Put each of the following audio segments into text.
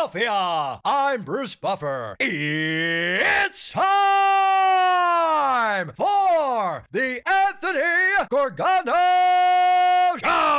Philadelphia. I'm Bruce Buffer. It's time for the Anthony Gargano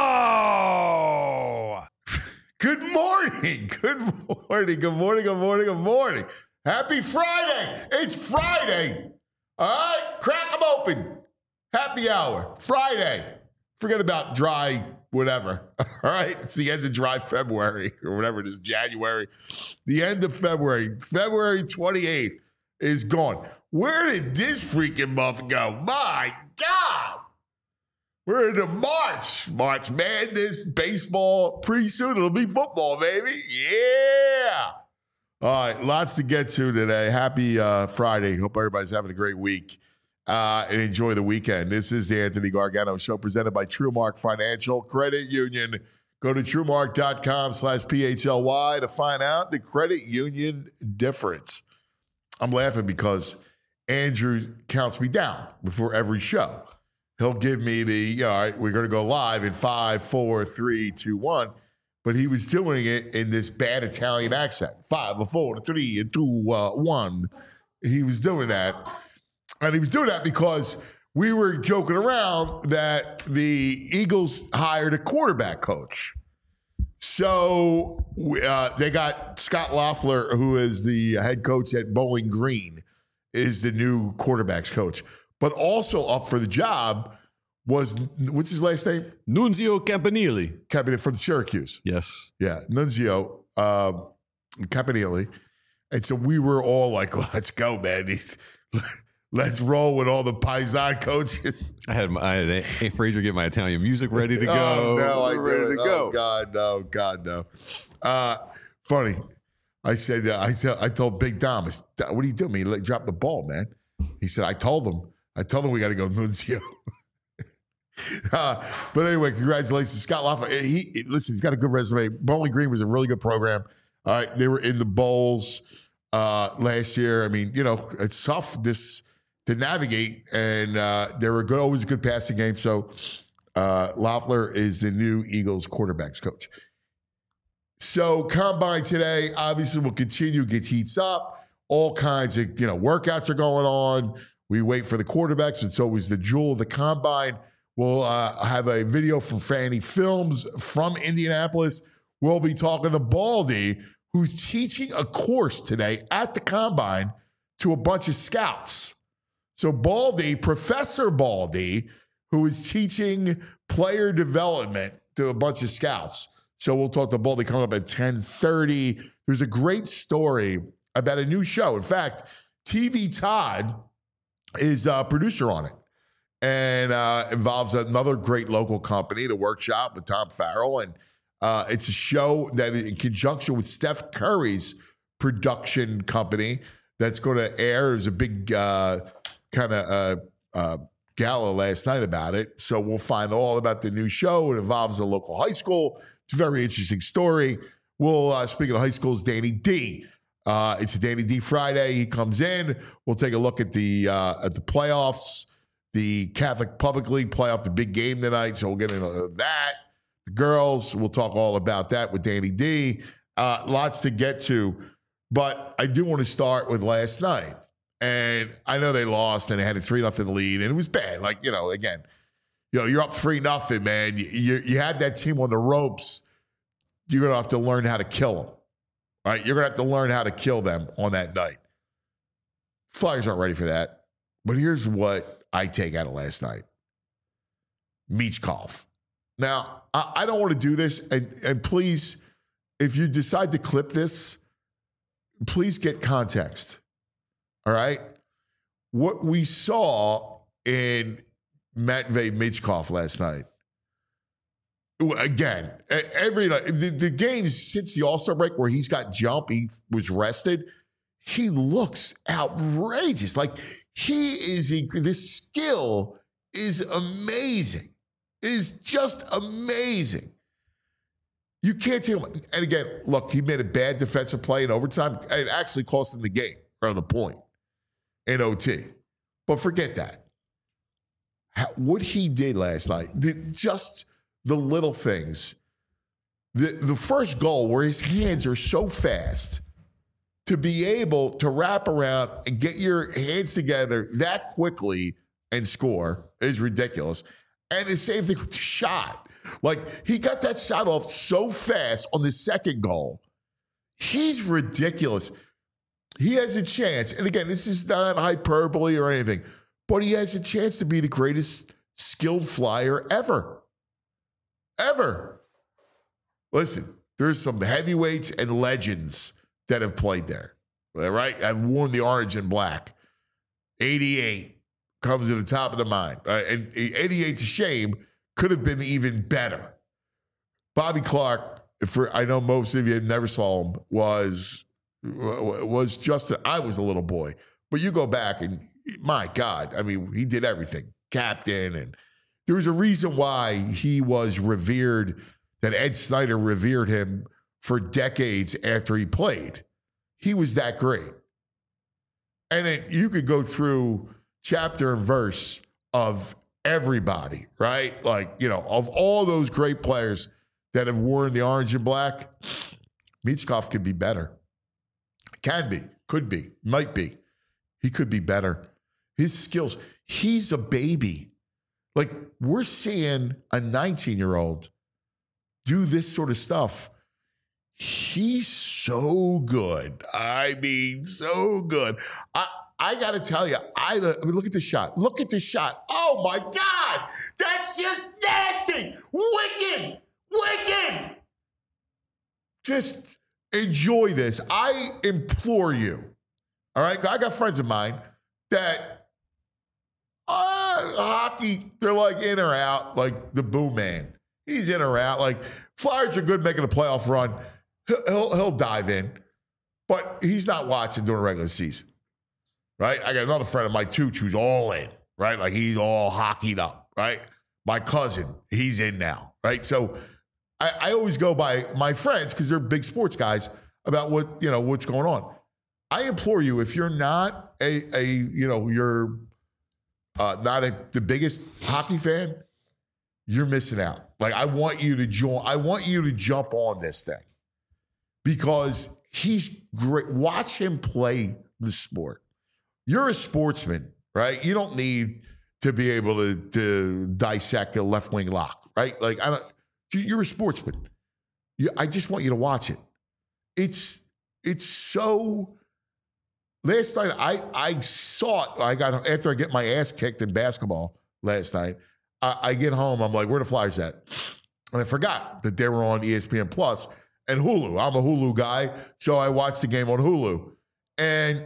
Show. Good morning. Good morning. Good morning. Good morning. Good morning. Happy Friday. It's Friday. All right. Crack them open. Happy hour. Friday. Forget about dry whatever. All right. It's the end of dry February or whatever it is, January. The end of February. February 28th is gone. Where did this freaking month go? My God. We're into March. March Madness, baseball. Pretty soon it'll be football, baby. Yeah. All right. Lots to get to today. Happy Friday. Hope everybody's having a great week. And enjoy the weekend. This is the Anthony Gargano Show presented by TrueMark Financial Credit Union. Go to TrueMark.com/PHLY to find out the credit union difference. I'm laughing because Andrew counts me down before every show. He'll give me the, all right, we're going to go live in 5, 4, 3, 2, 1. But he was doing it in this bad Italian accent. 5, 4, 3, 2, 1. He was doing that. And he was doing that because we were joking around that the Eagles hired a quarterback coach. So they got Scott Loeffler, who is the head coach at Bowling Green, is the new quarterback's coach. But also up for the job was, what's his last name? Nunzio Campanile. From Syracuse. Yes. Yeah, Nunzio Campanile. And so we were all like, well, let's go, man. Let's roll with all the Paisan coaches. I had A. Frazier get my Italian music ready to go. Oh, no, I ready to go. Oh, God, no. Funny. I told Big Dom, what are you doing? He dropped the ball, man. He said, I told him we got to go Nunzio. But anyway, congratulations, Scott Loeffler. Listen, he's got a good resume. Bowling Green was a really good program. All right, they were in the bowls last year. I mean, it's tough to navigate, and they were always a good passing game. So Loeffler is the new Eagles quarterbacks coach. So Combine today, obviously, will continue, gets heats up. All kinds of, workouts are going on. We wait for the quarterbacks. It's always the jewel of the Combine. We'll have a video from Fanny Films from Indianapolis. We'll be talking to Baldy, who's teaching a course today at the Combine to a bunch of scouts. So Baldy, Professor Baldy, who is teaching player development to a bunch of scouts. So we'll talk to Baldy coming up at 10:30. There's a great story about a new show. In fact, TV Todd is a producer on it. And involves another great local company, The Workshop with Tom Farrell. And it's a show that in conjunction with Steph Curry's production company that's going to air. There's a big gala last night about it. So we'll find all about the new show. It involves a local high school. It's a very interesting story. We'll, speaking of high schools, Danny D. It's a Danny D Friday. He comes in. We'll take a look at the playoffs. The Catholic Public League playoff, the big game tonight. So we'll get into that. The girls, we'll talk all about that with Danny D. Lots to get to. But I do want to start with last night. And I know they lost and they had a 3-0 lead. And it was bad. Like, again, you're up 3-0, man. You had that team on the ropes. You're going to have to learn how to kill them. Right? You're going to have to learn how to kill them on that night. Flyers aren't ready for that. But here's what I take out of last night. Michkov. Now, I don't want to do this, and please, if you decide to clip this, please get context. All right? What we saw in Matvei Michkov last night, again, every night, the games since the All-Star break where he's got jump, he was rested, he looks outrageous. Like, this skill is amazing. It is just amazing. You can't tell him. And again, look, he made a bad defensive play in overtime. It actually cost him the game or the point in OT. But forget that. What he did last night, just the little things. The first goal where his hands are so fast to be able to wrap around and get your hands together that quickly and score is ridiculous. And the same thing with the shot. Like, he got that shot off so fast on the second goal. He's ridiculous. He has a chance. And again, this is not hyperbole or anything, but he has a chance to be the greatest skilled flyer ever. Ever. Listen, there's some heavyweights and legends that have played there. All right? I've worn the orange and black. 88 comes to the top of the mind. Right? And 88's a shame. Could have been even better. Bobby Clark, I know most of you never saw him, was just I was a little boy. But you go back and, my God, I mean, he did everything. Captain, and there was a reason why he was revered, that Ed Snyder revered him for decades after he played. He was that great. And you could go through chapter and verse of everybody, right? Like, of all those great players that have worn the orange and black, Michkov could be better. Can be, could be, might be. He could be better. His skills, he's a baby. Like, we're seeing a 19-year-old do this sort of stuff. He's so good. I mean, so good. I got to tell you, I mean, look at the shot. Look at the shot. Oh, my God. That's just nasty. Wicked. Wicked. Just enjoy this. I implore you. All right? I got friends of mine that hockey, they're like in or out, like the Boo Man. He's in or out. Like, Flyers are good making a playoff run. He'll dive in, but he's not watching during the regular season, right? I got another friend of mine, too, who's all in, right? Like, he's all hockeyed up, right? My cousin, he's in now, right? So I always go by my friends, because they're big sports guys, about what's going on. I implore you, if you're not you're not the biggest hockey fan, you're missing out. Like, I want you to join. I want you to jump on this thing, because he's great. Watch him play the sport. You're a sportsman, right? You don't need to be able to dissect a left wing lock, right? Like, you're a sportsman. I just want you to watch it. It's so. Last night, I saw it. After I get my ass kicked in basketball last night, I get home. I'm like, where the Flyers at? And I forgot that they were on ESPN Plus and Hulu. I'm a Hulu guy, so I watched the game on Hulu. And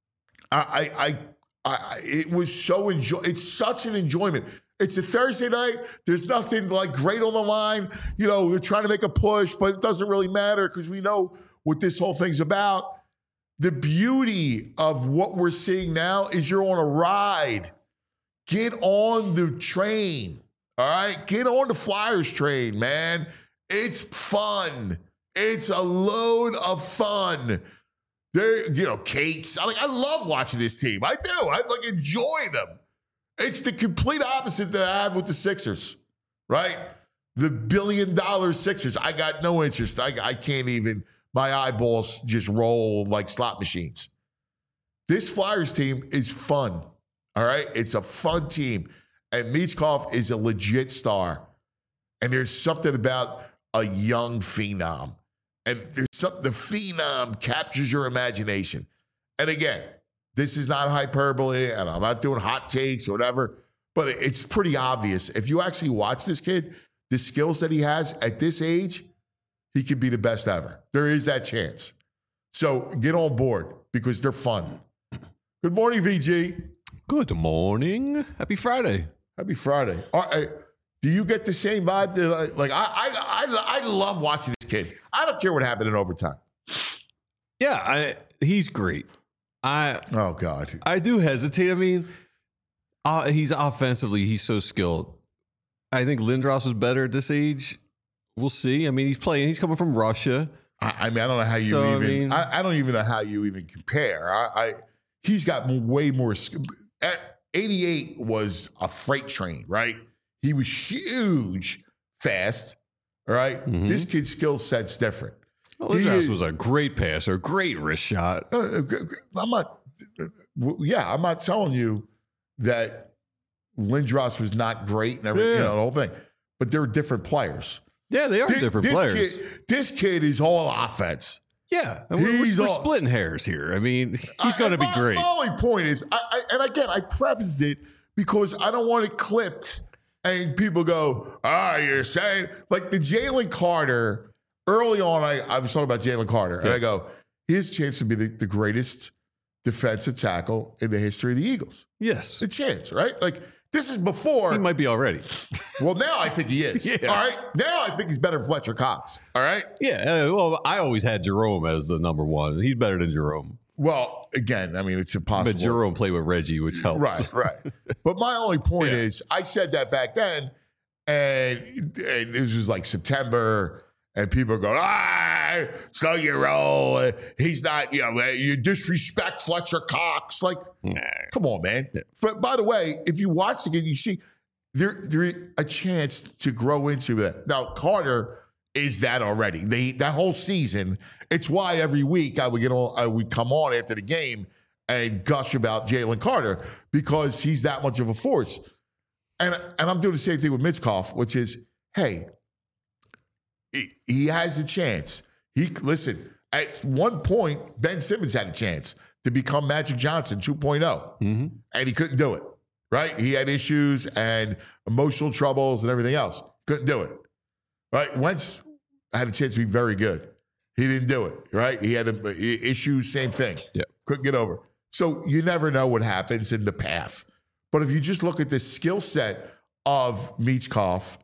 it was so it's such an enjoyment. It's a Thursday night. There's nothing like great on the line. We're trying to make a push, but it doesn't really matter, because we know what this whole thing's about. The beauty of what we're seeing now is you're on a ride. Get on the train, all right? Get on the Flyers train, man. It's fun. It's a load of fun. Kate's. I love watching this team. I do. I enjoy them. It's the complete opposite that I have with the Sixers, right? The $1 billion Sixers. I got no interest. I can't even. My eyeballs just roll like slot machines. This Flyers team is fun, all right? It's a fun team. And Michkov is a legit star. And there's something about a young phenom. And there's something, the phenom captures your imagination. And again, this is not hyperbole, and I'm not doing hot takes or whatever, but it's pretty obvious. If you actually watch this kid, the skills that he has at this age, he could be the best ever. There is that chance. So get on board, because they're fun. Good morning, VG. Good morning. Happy Friday. Happy Friday. Do you get the same vibe? I love watching this kid. I don't care what happened in overtime. Yeah, he's great. Oh, God. I do hesitate. I mean, he's offensively so skilled. I think Lindros was better at this age. We'll see. I mean, he's coming from Russia. I don't know how you I don't even know how you even compare. He's got way more. 88 was a freight train, right? He was huge, fast, All right? This kid's skill set's different. Well, Lindros was a great passer, great wrist shot. I'm not telling you that Lindros was not great and everything, the whole thing. But they're different players. Yeah, they are different players. This kid is all offense. Yeah, we're splitting hairs here. I mean, he's going to be great. My only point is, I prefaced it because I don't want it clipped and people go, you're saying, like the Jalen Carter, early on, I was talking about Jalen Carter, and I go, his chance to be the greatest defensive tackle in the history of the Eagles. Yes. The chance, right? Like, this is before. He might be already. Well, now I think he is. Yeah. All right? Now I think he's better than Fletcher Cox. All right? Yeah. Well, I always had Jerome as the number one. He's better than Jerome. Well, again, I mean, it's impossible. But Jerome played with Reggie, which helps. Right. But my only point is, I said that back then, and this was like September, and people are going, slow your roll. He's not, you disrespect Fletcher Cox. Like, come on, man. Yeah. By the way, if you watch the game, you see there's a chance to grow into that. Now, Carter is that already. That whole season, it's why every week I would come on after the game and gush about Jalen Carter because he's that much of a force. And I'm doing the same thing with Mitzkoff, which is, hey, he has a chance. Listen, at one point, Ben Simmons had a chance to become Magic Johnson 2.0, and he couldn't do it, right? He had issues and emotional troubles and everything else. Couldn't do it, right? Wentz had a chance to be very good. He didn't do it, right? He had issues, same thing. Yeah. Couldn't get over. So you never know what happens in the path. But if you just look at the skill set of Mitzkoff,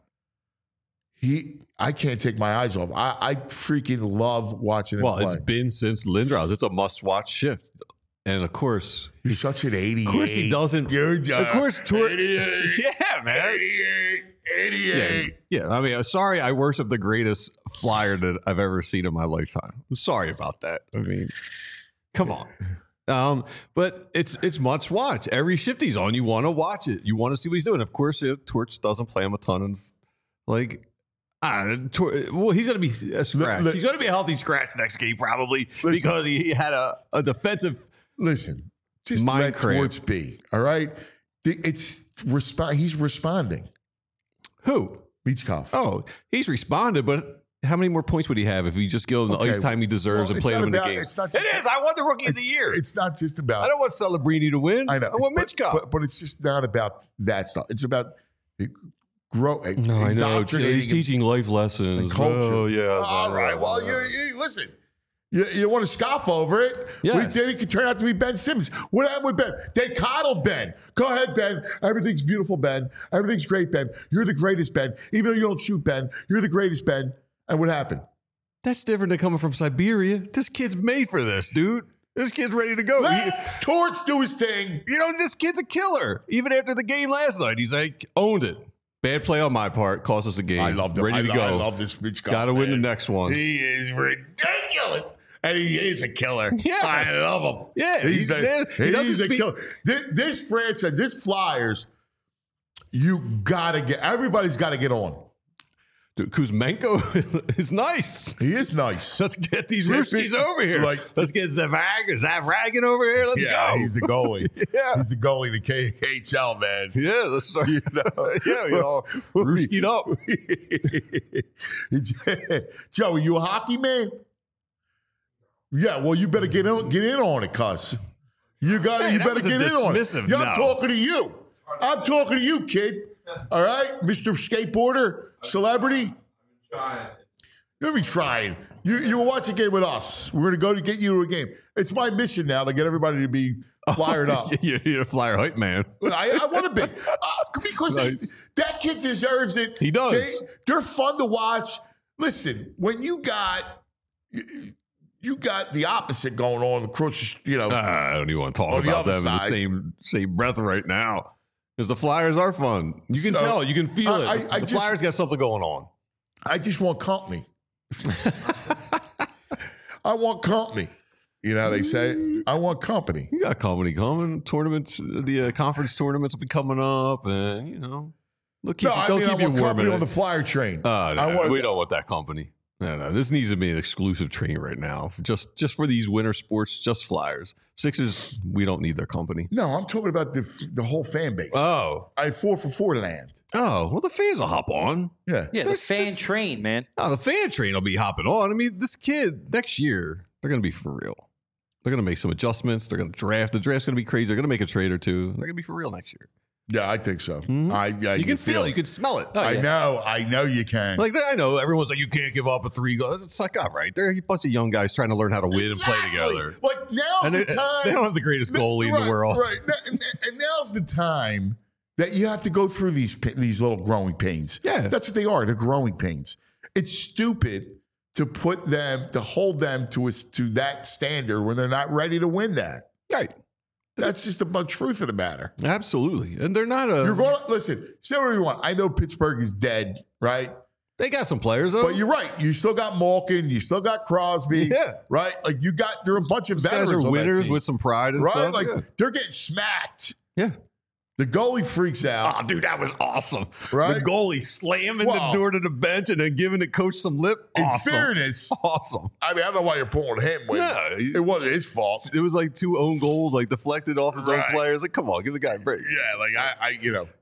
I can't take my eyes off. I freaking love watching him play. Well, it's been since Lindros. It's a must-watch shift. And, of course... He's such an 88. Of course he doesn't... Of course... 88. Yeah, man. 88. Yeah, I mean, sorry I worship the greatest flyer that I've ever seen in my lifetime. I'm sorry about that. I mean, come on. But it's must watch. Every shift he's on, you want to watch it. You want to see what he's doing. Of course, Torch doesn't play him a ton. And well, he's going to be a scratch. He's going to be a healthy scratch next game probably because he had a defensive. Listen, just let Torch be. All right, he's responding. Who? Mitzkoff. Oh, he's responded, but how many more points would he have if he just gave him the ice time he deserves and played him in the game? It is. I want the rookie of the year. It's not just about. I don't want Celebrini to win. I know. I want Mitzkoff. But it's just not about that stuff. It's about growing. No, I know. He's teaching life lessons. Culture. Oh, yeah. All right. Well, you listen. You want to scoff over it? Yes. Then it could turn out to be Ben Simmons. What happened with Ben? They coddled Ben. Go ahead, Ben. Everything's beautiful, Ben. Everything's great, Ben. You're the greatest, Ben. Even though you don't shoot, Ben, you're the greatest, Ben. And what happened? That's different than coming from Siberia. This kid's made for this, dude. This kid's ready to go. Let Torch do his thing. This kid's a killer. Even after the game last night, he's like, owned it. Bad play on my part. Cost us the game. I love him. Ready to go. I love this bitch guy. Got to win the next one. He is ridiculous. And he is a killer. Yes. I love him. Yeah. He's a killer. This franchise, this Flyers, everybody's got to get on. Dude, Kuzmenko is nice. He is nice. Let's get these Ruskies over here. Let's get Zavragin over here. Let's go. He's the goalie. Yeah. He's the goalie, the KHL, man. Yeah, that's right. Ruskied up. Joe, are you a hockey man? Yeah, well, you better get in on it, cuss. You better get in on it. Yeah, I'm talking to you. I'm talking to you, kid. All right, Mr. Skateboarder, celebrity. You'll be trying. You will watch a game with us. We're going to go to get you to a game. It's my mission now to get everybody to be fired up. You're a flyer hype man. I want to be. Because that kid deserves it. He does. They're fun to watch. Listen, when you got the opposite going on across, I don't even want to talk about them in the same breath right now. Because the Flyers are fun. You can tell. You can feel it. The Flyers got something going on. I just want company. I want company. You know how they say? I want company. You got company coming. Tournaments, the conference tournaments will be coming up. And, They'll keep, No, I they'll mean, I keep you want warm. company on the flyer train. We don't want that company. No. This needs to be an exclusive train right now. Just for these winter sports, just Flyers. Sixers, we don't need their company. No, I'm talking about the whole fan base. Oh. I 4-for-4 land. Oh, well, the fans will hop on. Yeah. Yeah, the fan train, man. Oh, the fan train will be hopping on. I mean, this kid, next year, they're going to be for real. They're going to make some adjustments. They're going to draft. The draft's going to be crazy. They're going to make a trade or two. They're going to be for real next year. Yeah, I think so. Mm-hmm. You can feel it. You can smell it. Oh, yeah. I know you can. Like, I know everyone's like, you can't give up a 3 goal. It's like, all right, they're a bunch of young guys trying to learn how to win and play together. Like, now's the time. They don't have the greatest goalie in the world. Right. And now's the time that you have to go through these little growing pains. Yeah. That's what they are. They're growing pains. It's stupid to hold them to that standard when they're not ready to win that. Right. That's just the truth of the matter. Absolutely. And they're not You're going to listen, say whatever you want. I know Pittsburgh is dead, right? They got some players, though. But you're right. You still got Malkin. You still got Crosby. Yeah. Right? Like, there are a bunch of Those veterans guys are on winners that team, with some pride and right? stuff. Like, yeah. they're getting smacked. Yeah. The goalie freaks out. Oh, dude, that was awesome. Right? The goalie slamming Wow. the door to the bench and then giving the coach some lip. In Awesome. fairness, Awesome. I mean, I don't know why you're pulling him. No, It wasn't his fault. It was like 2 own goals, like deflected off his own Right. players. Like, come on, give the guy a break. Yeah, like I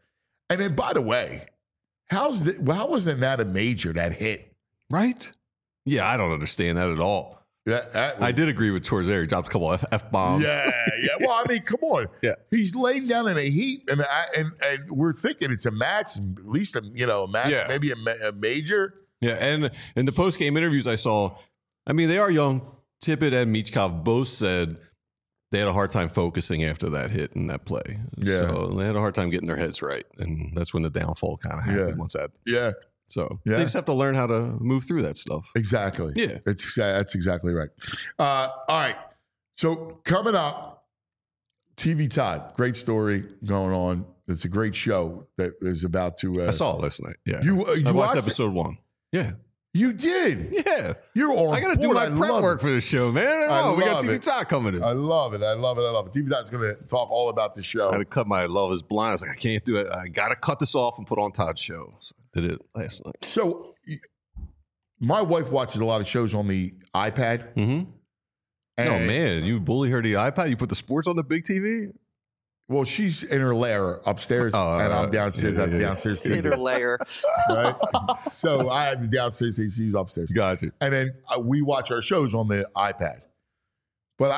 And then, by the way, how wasn't that a major, that hit? Right? Yeah, I don't understand that at all. That was, I did agree with Torres there. He dropped a couple F-bombs. Yeah. Well, I mean, come on. Yeah. He's laying down in a heap, and we're thinking it's a match, at least a match, Yeah. maybe a major. Yeah, and in the post-game interviews I saw, I mean, they are young. Tippett and Michkov both said they had a hard time focusing after that hit and that play. Yeah. So they had a hard time getting their heads right, and that's when the downfall kind of happened once that. Yeah. So Yeah. they just have to learn how to move through that stuff. Exactly. Yeah. That's exactly right. All right. So coming up, TV Todd, great story going on. It's a great show that is about to. I saw it last night. Yeah. You I watched watched it? episode 1. Yeah. You did. Yeah. You're on I got to do board. my I prep love work it. for this show, man. I We got love TV it. Todd coming in. I love it. I love it. I love it. TV Todd's going to talk all about the show. I had to cut my Love is Blind. I was like, I can't do it. I got to cut this off and put on Todd's show. So I did it last night. So my wife watches a lot of shows on the iPad. Mm-hmm. Oh, And- man. You bully her to the iPad? You put the sports on the big TV? Well, she's in her lair upstairs, Oh, and I'm downstairs. yeah, I'm yeah. downstairs too. Inner layer. Right? So I have the downstairs, she's upstairs. Got you. And then we watch our shows on the iPad. But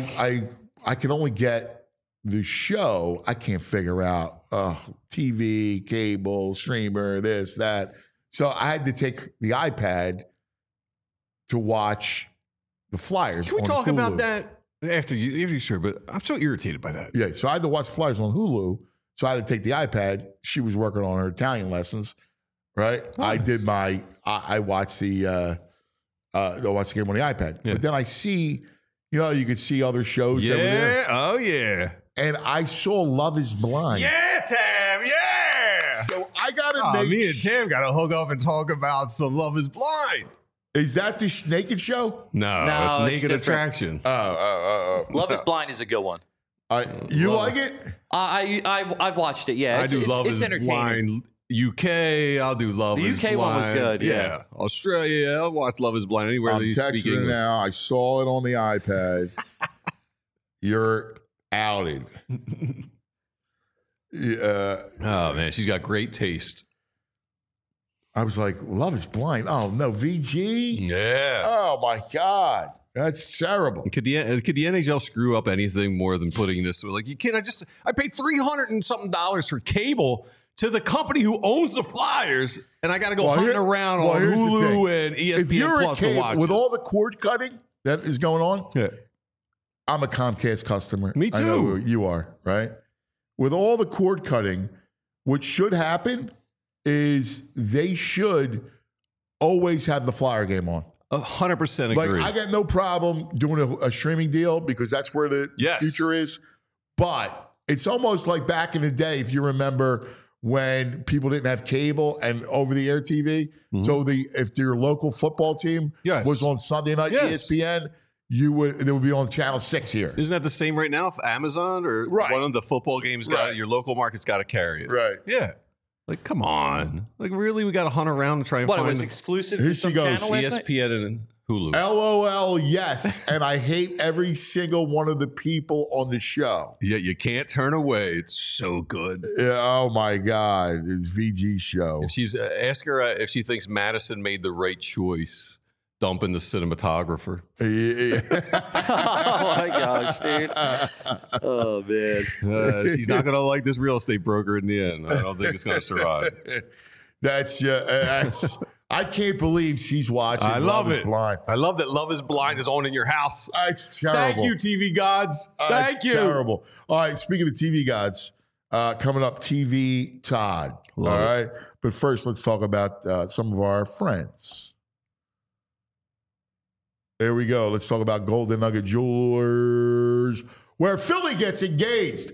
I can only get the show. I can't figure out TV, cable, streamer, this, that. So I had to take the iPad to watch the Flyers. Can we on talk Hulu. about that after you sure? But I'm so irritated by that. Yeah, so I had to watch the Flyers on Hulu. So I had to take the iPad. She was working on her Italian lessons, right? I did I watched the watched the game on the iPad. Yeah. But then I see, you could see other shows that were there. Yeah. Oh, yeah. And I saw Love is Blind. Yeah, Tam. Yeah. So I got to Oh, make me and Tam got to hook up and talk about some Love is Blind. Is that the naked show? No, No, it's it's Naked different. Attraction. Love is Blind is a good one. You Love- like it? I've watched it. Yeah, I do Love it's is entertaining. Blind. UK, I'll do Love The is UK Blind. one was good, yeah. Australia, I'll watch Love is Blind anywhere I'm that you speak texting her English. now. I saw it on the iPad. You're outed. Yeah. Oh, man, she's got great taste. I was like, Love is Blind. Oh, no, VG? Yeah. Oh, my God. That's terrible. Could the NHL screw up anything more than putting this? Like, you can't. I paid $300 and something for cable to the company who owns the Flyers, and I got to go hunting around on here's the Hulu thing. and If ESPN you're Plus a to watch cable, with this. all the cord cutting that is going on, Yeah. I'm a Comcast customer. Me I know too. you are, right? With all the cord cutting, what should happen is they should always have the Flyer game on. 100% Like, agree. I got no problem doing a streaming deal because that's where the Yes. future is. But it's almost like back in the day, if you remember when people didn't have cable and over-the-air TV. Mm-hmm. So if your local football team Yes. was on Sunday night Yes. ESPN, they would be on Channel 6 here. Isn't that the same right now for Amazon or Right. one of the football games? Right. Your local market's got to carry it. Right. Yeah. Like, come on. Like, really? We got to hunt around and try and What, it find was exclusive Here to she some goes. channel last night? ESPN and Hulu. LOL, yes. And I hate every single one of the people on the show. Yeah, you can't turn away. It's so good. Yeah, oh my God. It's VG show. If she's ask her if she thinks Madison made the right choice, dumping the cinematographer. Oh my gosh, dude. Oh man. She's not going to like this real estate broker in the end. I don't think it's going to survive. That's I can't believe she's watching. I love Is it. Blind. I love that Love is Blind is on in your house. It's terrible. Thank you, TV gods. Thank It's you. Terrible. All right. Speaking of TV gods, coming up, TV Todd. Love all it. right. But first, let's talk about some of our friends. There we go. Let's talk about Golden Nugget Jewelers, where Philly gets engaged.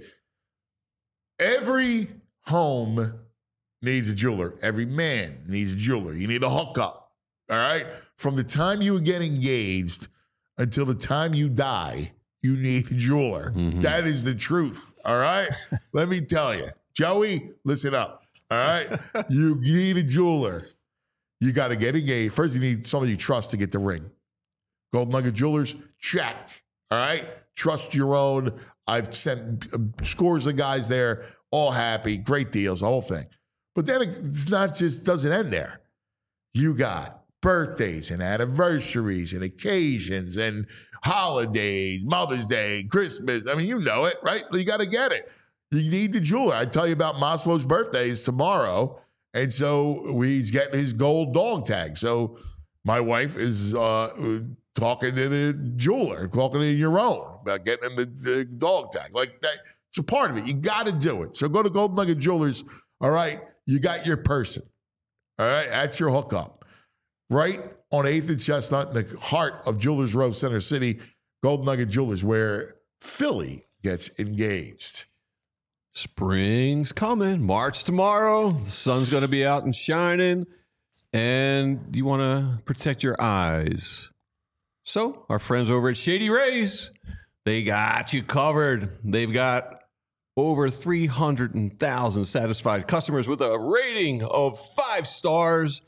Every home needs a jeweler. Every man needs a jeweler. You need a hookup. All right. From the time you get engaged until the time you die, you need a jeweler. Mhm. That is the truth. All right. Let me tell you, Joey, listen up. All right. You need a jeweler. You got to get engaged. First, you need somebody you trust to get the ring. Golden Nugget Jewelers, check. All right. Trust your own. I've sent scores of guys there, all happy, great deals, the whole thing. But then it's not just doesn't end there. You got birthdays and anniversaries and occasions and holidays, Mother's Day, Christmas. I mean, you know it, right? You got to get it. You need the jeweler. I tell you about Maslo's birthday is tomorrow. And so he's getting his gold dog tag. So my wife is talking to the jeweler, talking to your own about getting him the dog tag. Like that, it's a part of it. You got to do it. So go to Golden Nugget Jewelers. All right. You got your person. All right. That's your hookup. Right on 8th and Chestnut, in the heart of Jewelers Row, Center City, Golden Nugget Jewelers, where Philly gets engaged. Spring's coming. March tomorrow. The sun's going to be out and shining. And you want to protect your eyes. So our friends over at Shady Rays, they got you covered. They've got over 300,000 satisfied customers with a rating of 5 stars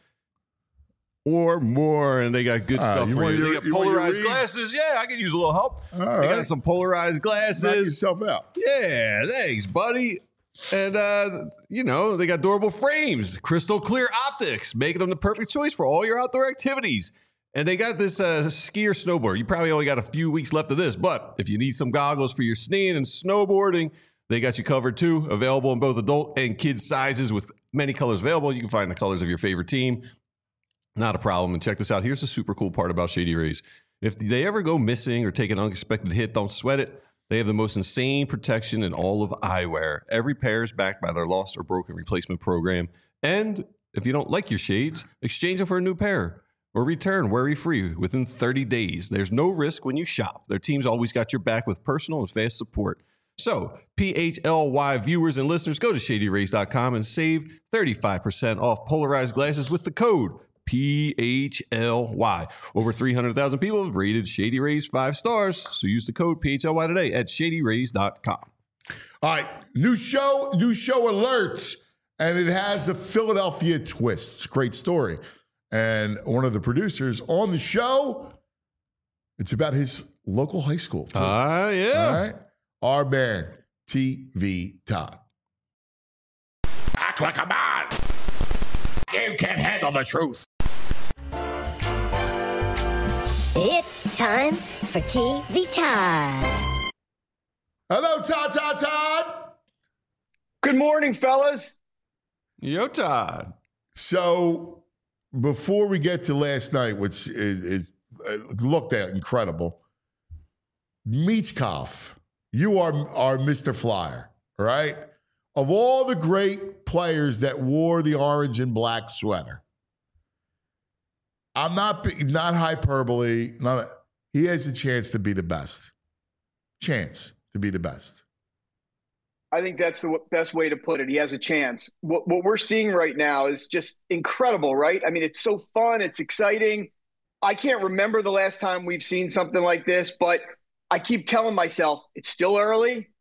or more. And they got good stuff you for want you. your- They got you want your polarized read? glasses. Yeah, I could use a little help. All They right. got some polarized Knock glasses. yourself out. Yeah, thanks, buddy. And, they got durable frames, crystal clear optics, making them the perfect choice for all your outdoor activities. And they got this ski or snowboard. You probably only got a few weeks left of this, but if you need some goggles for your skiing and snowboarding, they got you covered too. Available in both adult and kid sizes with many colors available. You can find the colors of your favorite team. Not a problem. And check this out. Here's the super cool part about Shady Rays. If they ever go missing or take an unexpected hit, don't sweat it. They have the most insane protection in all of eyewear. Every pair is backed by their lost or broken replacement program. And if you don't like your shades, exchange them for a new pair or return worry-free within 30 days. There's no risk when you shop. Their team's always got your back with personal and fast support. So, PHLY viewers and listeners, go to ShadyRays.com and save 35% off polarized glasses with the code PHLY. Over 300,000 people have rated Shady Rays 5 stars, so use the code PHLY today at ShadyRays.com. All right, new show alerts, and it has a Philadelphia twist. It's a great story. And one of the producers on the show, it's about his local high school. Too. Yeah. All right, our man, TV Todd. Act like a man. You can't handle the truth. It's time for TV Time. Hello, Todd. Good morning, fellas. Yo, Todd. So before we get to last night, which is looked at incredible, Michkov, you are Mr. Flyer, right? Of all the great players that wore the orange and black sweater, I'm not hyperbole. He has a chance to be the best. Chance to be the best. I think that's the best way to put it. He has a chance. What we're seeing right now is just incredible, right? I mean, it's so fun. It's exciting. I can't remember the last time we've seen something like this, but I keep telling myself it's still early.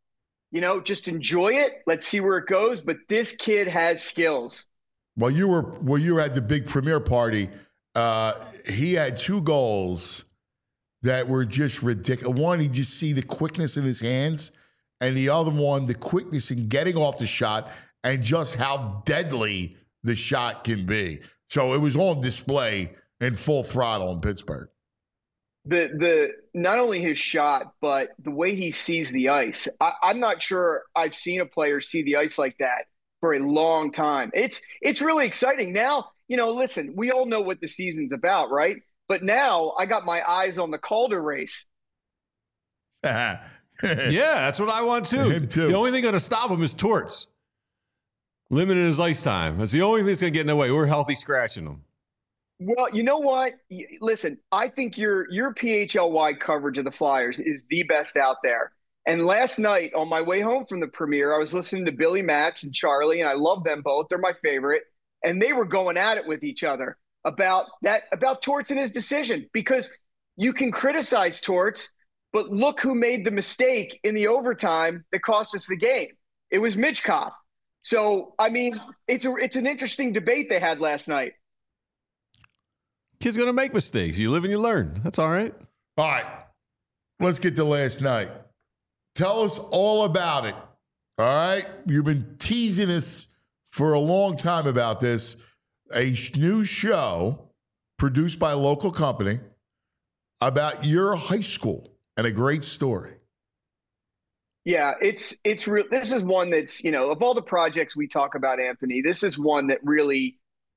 just enjoy it. Let's see where it goes. But this kid has skills. While you were at the big premiere party, he had 2 goals that were just ridiculous. One, you just see the quickness in his hands, and the other one, the quickness in getting off the shot and just how deadly the shot can be. So it was on display in full throttle in Pittsburgh. The not only his shot, but the way he sees the ice. I'm not sure I've seen a player see the ice like that for a long time. It's really exciting. Now, listen, we all know what the season's about, right? But now I got my eyes on the Calder race. Yeah, that's what I want too. Him too. The only thing going to stop him is Torts. Limiting his ice time. That's the only thing that's going to get in the way. We're healthy scratching him. Well, you know what? Listen, I think your PHLY coverage of the Flyers is the best out there. And last night on my way home from the premiere, I was listening to Billy Matz and Charlie, and I love them both. They're my favorite. And they were going at it with each other about Torts and his decision, because you can criticize Torts, but look who made the mistake in the overtime that cost us the game. It was Michkov. So, I mean, it's an interesting debate they had last night. Kid's going to make mistakes. You live and you learn. That's all right. All right. Let's get to last night. Tell us all about it. All right. You've been teasing us for a long time about this. A new show produced by a local company about your high school and a great story. Yeah, it's real. This is one that's, of all the projects we talk about, Anthony, this is one that really,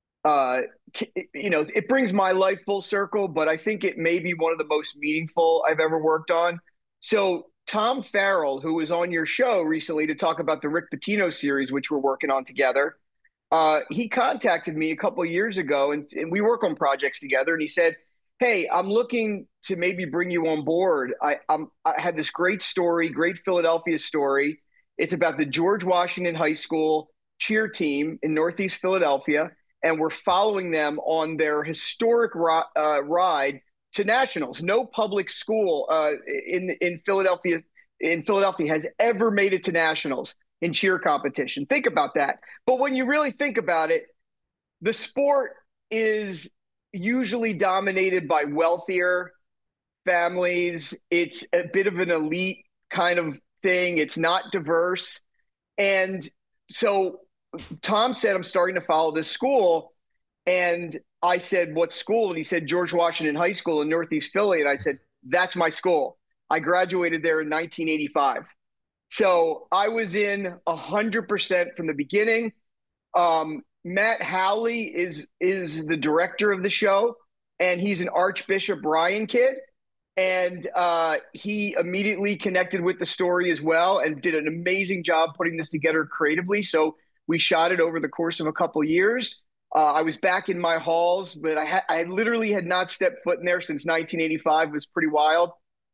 it brings my life full circle, but I think it may be one of the most meaningful I've ever worked on. So Tom Farrell, who was on your show recently to talk about the Rick Pitino series, which we're working on together, he contacted me a couple of years ago, and we work on projects together. And he said, "Hey, I'm looking to maybe bring you on board. I had this great story, great Philadelphia story. It's about the George Washington High School cheer team in Northeast Philadelphia, and we're following them on their historic ride to nationals. No public school in Philadelphia has ever made it to nationals in cheer competition. Think about that. But when you really think about it, the sport is usually dominated by wealthier families. It's a bit of an elite kind of thing. It's not diverse. And so Tom said, I'm starting to follow this school. And I said, what school? And he said, George Washington High School in Northeast Philly. And I said, that's my school. I graduated there in 1985. So I was in 100% from the beginning. Matt Howley is the director of the show, and he's an Archbishop Bryan kid. And he immediately connected with the story as well and did an amazing job putting this together creatively. So we shot it over the course of a couple of years. I was back in my halls, but I literally had not stepped foot in there since 1985. It was pretty wild.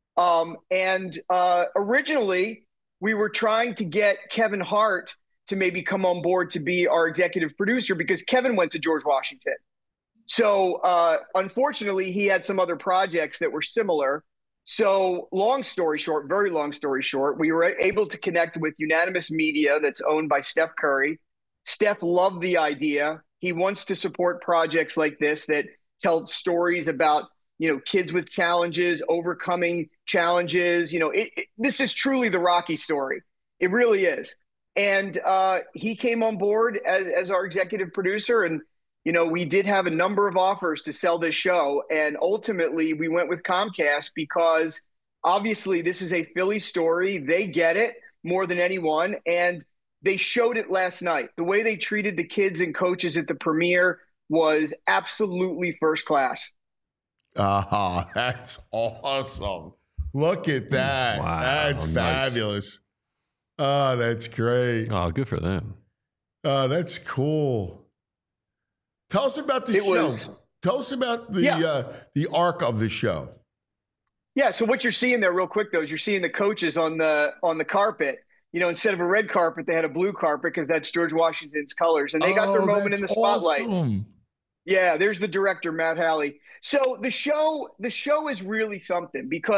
Originally, we were trying to get Kevin Hart to maybe come on board to be our executive producer because Kevin went to George Washington. So unfortunately, he had some other projects that were similar. So long story short, very long story short, we were able to connect with Unanimous Media that's owned by Steph Curry. Steph loved the idea. He wants to support projects like this that tell stories about, kids with challenges, overcoming challenges. This is truly the Rocky story. It really is. And he came on board as our executive producer. And, we did have a number of offers to sell this show. And ultimately, we went with Comcast because obviously this is a Philly story. They get it more than anyone. And they showed it last night. The way they treated the kids and coaches at the premiere was absolutely first class. That's awesome. Look at that. Wow, that's nice. fabulous. Oh, that's great. Oh, good for them. That's cool. Tell us about the show. Tell us about the arc of the show. Yeah, so what you're seeing there real quick, though, is you're seeing the coaches on the carpet. Instead of a red carpet, they had a blue carpet because that's George Washington's colors. And they got their moment in the spotlight. Awesome. Yeah, there's the director, Matt Halley. So the show is really something because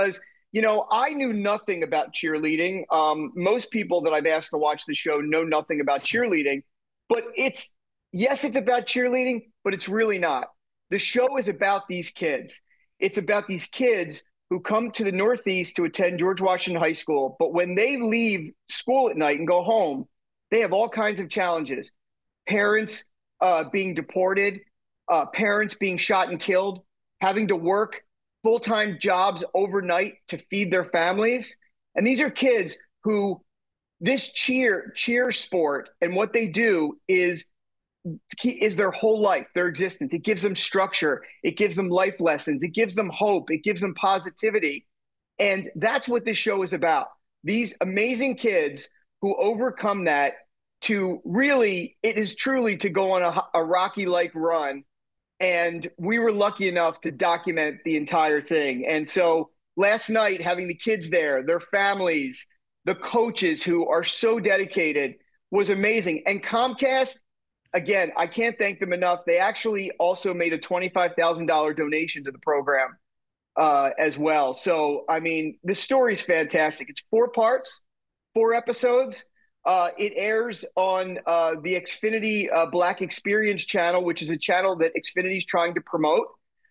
I knew nothing about cheerleading. Most people that I've asked to watch the show know nothing about cheerleading, but it's about cheerleading, but it's really not. The show is about these kids. It's about these kids who come to the Northeast to attend George Washington High School, but when they leave school at night and go home, they have all kinds of challenges. Parents being deported, parents being shot and killed, having to work full-time jobs overnight to feed their families. And these are kids who this cheer sport and what they do is their whole life, their existence. It gives them structure. It gives them life lessons. It gives them hope. It gives them positivity. And that's what this show is about. These amazing kids who overcome that to really, it is truly to go on a Rocky-like run. And we were lucky enough to document the entire thing. And so last night, having the kids there, their families, the coaches who are so dedicated was amazing. And Comcast, again, I can't thank them enough. They actually also made a $25,000 donation to the program as well. So, I mean, the story's fantastic. It's 4 parts, 4 episodes. It airs on the Xfinity Black Experience channel, which is a channel that Xfinity is trying to promote.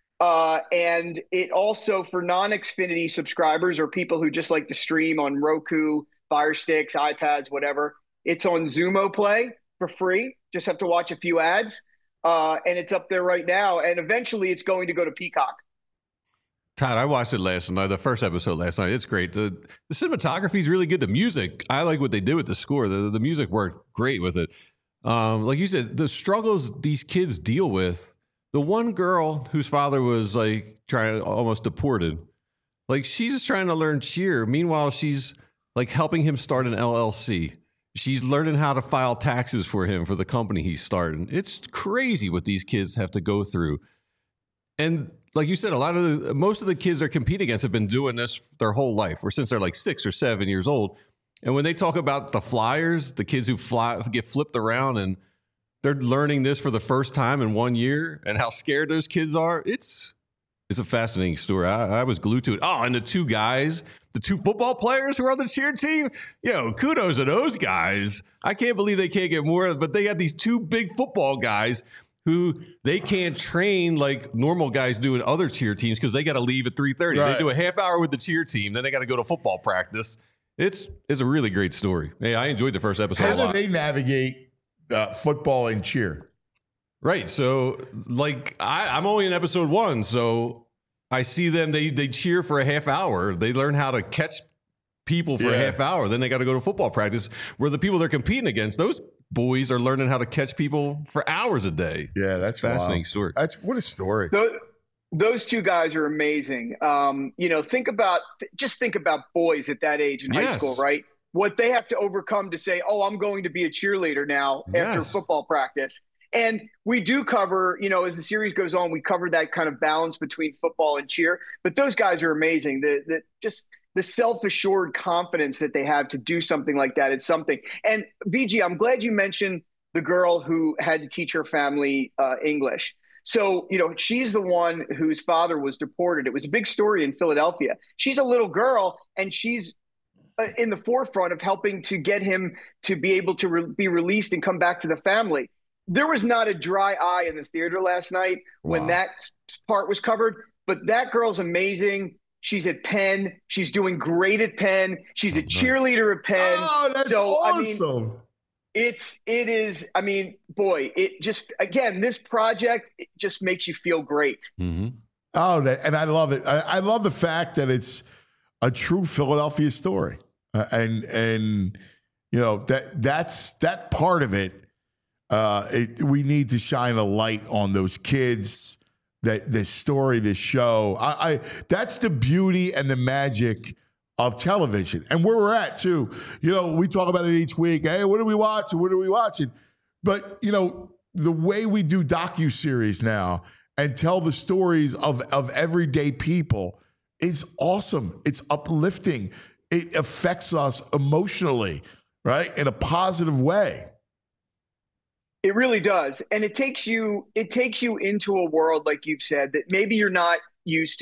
And it also, for non-Xfinity subscribers or people who just like to stream on Roku, Fire Sticks, iPads, whatever, it's on Xumo Play for free. Just have to watch a few ads. And it's up there right now. And eventually it's going to go to Peacock. Todd, I watched it last night, the first episode last night. It's great. The cinematography is really good. The music, I like what they did with the score. The music worked great with it. Like you said, the struggles these kids deal with. The one girl whose father was like almost deported, like she's just trying to learn cheer. Meanwhile, she's like helping him start an LLC. She's learning how to file taxes for him for the company he's starting. It's crazy what these kids have to go through. And like you said, most of the kids they're competing against have been doing this their whole life, or since they're like 6 or 7 years old. And when they talk about the flyers, the kids who get flipped around and they're learning this for the first time in 1 year and how scared those kids are, it's a fascinating story. I was glued to it. Oh, and the 2 football players who are on the cheer team, kudos to those guys. I can't believe they can't get more, but they got these 2 big football guys who they can't train like normal guys do in other cheer teams because they got to leave at 3:30. Right. They do a half hour with the cheer team, then they got to go to football practice. It's a really great story. Hey, I enjoyed the first episode a lot. How do they navigate football and cheer? Right. So, like, I'm only in episode 1, so I see them. They cheer for a half hour. They learn how to catch people for a half hour. Then they got to go to football practice where the people they're competing against, those boys are learning how to catch people for hours a day. Yeah, that's a fascinating story. What a story. Those 2 guys are amazing. Think about boys at that age in high school, right? What they have to overcome to say, oh, I'm going to be a cheerleader now after football practice. And we do cover, as the series goes on, we cover that kind of balance between football and cheer. But those guys are amazing. The self-assured confidence that they have to do something like that is something. And VG, I'm glad you mentioned the girl who had to teach her family English. So, she's the one whose father was deported. It was a big story in Philadelphia. She's a little girl, and she's in the forefront of helping to get him to be able to be released and come back to the family. There was not a dry eye in the theater last night when that part was covered, but that girl's amazing. She's at Penn. She's doing great at Penn. She's a cheerleader at Penn. Oh, that's awesome. This project, it just makes you feel great. Mm-hmm. Oh, and I love it. I love the fact that it's a true Philadelphia story. That's that part of it. We need to shine a light on those kids, this story, this show. That's the beauty and the magic of television, and where we're at too. We talk about it each week. Hey, what are we watching? What are we watching? But the way we do docuseries now and tell the stories of everyday people is awesome. It's uplifting. It affects us emotionally, right, in a positive way. It really does. And it takes you into a world, like you've said, that maybe you're not used to.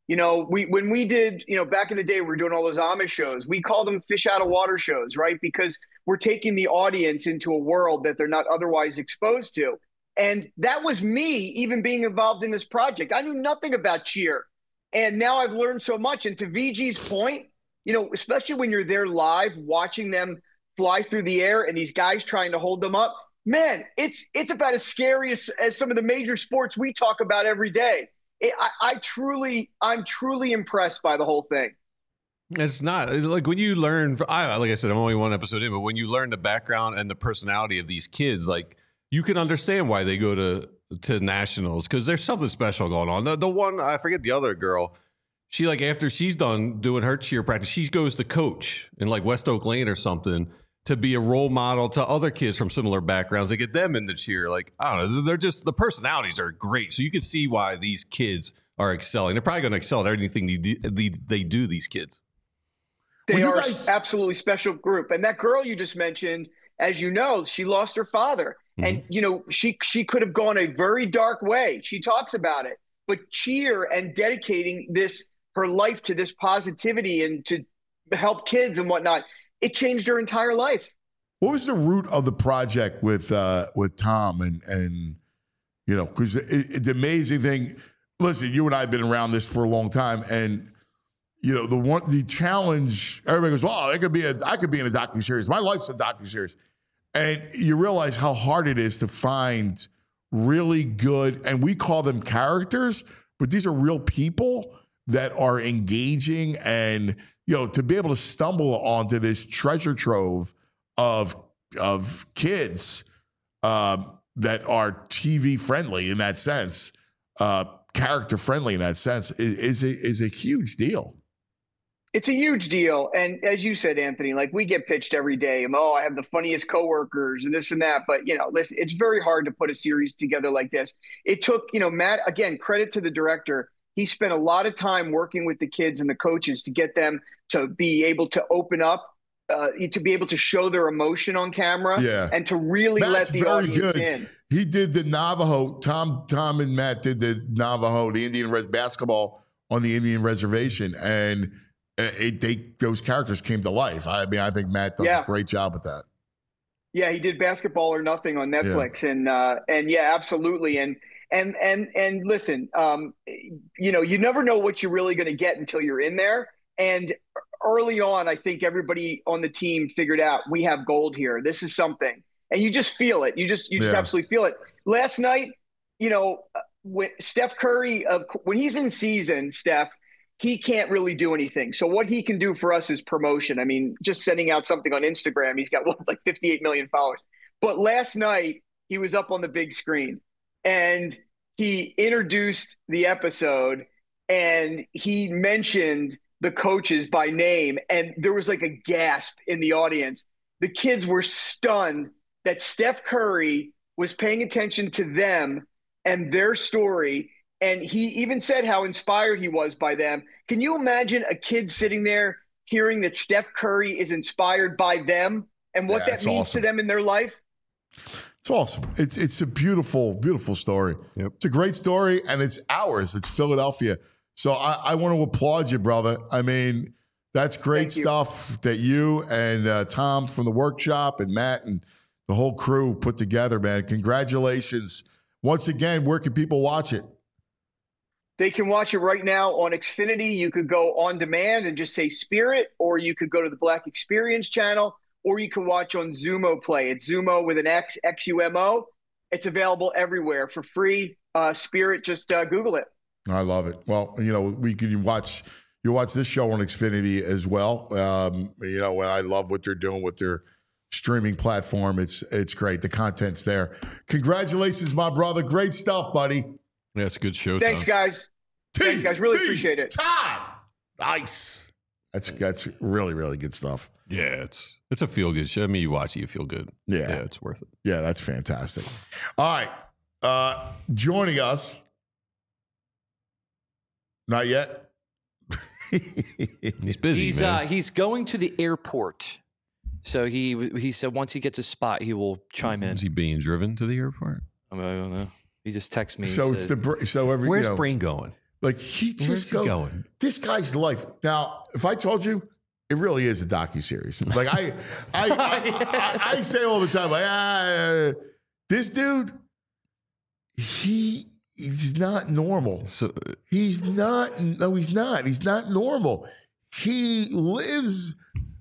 When we did, back in the day, we were doing all those Amish shows. We call them fish out of water shows, right? Because we're taking the audience into a world that they're not otherwise exposed to. And that was me even being involved in this project. I knew nothing about cheer. And now I've learned so much. And to VG's point, especially when you're there live, watching them fly through the air and these guys trying to hold them up, man, it's about as scary as some of the major sports we talk about every day. I'm truly impressed by the whole thing. It's not like when you learn, like I said, I'm only one episode in, but when you learn the background and the personality of these kids, like you can understand why they go to nationals, because there's something special going on. The one, I forget the other girl, she like after she's done doing her cheer practice, she goes to coach in like West Oak Lane or something to be a role model to other kids from similar backgrounds to get them into cheer. Like, I don't know, they're just, the personalities are great. So you can see why these kids are excelling. They're probably going to excel at everything they do, these kids. They are absolutely special group. And that girl you just mentioned, as you know, she lost her father. And, she could have gone a very dark way. She talks about it. But cheer and dedicating her life to this positivity and to help kids and whatnot, it changed her entire life. What was the root of the project with Tom and because the amazing thing, listen, you and I have been around this for a long time, and the challenge, everybody goes, well, I could be in a docuseries. My life's a docuseries. And you realize how hard it is to find really good, and we call them characters, but these are real people that are engaging, and to be able to stumble onto this treasure trove of kids that are TV friendly in that sense, character friendly in that sense, is a huge deal. It's a huge deal. And as you said, Anthony, like we get pitched every day. I have the funniest coworkers and this and that. But, listen, it's very hard to put a series together like this. It took, Matt, again, credit to the director. He spent a lot of time working with the kids and the coaches to get them to be able to open up, to be able to show their emotion on camera, and to really let the audience in. He did the Navajo. Tom and Matt did the Navajo, the Indian basketball on the Indian reservation, and those characters came to life. I mean, I think Matt does a great job with that. Yeah, he did Basketball or Nothing on Netflix, and yeah, absolutely. And listen, you never know what you're really going to get until you're in there. And early on, I think everybody on the team figured out we have gold here. This is something, and you just feel it. You just absolutely feel it. Last night, when Steph Curry, when he's in season, Steph, he can't really do anything. So what he can do for us is promotion. I mean, just sending out something on Instagram, he's got like 58 million followers. But last night he was up on the big screen and he introduced the episode and he mentioned the coaches by name. And there was like a gasp in the audience. The kids were stunned that Steph Curry was paying attention to them and their story. And he even said how inspired he was by them. Can you imagine a kid sitting there hearing that Steph Curry is inspired by them and what that means to them in their life? It's awesome. It's a beautiful, beautiful story. Yep. It's a great story, and it's ours. It's Philadelphia. So I want to applaud you, brother. I mean, that's great stuff that you and Tom from the workshop and Matt and the whole crew put together, man. Congratulations. Once again, where can people watch it? They can watch it right now on Xfinity. You could go on demand and just say Spirit, or you could go to the Black Experience channel, or you can watch on Xumo Play. It's Xumo with an X, Xumo. It's available everywhere for free. Spirit, just Google it. I love it. Well, you watch this show on Xfinity as well. And I love what they're doing with their streaming platform. It's great. The content's there. Congratulations, my brother. Great stuff, buddy. Yeah, it's a good show. Thanks, guys. Thanks, guys. Really appreciate it. Todd. Nice. That's really, really good stuff. Yeah, it's a feel-good show. I mean, you watch it, you feel good. Yeah, it's worth it. Yeah, that's fantastic. All right. Joining us. Not yet. He's busy, man. He's going to the airport. So he said once he gets a spot, he will chime in. Is he being driven to the airport? I don't know. He just texted me. So where's Brain going? Like he Where's just he goes. going? This guy's life. Now, if I told you, it really is a docuseries. Like I say all the time, like this dude, he's not normal. So He's not. No, he's not. He's not normal. He lives.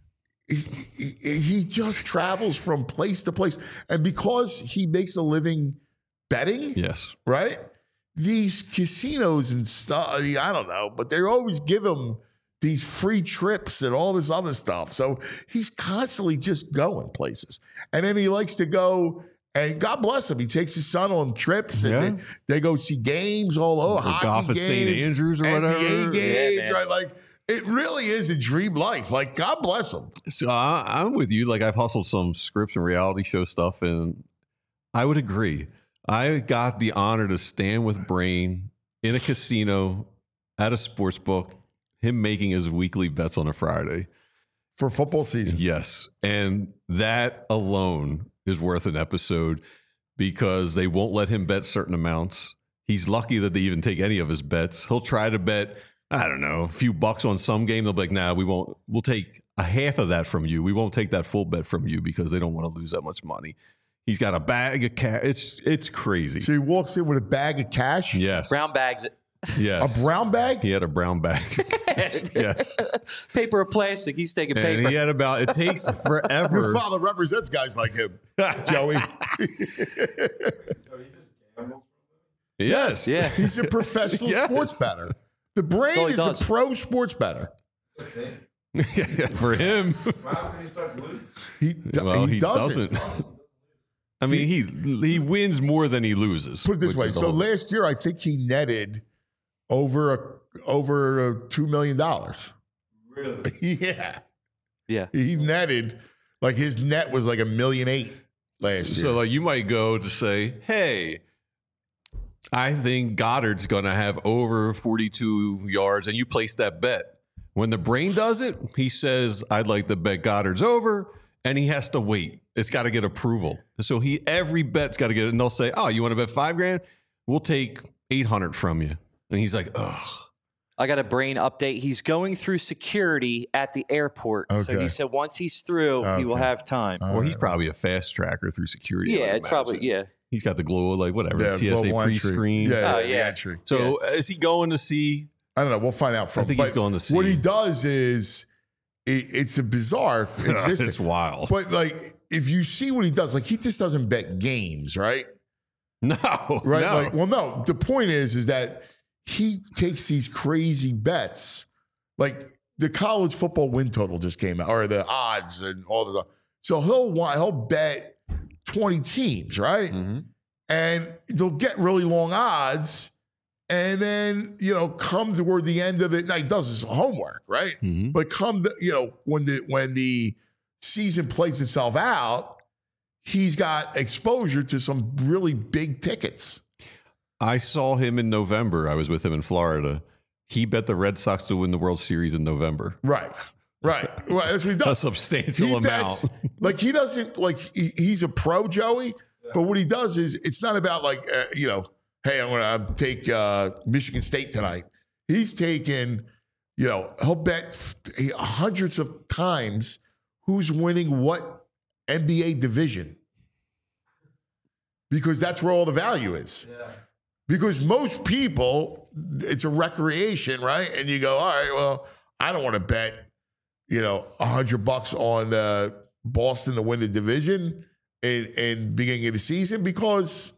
He just travels from place to place, and because he makes a living betting, yes, right? These casinos and stuff. I don't know, but they always give him these free trips and all this other stuff. So he's constantly just going places, and then he likes to go. And God bless him. He takes his son on trips and they go see games all over. Hockey golf at games, St. Andrews or NBA whatever. games, Yeah, right? Like it really is a dream life. Like God bless him. So I'm with you. Like I've hustled some scripts and reality show stuff, and I would agree. I got the honor to stand with Brain in a casino at a sports book, him making his weekly bets on a Friday. For football season. Yes. And that alone is worth an episode because they won't let him bet certain amounts. He's lucky that they even take any of his bets. He'll try to bet, I don't know, a few bucks on some game. They'll be like, nah, we won't. We'll take a half of that from you. We won't take that full bet from you because they don't want to lose that much money. He's got a bag of cash. It's crazy. So he walks in with a bag of cash. Yes. Brown bags. Yes. A brown bag? He had a brown bag. Yes. Paper or plastic. He's taking And paper. he had about, it takes forever. Your father represents guys like him, Joey. Yes. Yeah. He's a professional Yes. sports bettor. The Brain all he is does. a pro sports bettor. For him. He doesn't. I mean, he wins more than he loses. Put it this which way. is the So whole- last year, I think he netted over $2 million. Really? Yeah. Yeah. He netted, like his net was like $1.8 million last year. So like you might go to say, hey, I think Goddard's going to have over 42 yards, and you place that bet. When the Brain does it, he says, I'd like to bet Goddard's over, and he has to wait. It's got to get approval. So every bet's got to get it, and they'll say, oh, you want to bet $5,000? We'll take 800 from you. And he's like, ugh. I got a Brain update. He's going through security at the airport. So Okay. he said once he's through, he will Okay. have time. Well, he's probably a fast tracker through security. I Yeah, would it's probably, imagine. yeah. He's got the glow, like whatever, Yeah, TSA global entry. pre-screen. Yeah, Oh, the yeah. entry. So is he going to see? I don't know. We'll find out from. I think he's but going to see. What he does is, it's a bizarre existence. It's wild. But like, if you see what he does, like he just doesn't bet games, right? No, Right? no. Like, well, no. The point is that he takes these crazy bets, like the college football win total just came out, or the odds and all the. So he'll bet 20 teams, right? Mhm. And they'll get really long odds, and then come toward the end of it. Now he does his homework, right? Mhm. But when the season plays itself out, he's got exposure to some really big tickets. I saw him in November. I was with him in Florida. He bet the Red Sox to win the World Series in November. Right. Well, that's what he A does. substantial He amount. bets- like he doesn't he's a pro, Joey. But what he does is it's not about hey, I'm going to take Michigan State tonight. He's taken, he'll bet hundreds of times who's winning what NBA division. Because that's where all the value is. Yeah. Because most people, it's a recreation, right? And you go, all right, well, I don't want to bet, $100 on Boston to win the division in beginning of the season because,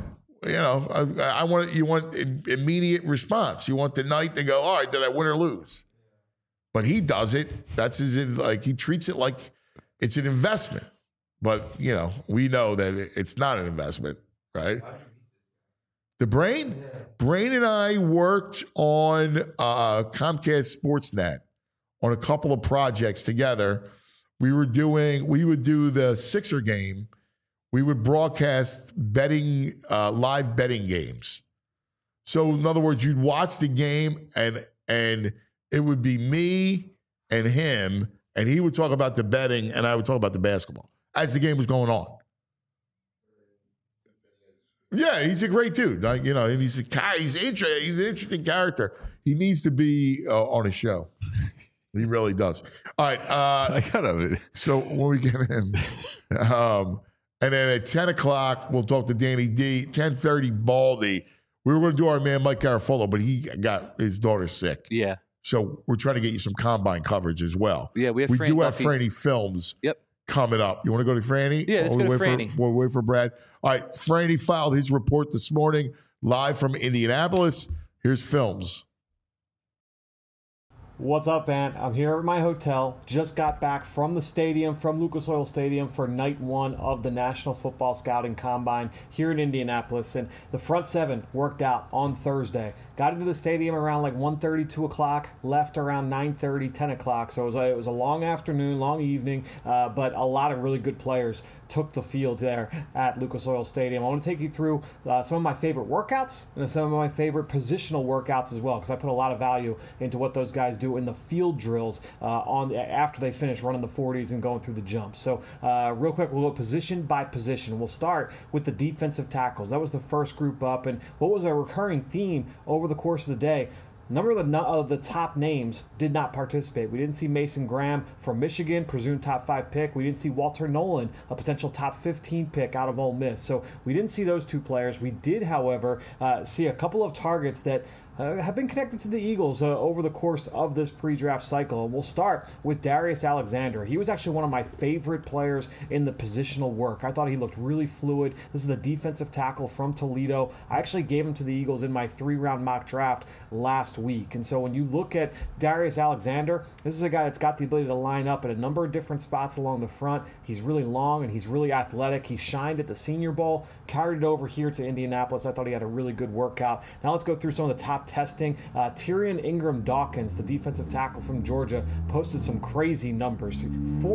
I want you want immediate response. You want the night to go, all right, did I win or lose? But he does it. That's he treats it like it's an investment. But, we know that it's not an investment, right? The Brain? Yeah. Brain and I worked on Comcast Sportsnet on a couple of projects together. We would do the Sixer game. We would broadcast live betting games. So in other words, you'd watch the game and it would be me and him, and he would talk about the betting and I would talk about the basketball as the game was going on. Yeah, he's a great dude. Like, and he's an interesting character. He needs to be on a show. He really does. All right. I gotta. So when we get in, and then at 10 o'clock, we'll talk to Danny D. 10:30, Baldy. We were going to do our man Mike Garafolo, but he got his daughter sick. Yeah. So we're trying to get you some combine coverage as well. Yeah, we have We Franny do have Duffy. Franny Films coming up. You want to go to Franny? Yeah, let's go to Franny. We'll wait for Brad. All right, Franny filed his report this morning live from Indianapolis. Here's Films. What's up, man? I'm here at my hotel. Just got back from the stadium, from Lucas Oil Stadium, for night one of the National Football Scouting Combine here in Indianapolis. And the front seven worked out on Thursday. Got into the stadium around like 1:30, 2 o'clock, left around 9:30, 10 o'clock. So it was a long afternoon, long evening, but a lot of really good players took the field there at Lucas Oil Stadium. I want to take you through some of my favorite workouts and some of my favorite positional workouts as well, because I put a lot of value into what those guys do in the field drills after they finish running the 40s and going through the jumps. So real quick, we'll go position by position. We'll start with the defensive tackles. That was the first group up, and what was a recurring theme over the course of the day, a number of the top names did not participate. We didn't see Mason Graham from Michigan, presumed top 5 pick. We didn't see Walter Nolan, a potential top 15 pick out of Ole Miss. So we didn't see those two players. We did, however, see a couple of targets that have been connected to the Eagles over the course of this pre-draft cycle. And we'll start with Darius Alexander. He was actually one of my favorite players in the positional work. I thought he looked really fluid. This is the defensive tackle from Toledo. I actually gave him to the Eagles in my 3-round mock draft last week. And so when you look at Darius Alexander, this is a guy that's got the ability to line up at a number of different spots along the front. He's really long and he's really athletic. He shined at the Senior Bowl, carried it over here to Indianapolis. I thought he had a really good workout. Now let's go through some of the top testing. Tyrion Ingram Dawkins, the defensive tackle from Georgia, posted some crazy numbers.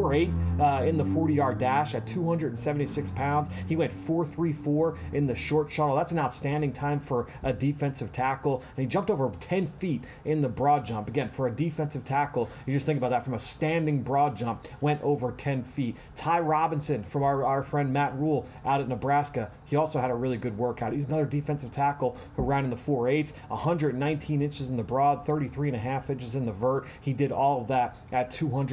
4.8 in the 40-yard dash at 276 pounds. He went 4.34 in the short shuttle. That's an outstanding time for a defensive tackle. And he jumped over 10 feet in the broad jump. Again, for a defensive tackle, you just think about that, from a standing broad jump, went over 10 feet. Ty Robinson from our friend Matt Rule out at Nebraska, he also had a really good workout. He's another defensive tackle who ran in the 4.8s, 119 inches in the broad, 33.5 inches in the vert. He did all of that at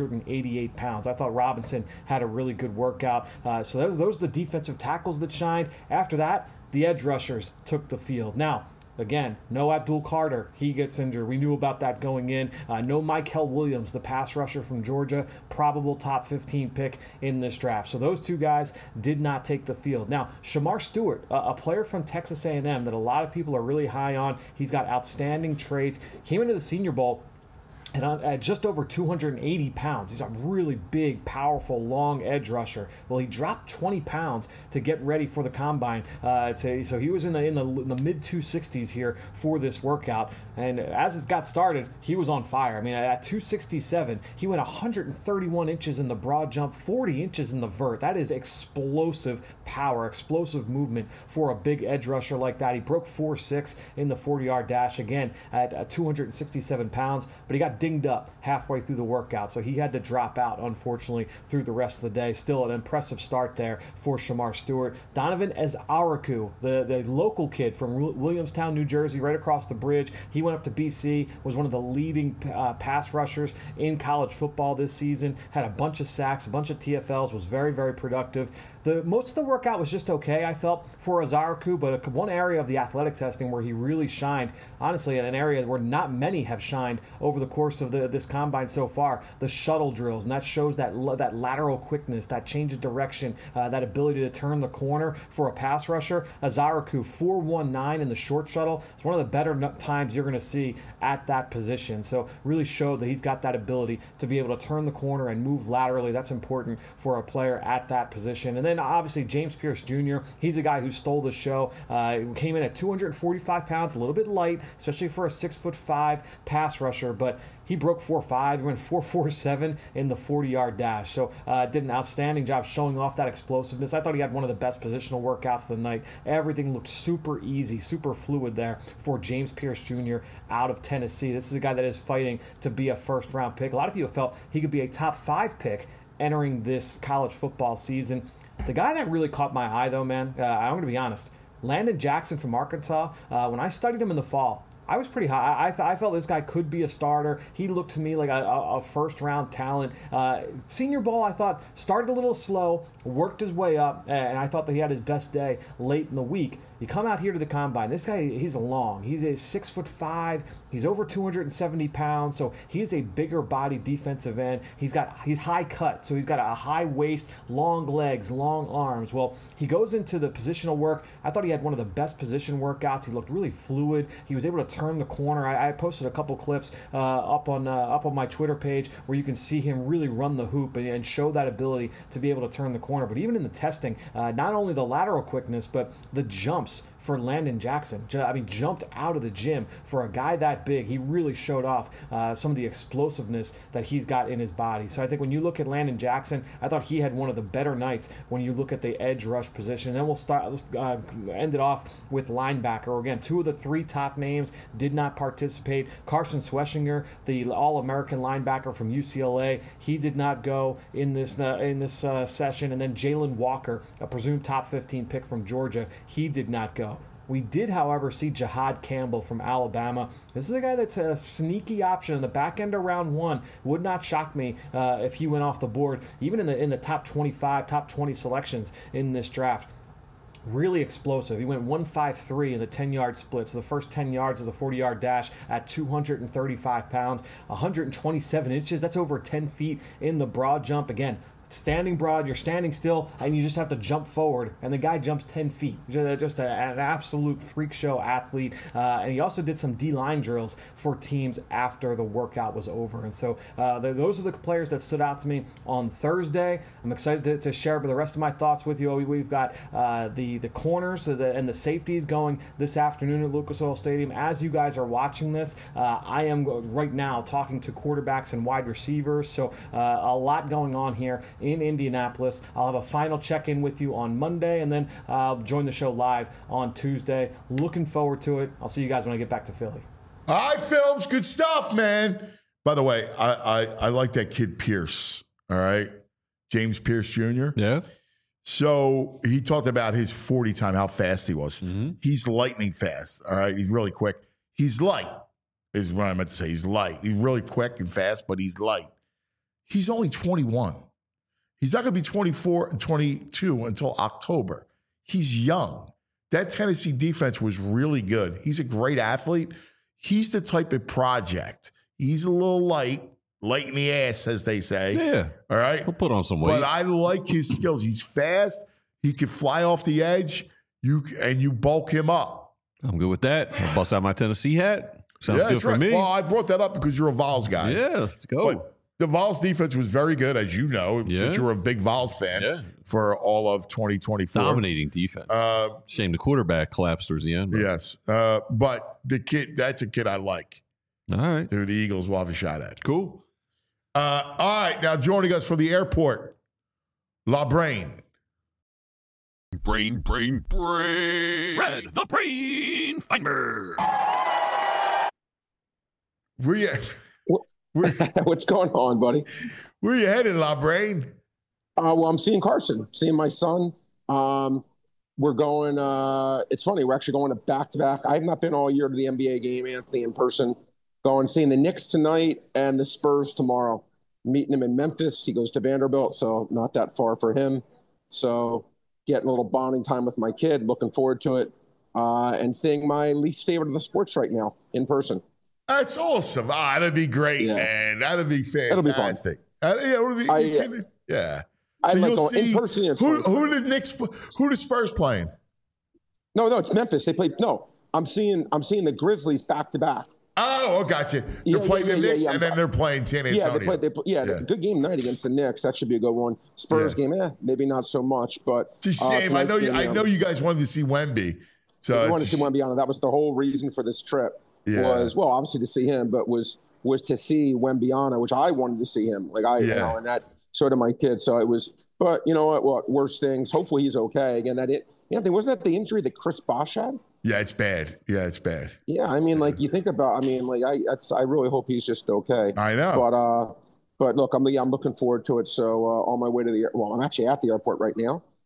288 pounds. I thought Robinson had a really good workout. So those are the defensive tackles that shined. After that, the edge rushers took the field. Now, again, no Abdul Carter. He gets injured. We knew about that going in. No Mikel Williams, the pass rusher from Georgia, probable top 15 pick in this draft. So those two guys did not take the field. Now, Shamar Stewart, a player from Texas A&M that a lot of people are really high on. He's got outstanding traits. Came into the Senior Bowl and at just over 280 pounds. He's a really big, powerful, long edge rusher. Well, he dropped 20 pounds to get ready for the combine. So he was in the mid 260s here for this workout. And as it got started, he was on fire. I mean, at 267, he went 131 inches in the broad jump, 40 inches in the vert. That is explosive power, explosive movement for a big edge rusher like that. He broke 4.6 in the 40-yard dash, again, at 267 pounds. But he got dinged up halfway through the workout, so he had to drop out, unfortunately, through the rest of the day. Still an impressive start there for Shamar Stewart. Donovan Ezaraku, the local kid from Williamstown, New Jersey, right across the bridge. He went up to BC, was one of the leading pass rushers in college football this season, had a bunch of sacks, a bunch of TFLs, was very, very productive. Most of the workout was just okay, I felt, for Ezaraku, but one area of the athletic testing where he really shined, honestly, in an area where not many have shined over the course of this combine so far, the shuttle drills, and that shows that lateral quickness, that change of direction, that ability to turn the corner for a pass rusher. Ezaraku, 4.19 in the short shuttle. It's one of the better times you're going to see at that position. So really showed that he's got that ability to be able to turn the corner and move laterally. That's important for a player at that position. And then obviously James Pierce Jr., he's a guy who stole the show. Came in at 245 pounds, a little bit light, especially for a 6'5" pass rusher, but he broke 4.5. He went 4.47 in the 40-yard dash. So did an outstanding job showing off that explosiveness. I thought he had one of the best positional workouts of the night. Everything looked super easy, super fluid there for James Pierce Jr. out of Tennessee. This is a guy that is fighting to be a first-round pick. A lot of people felt he could be a top 5 pick entering this college football season. The guy that really caught my eye, though, man, I'm going to be honest, Landon Jackson from Arkansas, when I studied him in the fall, I was pretty high. I felt this guy could be a starter. He looked to me like a first-round talent. Senior Bowl, I thought, started a little slow, worked his way up, and I thought that he had his best day late in the week. You come out here to the combine. This guy, he's long. He's a 6'5". He's over 270 pounds, so he's a bigger body defensive end. He's high cut, so he's got a high waist, long legs, long arms. Well, he goes into the positional work. I thought he had one of the best position workouts. He looked really fluid. He was able to turn the corner. I posted a couple clips up on my Twitter page where you can see him really run the hoop and show that ability to be able to turn the corner. But even in the testing, not only the lateral quickness, but the jumps for Landon Jackson. Jumped out of the gym for a guy that big. He really showed off some of the explosiveness that he's got in his body. So I think when you look at Landon Jackson, I thought he had one of the better nights when you look at the edge rush position. And then let's end it off with linebacker. Again, 2 of the 3 top names did not participate. Carson Schweschinger, the All-American linebacker from UCLA, he did not go in this session. And then Jalen Walker, a presumed top 15 pick from Georgia, he did not go. We did, however, see Jahad Campbell from Alabama. This is a guy that's a sneaky option in the back end of round 1. Would not shock me if he went off the board, even in the top 25, top 20 selections in this draft. Really explosive. He went 1.53 in the 10-yard split, so the first 10 yards of the 40-yard dash at 235 pounds, 127 inches. That's over 10 feet in the broad jump. Again, standing broad, you're standing still, and you just have to jump forward, and the guy jumps 10 feet. Just an absolute freak show athlete. And he also did some D-line drills for teams after the workout was over. And so those are the players that stood out to me on Thursday. I'm excited to share the rest of my thoughts with you. We've got the corners and the safeties going this afternoon at Lucas Oil Stadium. As you guys are watching this, I am right now talking to quarterbacks and wide receivers. So a lot going on here in Indianapolis. I'll have a final check-in with you on Monday, and then I'll join the show live on Tuesday. Looking forward to it. I'll see you guys when I get back to Philly. All right, Films, good stuff, man. By the way, I like that kid Pierce, all right? James Pierce Jr. Yeah. So he talked about his 40 time, how fast he was. Mm-hmm. He's lightning fast, all right? He's really quick. He's light, is what I meant to say. He's light. He's really quick and fast, but he's light. He's only 21. He's not going to be 24 and 22 until October. He's young. That Tennessee defense was really good. He's a great athlete. He's the type of project. He's a little light in the ass, as they say. Yeah. All right? He'll put on some weight. But I like his skills. He's fast. He can fly off the edge. You bulk him up. I'm good with that. I'll bust out my Tennessee hat. Sounds good for me. Well, I brought that up because you're a Vols guy. Yeah, let's go. But the Vols defense was very good, as you know, since you were a big Vols fan for all of 2024. Dominating defense. Shame the quarterback collapsed towards the end. But. Yes. But the kid, that's a kid I like. All right. Who the Eagles will have a shot at. Cool. All right. Now joining us from the airport, La Brain. Brain. Red, the Brain Finder. Where you What's going on, buddy? Where you headed, La Brain? Well, I'm seeing Carson, seeing my son. We're going, it's funny, we're actually going to back-to-back. I have not been all year to the NBA game, Anthony, in person. Going, seeing the Knicks tonight and the Spurs tomorrow. Meeting him in Memphis. He goes to Vanderbilt, so not that far for him. So getting a little bonding time with my kid, looking forward to it. And seeing my least favorite of the sports right now in person. That's awesome. That'd be great, man. That'd be fantastic. It'll be fun. Yeah. I So like you'll going see in person. who the Spurs playing? No, it's Memphis. They play. No, I'm seeing the Grizzlies back to back. Oh, gotcha. They're playing the Knicks, and then they're playing San Antonio. Good game night against the Knicks. That should be a good one. Spurs game, maybe not so much, but it's a shame. I know you guys wanted to see Wemby. So we wanted to see Wemby on it. That was the whole reason for this trip. Was obviously to see him, but was to see Wembyana, which I wanted to see him. And that sort of my kid. So it was, but you know what? Worse things. Hopefully he's okay. Again, Anthony, wasn't that the injury that Chris Bosh had? Yeah, it's bad. Yeah, I mean, you think about. I mean, I really hope he's just okay. I know. But look, I'm looking forward to it. So on my way to I'm actually at the airport right now.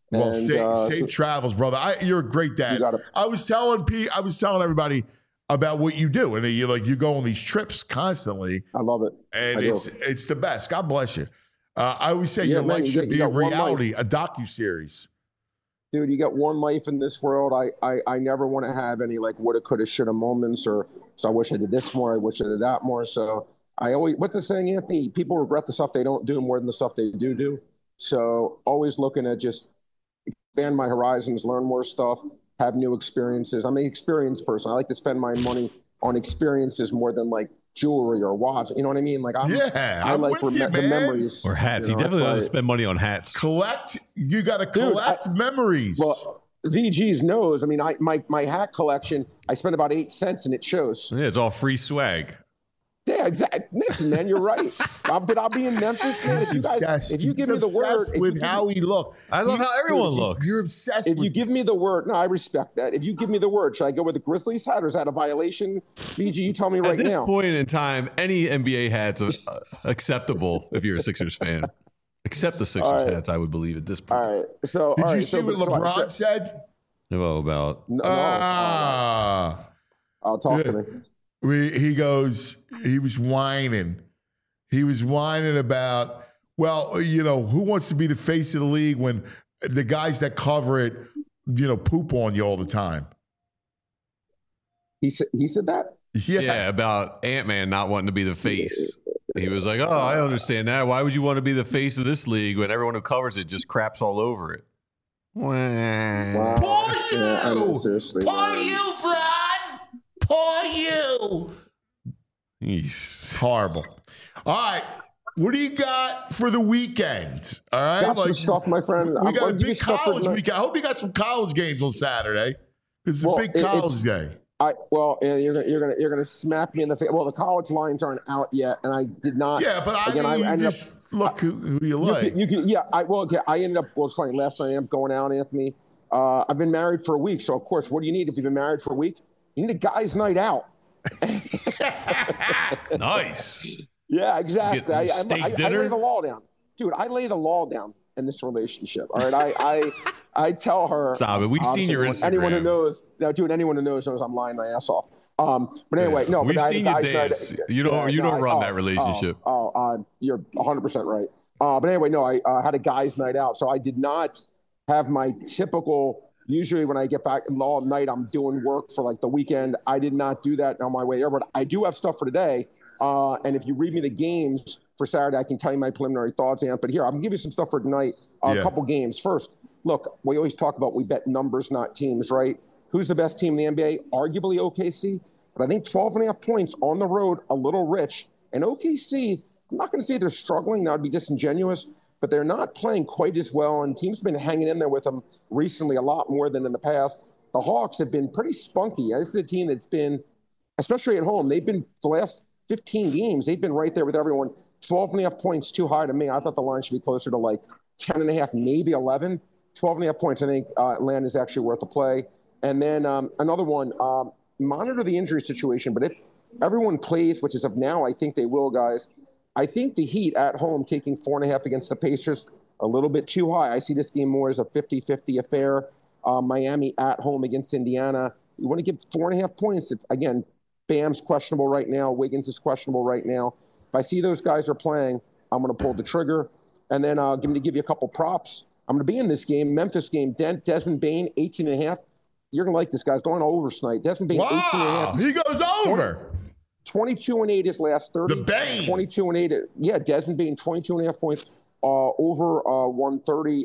Well, And, safe travels, brother. You're a great dad. I was telling everybody about what you do, and you go on these trips constantly. I love it, and it's the best. God bless you. I always say your life should be a reality, a docuseries. Dude, you got one life in this world. I never want to have any like woulda, coulda, shoulda moments, or so I wish I did this more. I wish I did that more. So I always, what's the saying, Anthony? People regret the stuff they don't do more than the stuff they do. So always looking to just expand my horizons, learn more stuff, have new experiences. I'm an experienced person. I like to spend my money on experiences more than like jewelry or watch. You know what I mean? Like I like the memories or hats. He definitely doesn't spend money on hats. You got to collect memories. Well, VG's knows. I mean, my hat collection. I spend about 8 cents, and it shows. Yeah, it's all free swag. Yeah, exactly. Listen, man, you're right. But I'll be in Memphis, man. If you give me the word, with how he looked, I love how everyone looks. You're obsessed. If you give me the word, no, I respect that. If you give me the word, should I go with the Grizzlies hat, or is that a violation? VG, you tell me right now. At this point in time, any NBA hat's acceptable if you're a Sixers fan. Except the Sixers hats, I would believe at this point. All right. So, did you see what LeBron said? Well, about talk to me. He was whining. He was whining about, well, who wants to be the face of the league when the guys that cover it, poop on you all the time. He said that? Yeah, about Ant-Man not wanting to be the face. He was like, oh, I understand that. Why would you want to be the face of this league when everyone who covers it just craps all over it? Wow. Poor you! Yeah, I know, seriously. Poor you, Brad! Poor you! He's horrible. All right. What do you got for the weekend? All right. Got some stuff, my friend. We got a big college weekend. I hope you got some college games on Saturday. It's a big college day. You're gonna smack me in the face. Well, the college lines aren't out yet, and I did not. Yeah, but I ended up look who you like. I ended up. Well, it's funny. Last night I ended up going out, Anthony. I've been married for a week, so of course, what do you need if you've been married for a week? You need a guy's night out. Nice. Yeah, exactly. I lay dinner? the law down, dude. I lay the law down in this relationship. All right, I tell her. Stop it. We've seen your Instagram. Anyone who knows, anyone who knows I'm lying my ass off. But anyway, no. We've but seen you dance. You don't run that relationship. You're 100% right. But anyway, no. I had a guy's night out, so I did not have my typical. Usually, when I get back in all night, I'm doing work for like the weekend. I did not do that on my way there, but I do have stuff for today. And if you read me the games for Saturday, I can tell you my preliminary thoughts, Ant. But here, I'm gonna give you some stuff for tonight. A couple games. First, look, we always talk about we bet numbers, not teams, right? Who's the best team in the NBA? Arguably OKC, but I think 12.5 points on the road, a little rich. And OKC's, I'm not going to say they're struggling. That would be disingenuous, but they're not playing quite as well. And teams have been hanging in there with them recently a lot more than in the past. The Hawks have been pretty spunky. This is a team that's been, especially at home, they've been the last 15 games, they've been right there with everyone. 12.5 points too high to me. I thought the line should be closer to like 10.5, maybe 11. 12.5 points, I think Atlanta is actually worth the play. And then another one, monitor the injury situation. But if everyone plays, which is of now, I think they will, guys. I think the Heat at home taking 4.5 against the Pacers, a little bit too high. I see this game more as a 50-50 affair. Miami at home against Indiana. You want to give 4.5 points. Again, Bam's questionable right now. Wiggins is questionable right now. If I see those guys are playing, I'm going to pull the trigger. And then I'm going to give you a couple props. I'm going to be in this game, Memphis game. Desmond Bane, 18.5. You're going to like this, guys. Going over tonight. Desmond Bane, 18.5. He goes over. 22-8 his last 30. The Bane. 22-8. Yeah, Desmond Bane, 22.5 points. Over 130.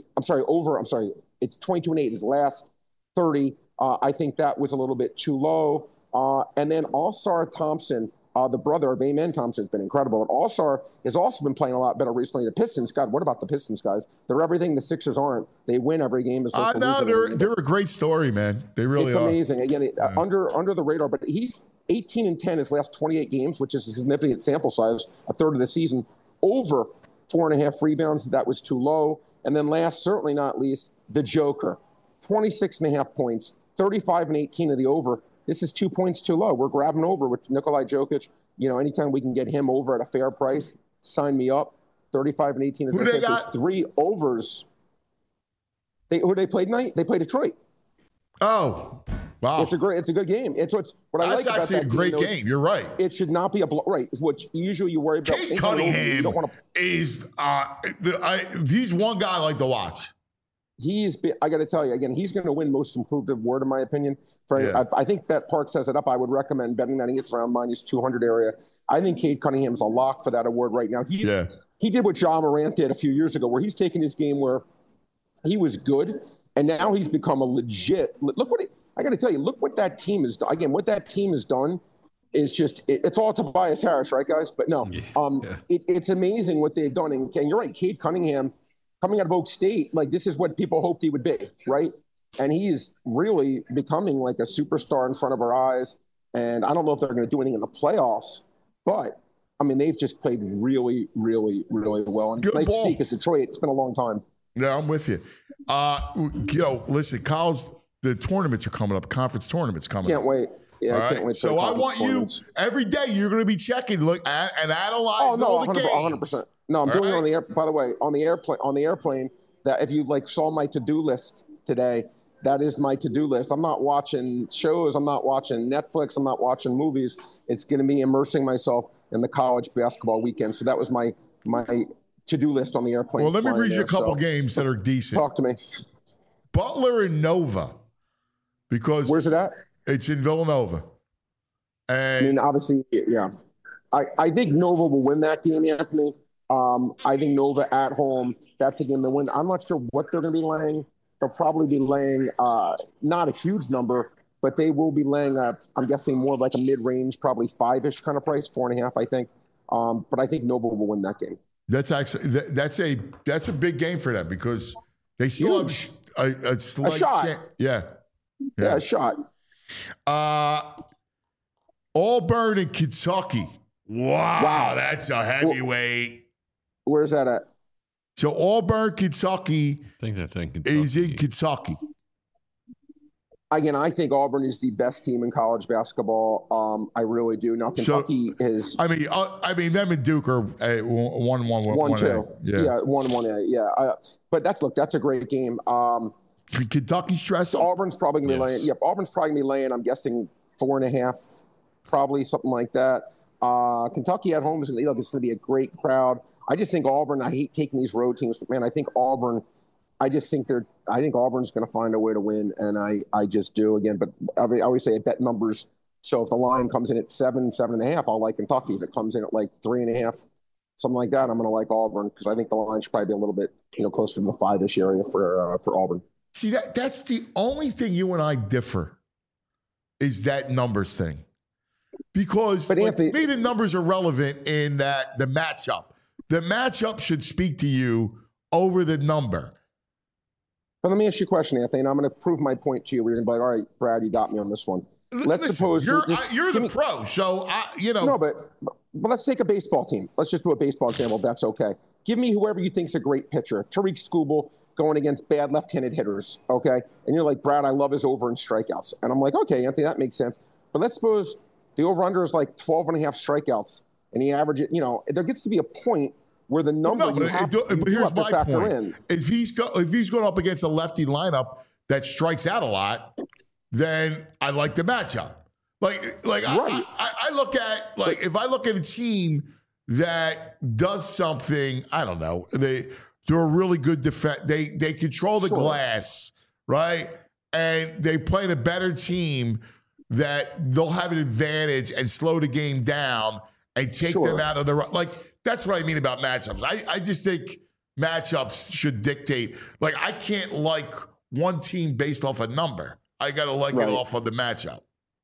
It's 22-8 his last 30. I think that was a little bit too low. And then All-Star Thompson, the brother of Amen Thompson, has been incredible. And All-Star has also been playing a lot better recently. The Pistons, God, what about the Pistons, guys? They're everything the Sixers aren't. They win every game. I know, they're a great story, man. They really are. It's amazing. Again, under the radar, but he's 18-10 his last 28 games, which is a significant sample size, a third of the season. Over 4.5 rebounds. That was too low. And then last, certainly not least, the Joker. 26.5 points, 35 and 18 of the over. This is 2 points too low. We're grabbing over with Nikolai Jokic. You know, anytime we can get him over at a fair price, sign me up. 35 and 18. As Who I they said, got? 3 overs. Who they played tonight? They played Detroit. Oh, wow! It's a good game. It's what I That's like about actually that a great game. You're right. It should not be right. Which usually you worry about. Cade Cunningham is he's one guy I like to watch. I got to tell you again, he's going to win Most Improved Award in my opinion. I think Bet Park says it up. I would recommend betting that he gets around -200 area. I think Cade Cunningham's a lock for that award right now. He did what Ja Morant did a few years ago, where he's taken his game where he was good, and now he's become a legit. Look what I got to tell you. Look what that team is. Again, what that team has done is just it's all Tobias Harris, right, guys? But no, it's amazing what they've done. And you're right, Cade Cunningham, coming out of Oak State, like this is what people hoped he would be, right? And he is really becoming like a superstar in front of our eyes. And I don't know if they're going to do anything in the playoffs, but I mean, they've just played really, really, really well. And it's nice to see because Detroit, it's been a long time. Yeah, I'm with you. Listen, college, the tournaments are coming up, conference tournaments coming up. Can't wait. Yeah, I can't wait. So I want you, every day you're going to be checking, look at and analyze all the games. 100%. No, I'm doing it on the air. By the way, on the airplane, that if you saw my to-do list today, that is my to-do list. I'm not watching shows. I'm not watching Netflix. I'm not watching movies. It's going to be immersing myself in the college basketball weekend. So that was my to-do list on the airplane. Well, let me read you a couple games that are decent. Talk to me. Butler and Nova. Because where's it at? It's in Villanova. And I mean, obviously, yeah. I think Nova will win that game, Anthony. I think Nova at home, that's a game to win. I'm not sure what they're going to be laying. They'll probably be laying not a huge number, but they will be laying I'm guessing more like a mid-range, probably 5-ish kind of price, 4.5, I think. But I think Nova will win that game. That's actually that's a big game for them because they still have a slight shot. Yeah, a shot. Auburn and Kentucky. Wow, that's a heavyweight. Where's that at? So Auburn, Kentucky. I think that's in Kentucky. Is in Kentucky. Again, I think Auburn is the best team in college basketball. I really do. Now Kentucky is. I mean, them and Duke are 1-1. 1-2. Yeah, 1-1. Yeah. But that's a great game. Kentucky stress. Auburn's probably gonna be laying. Yep, Auburn's probably gonna be laying. I'm guessing 4.5, probably something like that. Kentucky at home is going to be a great crowd. I just think Auburn. I hate taking these road teams, but man, I think Auburn. I think Auburn's going to find a way to win, and I just do again. But I always say I bet numbers. So if the line comes in at 7.5, I'll like Kentucky. If it comes in at like 3.5, something like that, I'm going to like Auburn because I think the line should probably be a little bit closer to the 5-ish area for Auburn. See that's the only thing you and I differ is that numbers thing. Because to me, the numbers are relevant in that the matchup. The matchup should speak to you over the number. But let me ask you a question, Anthony, and I'm going to prove my point to you. We're going to be like, all right, Brad, you got me on this one. Let's suppose you're the pro, so No, but let's take a baseball team. Let's just do a baseball example, if that's okay. Give me whoever you think's a great pitcher. Tariq Skubal going against bad left-handed hitters, okay? And you're like, Brad, I love his over in strikeouts. And I'm like, okay, Anthony, that makes sense. But let's suppose the over-under is like 12.5 strikeouts, and he averages, there gets to be a point where the number you have to factor in. If he's going up against a lefty lineup that strikes out a lot, then I like the matchup. Right. I look at if I look at a team that does something, I don't know, they're a really good defense. They control the glass, right? And they play a better team that they'll have an advantage and slow the game down and take them out of the that's what I mean about matchups. I just think matchups should dictate. I can't like one team based off a number. I got to like it off of the matchup.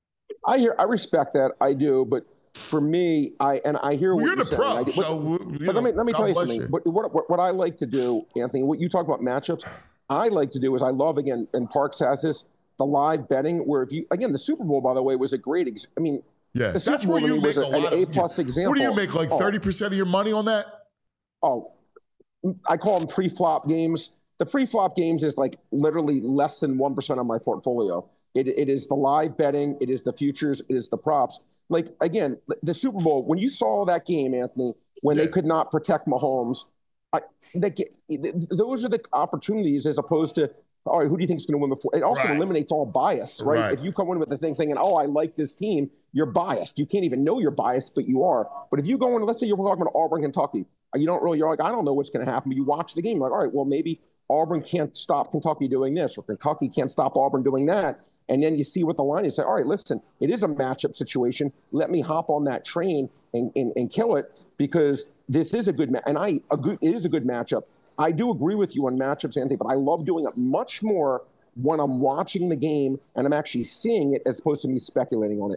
I respect that. I do, but for me, I hear what you're the pro. But let me tell you something. What I like to do, Anthony, what you talk about matchups, I like to do is I love, again, and Parks has this, the live betting where the Super Bowl, by the way, was a great, yeah, the Super Bowl where you make an A+ example. What do you make, 30% of your money on that? Oh, I call them pre-flop games. The pre-flop games is literally less than 1% of my portfolio. It is the live betting. It is the futures. It is the props. Again, the Super Bowl, when you saw that game, Anthony, when they could not protect Mahomes, those are the opportunities as opposed to all right, who do you think is going to win the four? It also Right. eliminates all bias, right? Right. If you come in with the thing thinking, oh, I like this team, you're biased. You can't even know you're biased, but you are. But if you go in, let's say you're talking about Auburn, Kentucky, you're like, I don't know what's going to happen. But you watch the game, you're like, all right, well, maybe Auburn can't stop Kentucky doing this, or Kentucky can't stop Auburn doing that. And then you see what the line is. Say, all right, listen, it is a matchup situation. Let me hop on that train and kill it, because this is a good it is a good matchup. I do agree with you on matchups, Anthony, but I love doing it much more when I'm watching the game and I'm actually seeing it as opposed to me speculating on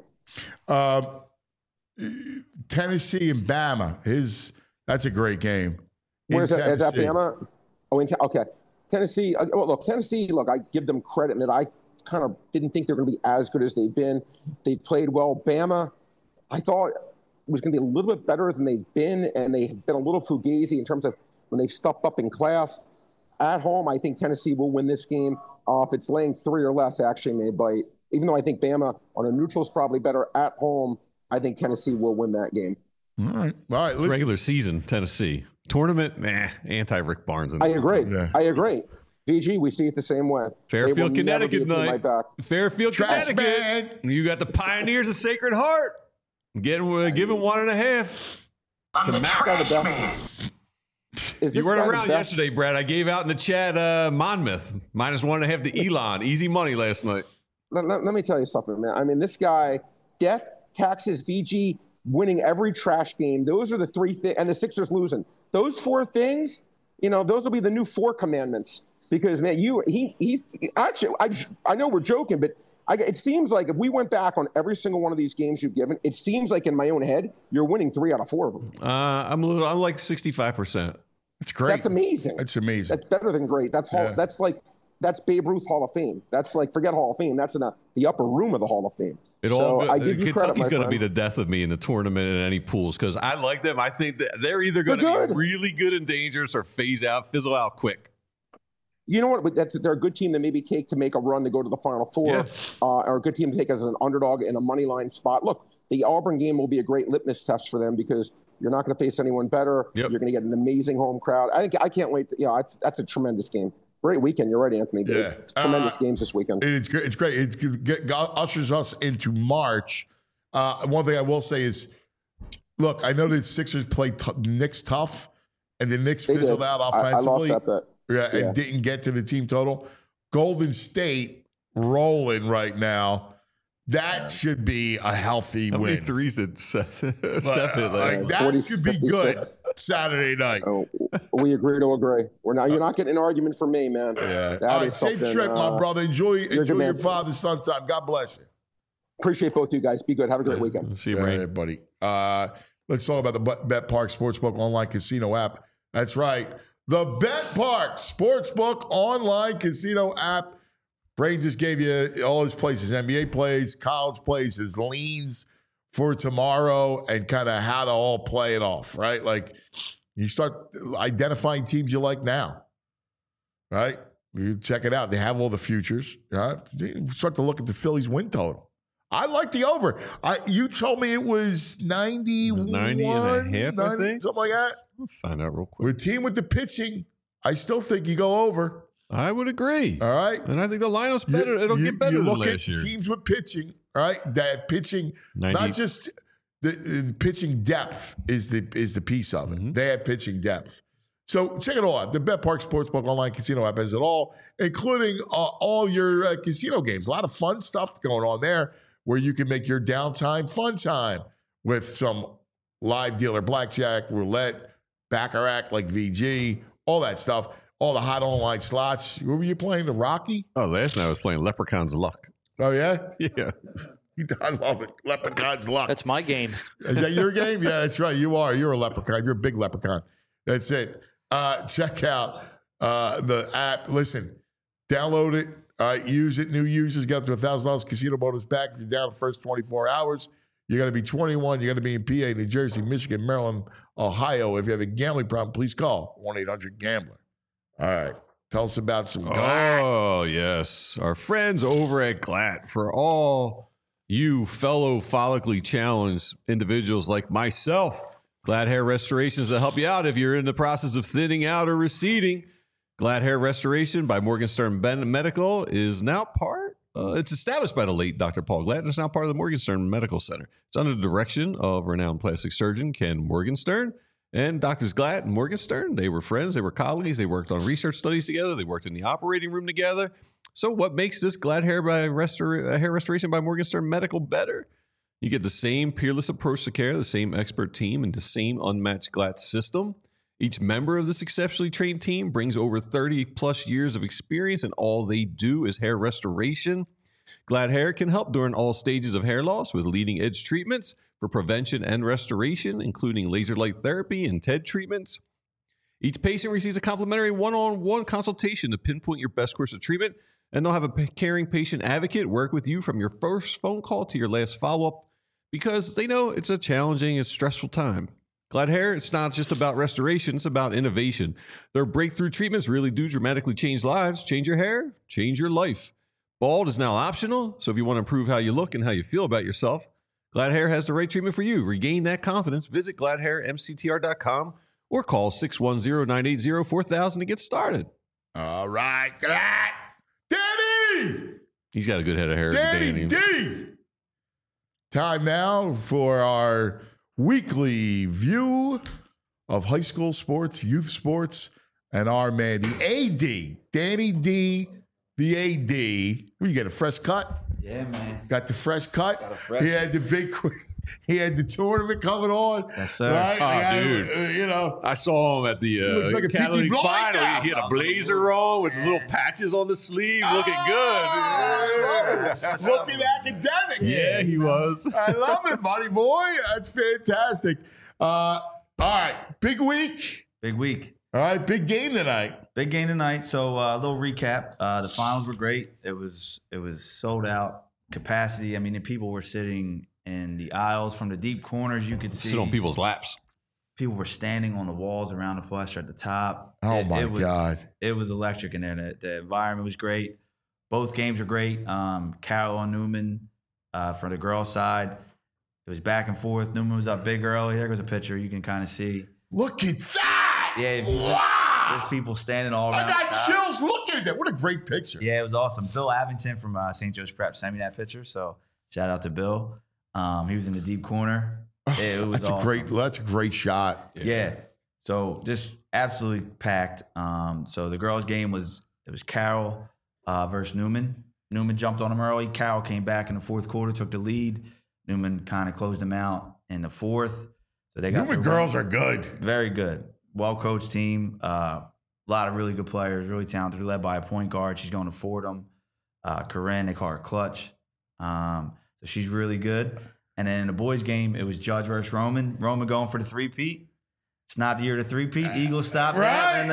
it. Tennessee and Bama, that's a great game. Where's that? Is that Bama? Oh, okay. Tennessee. Tennessee. Look, I give them credit in that I kind of didn't think they're going to be as good as they've been. They played well. Bama, I thought was going to be a little bit better than they've been, and they've been a little fugazi in terms of when they've stepped up in class. At home, I think Tennessee will win this game. If it's laying 3 or less, actually may bite. Even though I think Bama on a neutral is probably better at home, I think Tennessee will win that game. All right. Listen. Regular season, Tennessee. Tournament, anti-Rick Barnes. I agree. Yeah. I agree. VG, we see it the same way. Fairfield, Connecticut night. Fairfield, Trash Connecticut. Man. You got the Pioneers of Sacred Heart. Giving 1.5. The best. You weren't around yesterday, Brad. I gave out in the chat Monmouth -1.5 to Elon. Easy money last night. Let me tell you something, man. I mean, this guy, death, taxes, VG, winning every trash game. Those are the 3 things, and the Sixers losing. Those 4 things, those will be the new 4 commandments. Because, man, he's actually, I know we're joking, but it seems like if we went back on every single one of these games you've given, it seems like in my own head, you're winning 3 out of 4 of them. I'm like 65%. That's great. That's amazing. That's amazing. That's better than great. That's Babe Ruth Hall of Fame. That's like, forget Hall of Fame. That's in the upper room of the Hall of Fame. I give you credit, Kentucky's going to be the death of me in the tournament and any pools, because I like them. I think that they're either going to be really good and dangerous or fizzle out quick. You know what? They're a good team to maybe take to make a run to go to the Final Four, or a good team to take as an underdog in a money line spot. Look, the Auburn game will be a great litmus test for them, because you're not going to face anyone better. Yep. You're going to get an amazing home crowd. I can't wait. That's a tremendous game. Great weekend. You're right, Anthony. Yeah. It's tremendous games this weekend. It's great. It's great. It ushers us into March. One thing I will say is, look, I know the Sixers played Knicks tough, and the Knicks fizzled out offensively. I lost that bet. Yeah, and didn't get to the team total. Golden State rolling right now. That should be a healthy win. How many threes did Steph hit? That 40, should be 56. Good Saturday night. Oh, we agree to agree. You're not getting an argument from me, man. Yeah. All right, safe trip, my brother. Enjoy your father's son time. God bless you. Appreciate both you guys. Be good. Have a great weekend. See you, Ray. Buddy. Let's talk about the BetParx Sportsbook online casino app. That's right. The BetParx Sportsbook online casino app. Brain just gave you all his places, NBA plays, college plays, his leans for tomorrow, and kind of how to all play it off, right? Like, you start identifying teams you like now, right? You check it out. They have all the futures. Right? You start to look at the Phillies win total. I like the over. You told me it was 91. It was 90.5, I think. Something like that. We'll find out real quick. With a team with the pitching, I still think you go over. I would agree. All right. And I think the lineup's better. It'll get better than last year. Teams with pitching, right? That pitching, 90. Not just the pitching depth is the piece of it. Mm-hmm. They have pitching depth. So check it all out. The BetParx Sportsbook online casino app has it all, including all your casino games. A lot of fun stuff going on there where you can make your downtime fun time with some live dealer blackjack, roulette, baccarat like VG, all that stuff. All the hot online slots. What were you playing? The Rocky? Oh, last night I was playing Leprechaun's Luck. Oh, yeah? Yeah. I love it. Leprechaun's Luck. That's my game. Is that your game? Yeah, that's right. You are. You're a leprechaun. You're a big leprechaun. That's it. Check out the app. Listen, download it. Use it. New users get up to $1,000 casino bonus back if you're down the first 24 hours. You're going to be 21. You're going to be in PA, New Jersey, Michigan, Maryland, Ohio. If you have a gambling problem, please call 1-800-GAMBLER. All right. Tell us about some GLAT. Oh, yes. Our friends over at GLAT. For all you fellow follically challenged individuals like myself, GLAT Hair Restorations will help you out if you're in the process of thinning out or receding. Glad Hair Restoration by Morgenstern Medical is now part. It's established by the late Dr. Paul Glad, and it's now part of the Morgenstern Medical Center. It's under the direction of renowned plastic surgeon Ken Morgenstern. And Doctors Glad and Morgenstern, they were friends, they were colleagues, they worked on research studies together, they worked in the operating room together. So what makes this Glad Hair Hair Restoration by Morgenstern Medical better? You get the same peerless approach to care, the same expert team, and the same unmatched Glad system. Each member of this exceptionally trained team brings over 30 plus years of experience, and all they do is hair restoration. Glad Hair can help during all stages of hair loss with leading edge treatments for prevention and restoration, including laser light therapy and TED treatments. Each patient receives a complimentary one-on-one consultation to pinpoint your best course of treatment, and they'll have a caring patient advocate work with you from your first phone call to your last follow-up because they know it's a challenging and stressful time. Glad Hair, it's not just about restoration, it's about innovation. Their breakthrough treatments really do dramatically change lives. Change your hair, change your life. Bald is now optional, so if you want to improve how you look and how you feel about yourself, Glad Hair has the right treatment for you. Regain that confidence. Visit gladhairmctr.com or call 610-980-4000 to get started. All right, Glad. Danny! He's got a good head of hair. Danny D! Time now for our weekly view of high school sports, youth sports, and our man, the AD, Danny D, the AD. You get a fresh cut? Yeah, man. Got the fresh cut? Got a fresh He had the big, he had the tournament coming on. Yes, sir. Right? Oh, dude. You know. I saw him at the looks like a Catalytic PT final. now. He had a blazer on with little patches on the sleeve, looking good. I love it. Looking academic. Yeah, he was. I love it, buddy boy. That's fantastic. All right, big week. Big week. All right, big game tonight. Big game tonight. So a little recap. The finals were great. It was sold out capacity. I mean, the people were sitting in the aisles from the deep corners. You could see Sit on people's laps. People were standing on the walls around the plush at the top. Oh, my God. It was electric in there. The environment was great. Both games were great. Carroll and Newman for the girls' side. It was back and forth. Newman was up big early. There goes a picture. You can kind of see. Look at that. Yeah. Wow. There's people standing all around. I got chills looking at that. What a great picture. Yeah, it was awesome. Bill Avington from St. Joe's Prep sent me that picture. So shout out to Bill. He was in the deep corner. It was awesome. That's a great shot. Yeah. So just absolutely packed. So the girls' game was Carroll versus Newman. Newman jumped on him early. Carroll came back in the fourth quarter, took the lead. Newman kind of closed him out in the fourth. So they got Newman girls are good. Very good. Well-coached team. A lot of really good players, really talented, led by a point guard. She's going to Fordham. Corinne, they call her Clutch. So she's really good. And then in the boys' game, it was Judge versus Roman. Roman going for the three-peat. It's not the year of the three-peat. Eagles stopped that.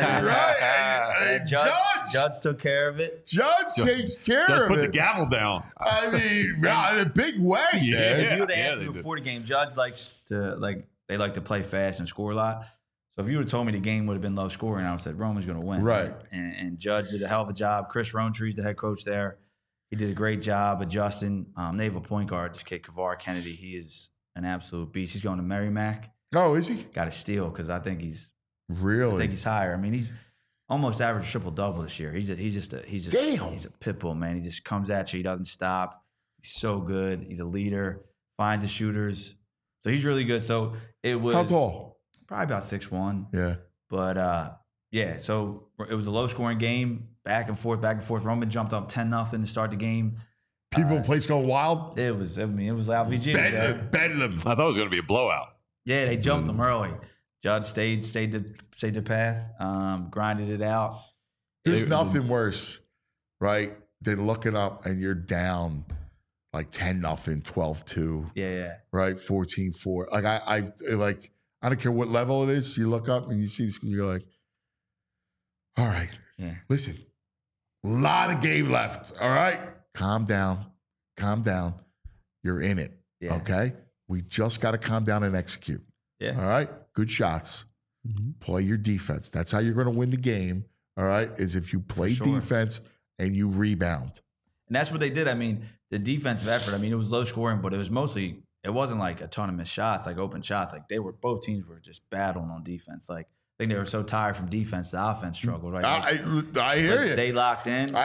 And Judge took care of it. Judge takes care of it. Just put the gavel down. I mean, in a big way. Yeah. Man. If you would have asked me before the game, Judge likes to they like to play fast and score a lot. So if you would have told me the game would have been low scoring, I would have said Roman's going to win. Right. And Judge did a hell of a job. Chris Roantree's the head coach there. He did a great job adjusting. They have a point guard, this kid, Kavar Kennedy. He is an absolute beast. He's going to Merrimack. Oh, is he? Got to steal because I think he's higher. I mean, he's almost averaged triple-double this year. He's just a pit bull, man. He just comes at you. He doesn't stop. He's so good. He's a leader. Finds the shooters. So he's really good. So it was how tall? Probably about 6'1". Yeah. But yeah, so it was a low-scoring game, back and forth. Roman jumped up 10-0 to start the game. People place going wild. It was LVG. Bedlam. I thought it was going to be a blowout. Yeah, they jumped him early. Judge stayed the path, grinded it out. There's nothing worse, right, than looking up and you're down like 10-0, 12-2. Yeah. Right, 14-4. Like I don't care what level it is. You look up and you see this, you're like, all right, listen, a lot of game left. All right, calm down. You're in it. Yeah. Okay, we just got to calm down and execute. Yeah. All right, good shots. Play your defense. That's how you're going to win the game. All right, is if you play defense and you rebound. And that's what they did. I mean, the defensive effort. I mean, it was low scoring, but it was mostly. It wasn't like a ton of missed shots, like open shots. Like both teams were just battling on defense. Like think they were so tired from defense, the offense struggled. Right? I hear you. They locked in.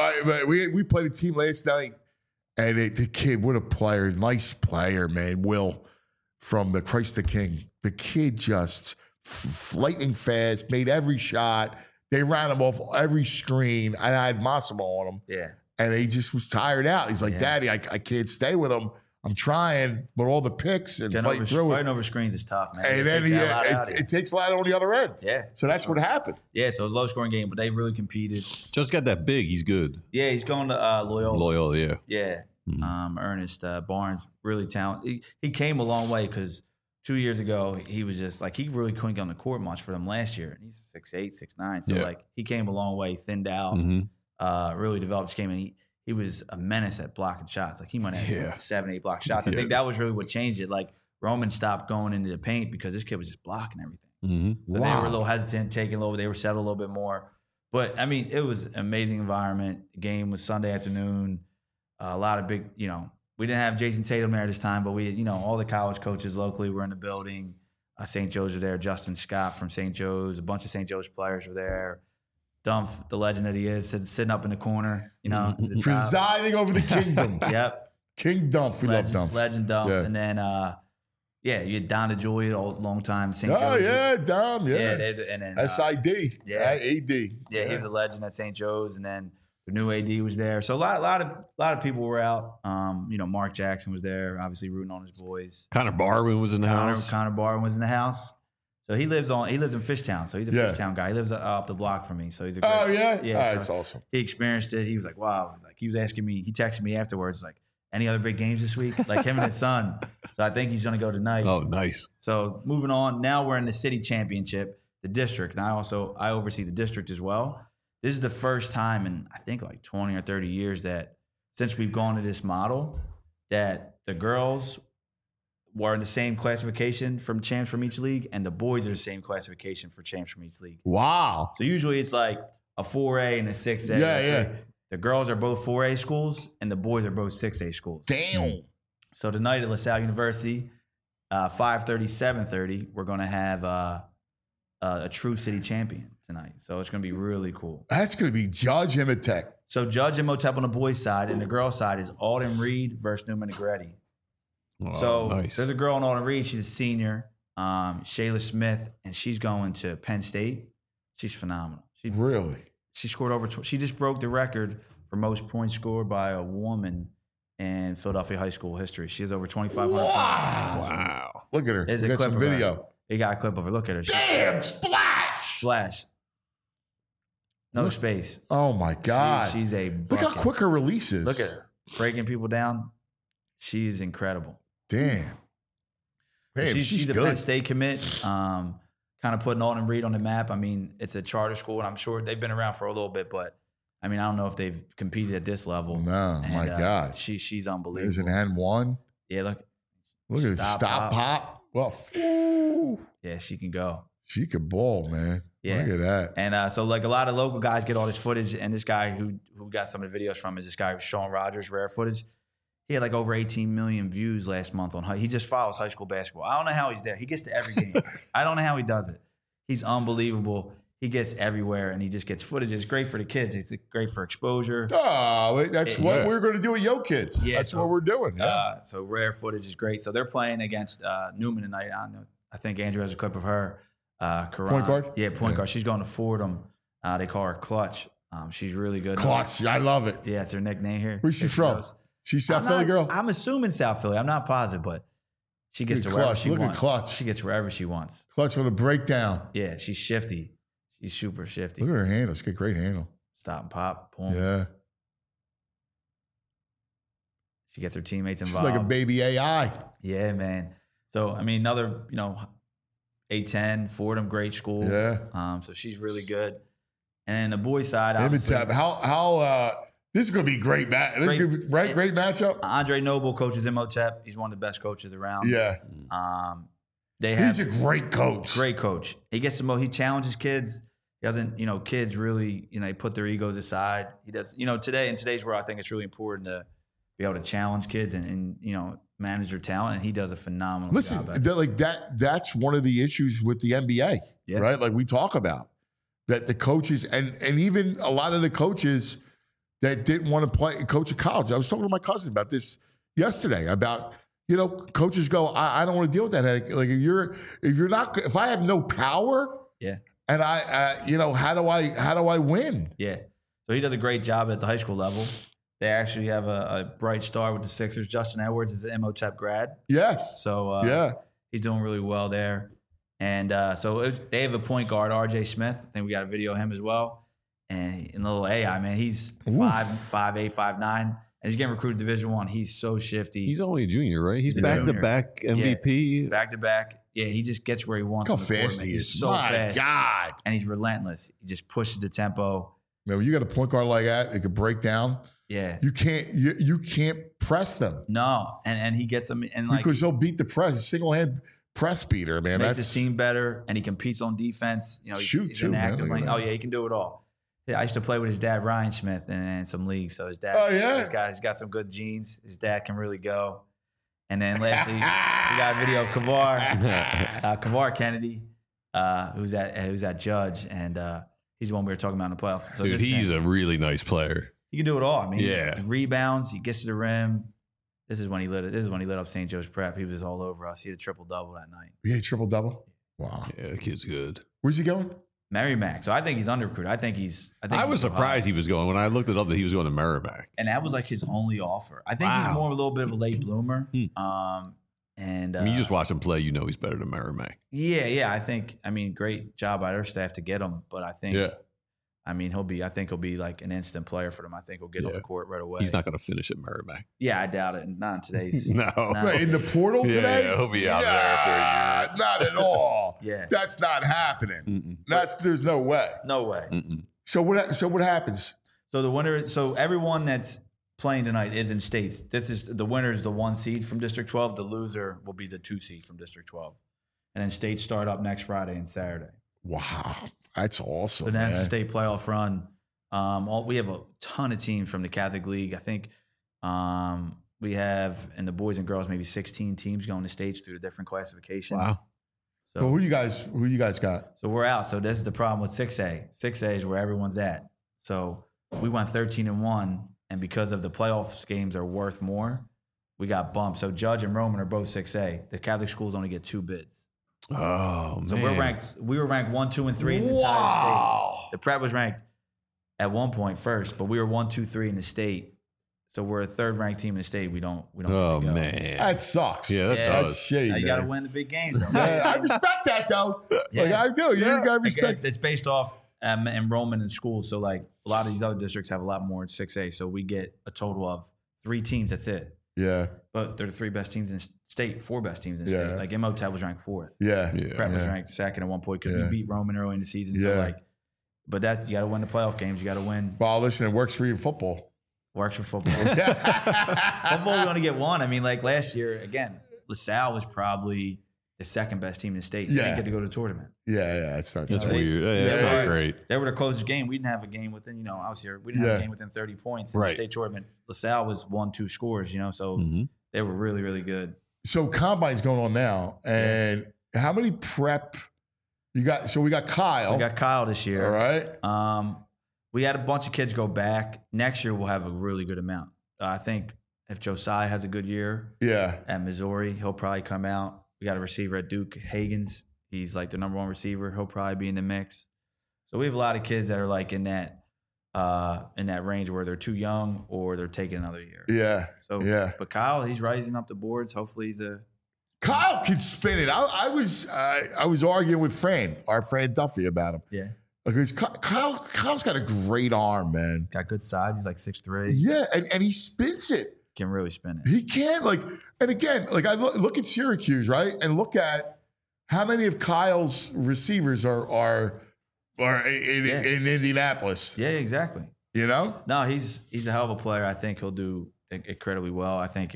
We played a team last night, and the kid, what a player, nice player, man. Will from the Christ the King. The kid just lightning fast, made every shot. They ran him off every screen. I had Massimo on him. Yeah. And he just was tired out. He's like, Daddy, I can't stay with him. I'm trying, but all the picks and fighting over screens is tough, man. And then it takes a lot on the other end. Yeah. So that's what happened. Yeah, so it was a low-scoring game, but they really competed. Just got that big. He's good. Yeah, he's going to Loyola. Loyola, yeah. Yeah. Ernest Barnes, really talented. He came a long way because 2 years ago, he was just like, he really couldn't get on the court much for them last year. And he's 6'8", 6'9". So, like, he came a long way, thinned out, really developed his game. And he was a menace at blocking shots. Like, he might have 7, 8 block shots. I think that was really what changed it. Like, Roman stopped going into the paint because this kid was just blocking everything. So they were a little hesitant, taking a little, they were settled a little bit more. But, I mean, it was an amazing environment. The game was Sunday afternoon. A lot of big, we didn't have Jason Tatum there this time, but we, all the college coaches locally were in the building. St. Joe's was there. Justin Scott from St. Joe's. A bunch of St. Joe's players were there. Dumph, the legend that he is, sitting up in the corner, presiding over the kingdom. Yep. King Dumph. We love Dumph. Legend Dumph. Yeah. And then, you had Don DeJoy, a long time St. Joe's. Oh, yeah, Dom, yeah. And then SID. AD. Yeah, he was a legend at St. Joe's. And then the new AD was there. So a lot of people were out. Mark Jackson was there, obviously rooting on his boys. Connor Barwin was in the house. Connor Barwin was in the house. So he lives in Fishtown. So he's a Fishtown guy. He lives up the block from me. So he's a great, that's awesome. He experienced it. He was like, wow. Like, he was asking me, he texted me afterwards, like, any other big games this week? Like, him and his son. So I think he's going to go tonight. Oh, nice. So moving on. Now we're in the city championship, the district. And I oversee the district as well. This is the first time in, I think, like 20 or 30 years that since we've gone to this model that the girls were in the same classification from champs from each league, and the boys are the same classification for champs from each league. Wow. So usually it's like a 4A and a 6A. Yeah. The girls are both 4A schools, and the boys are both 6A schools. Damn. So tonight at LaSalle University, 5:30, 7:30, we're going to have a true city champion tonight. So it's going to be really cool. That's going to be Judge Imhotep. So Judge Imhotep on the boys' side, and the girls' side is Alden Reed versus Newman Negretti. Oh, so nice. There's a girl on Alden Reed. She's a senior, Shayla Smith, and she's going to Penn State. She's phenomenal. Really? She scored she just broke the record for most points scored by a woman in Philadelphia high school history. She has over 2,500 points. Wow. Look at her. There's we a got clip some of her. video. He got a clip of her. Look at her. Damn, splash. No space. Oh, my God. She's a Look bucket. how quick her release is. Look at her. Breaking people down. She's incredible. Damn. Man, she's a good. Penn State commit. Kind of putting Alden Reed on the map. I mean, it's a charter school, and I'm sure they've been around for a little bit, but I mean, I don't know if they've competed at this level. No, my God. She's unbelievable. There's an N1. Yeah, look at it. Stop, pop. Well, ooh. Yeah, she can go. She could ball, man. Yeah. Look at that. And so, like, a lot of local guys get all this footage, and this guy who got some of the videos from is this guy, Sean Rogers, Rare Footage. He had like over 18 million views last month on. He just follows high school basketball. I don't know how he's there. He gets to every game. I don't know how he does it. He's unbelievable. He gets everywhere, and he just gets footage. It's great for the kids. It's great for exposure. Oh, that's what we're going to do with Yo Kids. Yeah, that's what we're doing. Yeah. So Rare Footage is great. So they're playing against Newman tonight. I think Andrew has a clip of her. Karan. Point guard? Yeah, point guard. She's going to Fordham. They call her Clutch. She's really good. Clutch. I love it. Yeah, it's her nickname here. Where's she from? She's South Philly girl? I'm assuming South Philly. I'm not positive, but she gets to wherever she wants. Look at Clutch. She gets wherever she wants. Clutch for the breakdown. Yeah, she's shifty. She's super shifty. Look at her handle. She's got a great handle. Stop and pop. Boom. Yeah. She gets her teammates She's involved. like a baby AI. Yeah, man. So, I mean, another, A10, Fordham, great school. Yeah. So she's really good. And then the boys' side, Imhotep. How this is going to be great match. This is gonna be, great matchup. Andre Noble coaches Imhotep. He's one of the best coaches around. Yeah. He's a great coach. Great coach. He gets he challenges kids. He doesn't, kids really, they put their egos aside. He does, in today's world, I think it's really important to be able to challenge kids and manage their talent. And he does a phenomenal Listen, job. that's one of the issues with the NBA, right? Like we talk about that the coaches and even a lot of the coaches that didn't want to coach at college. I was talking to my cousin about this yesterday about, coaches go, I don't want to deal with that headache. Like if I have no power, and how do I win? Yeah. So he does a great job at the high school level. They actually have a bright star with the Sixers. Justin Edwards is an MOTEP grad. Yes. So he's doing really well there. And they have a point guard, RJ Smith. I think we got a video of him as well. And in little AI, man, he's 5'8", 5'9", and he's getting recruited Division I. He's so shifty. He's only a junior, right? He's back-to-back MVP. Back-to-back. Yeah, he just gets where he wants. Look how fast he is. He's so fast. God. And he's relentless. He just pushes the tempo. Man, when you got a point guard like that, it could break down. Yeah. You can't press them. No. And he gets them because he'll beat the press. Single-hand press beater, man. Makes his team better, and he competes on defense. He's an active lane. Oh, yeah, he can do it all. Yeah, I used to play with his dad, Ryan Smith, in some leagues. So his dad, he's got some good genes. His dad can really go. And then lastly, we got a video of Kavar Kennedy, who's at Judge, and he's the one we were talking about in the playoffs. So dude, he's a really nice player. He can do it all. I mean, he rebounds, he gets to the rim. This is when he lit up St. Joe's Prep. He was just all over us. He had a triple-double that night. He had a triple-double? Wow. Yeah, the kid's good. Where's he going? Merrimack. So I think he's under-recruited. I was surprised he was going when I looked it up that he was going to Merrimack. And that was like his only offer. I think he's more of a little bit of a late bloomer. And you just watch him play, he's better than Merrimack. Yeah. Great job by their staff to get him. But I think, he'll be like an instant player for them. I think he'll get on the court right away. He's not going to finish at Merrimack. Yeah, I doubt it. Not in today's. No. Wait, in the portal today? Yeah, he'll be out there after a year. Not at all. Yeah. That's not happening. There's no way. No way. So what happens? So the winner, everyone that's playing tonight is in states. The winner is the 1 seed from District 12. The loser will be the 2 seed from District 12. And then states start up next Friday and Saturday. Wow. That's awesome. So that's the state playoff run. We have a ton of teams from the Catholic League. I think we have, in the boys and girls, maybe 16 teams going to states through the different classifications. Wow. So who you guys got? So we're out. So this is the problem with 6A. 6A is where everyone's at. So we went 13-1, and because of the playoffs games are worth more, we got bumped. So Judge and Roman are both 6A. The Catholic schools only get 2 bids. Oh, so man. We were ranked 1, 2, and 3 in the entire state. The Prep was ranked at one point first, but we were 1, 2, 3 in the state. So we're a 3rd ranked team in the state. We don't. Oh man, that sucks. Yeah, that's shady. You got to win the big games. Though. I respect that though. Like I do. You got to respect. It's based off enrollment in schools. So like a lot of these other districts have a lot more in 6A. So we get a total of 3 teams. That's it. Yeah. But they're the 3 best teams in state, 4 best teams in state. Like MOTEP was ranked 4th. Yeah. Prep was ranked 2nd at one point because we beat Roman early in the season. So but that you got to win the playoff games. You got to win. Well, listen, it works for you in football. Works for football. Football, we only get 1. I mean, like last year, again, LaSalle was probably the 2nd best team in the state. They didn't get to go to the tournament. Yeah, it's not. That's weird. That's not great. They were the closest game. We didn't have a game within. I was here. We didn't have a game within 30 points in the state tournament. LaSalle was 1-2 scores. So they were really, really good. So Combine's going on now, and how many prep you got? So we got Kyle. We got Kyle this year. All right. We had a bunch of kids go back. Next year, we'll have a really good amount. I think if Josiah has a good year at Missouri, he'll probably come out. We got a receiver at Duke, Hagens. He's like the number 1 receiver. He'll probably be in the mix. So we have a lot of kids that are like in that range where they're too young or they're taking another year. Yeah. But Kyle, he's rising up the boards. Hopefully Kyle can spin it. I was arguing with our friend Duffy about him. Yeah. Because Kyle's got a great arm, man. Got good size. He's like 6'3". Yeah, and he spins it. Can really spin it. He can. And again, I look at Syracuse, right? And look at how many of Kyle's receivers are in Indianapolis. Yeah, exactly. No, he's a hell of a player. I think he'll do incredibly well. I think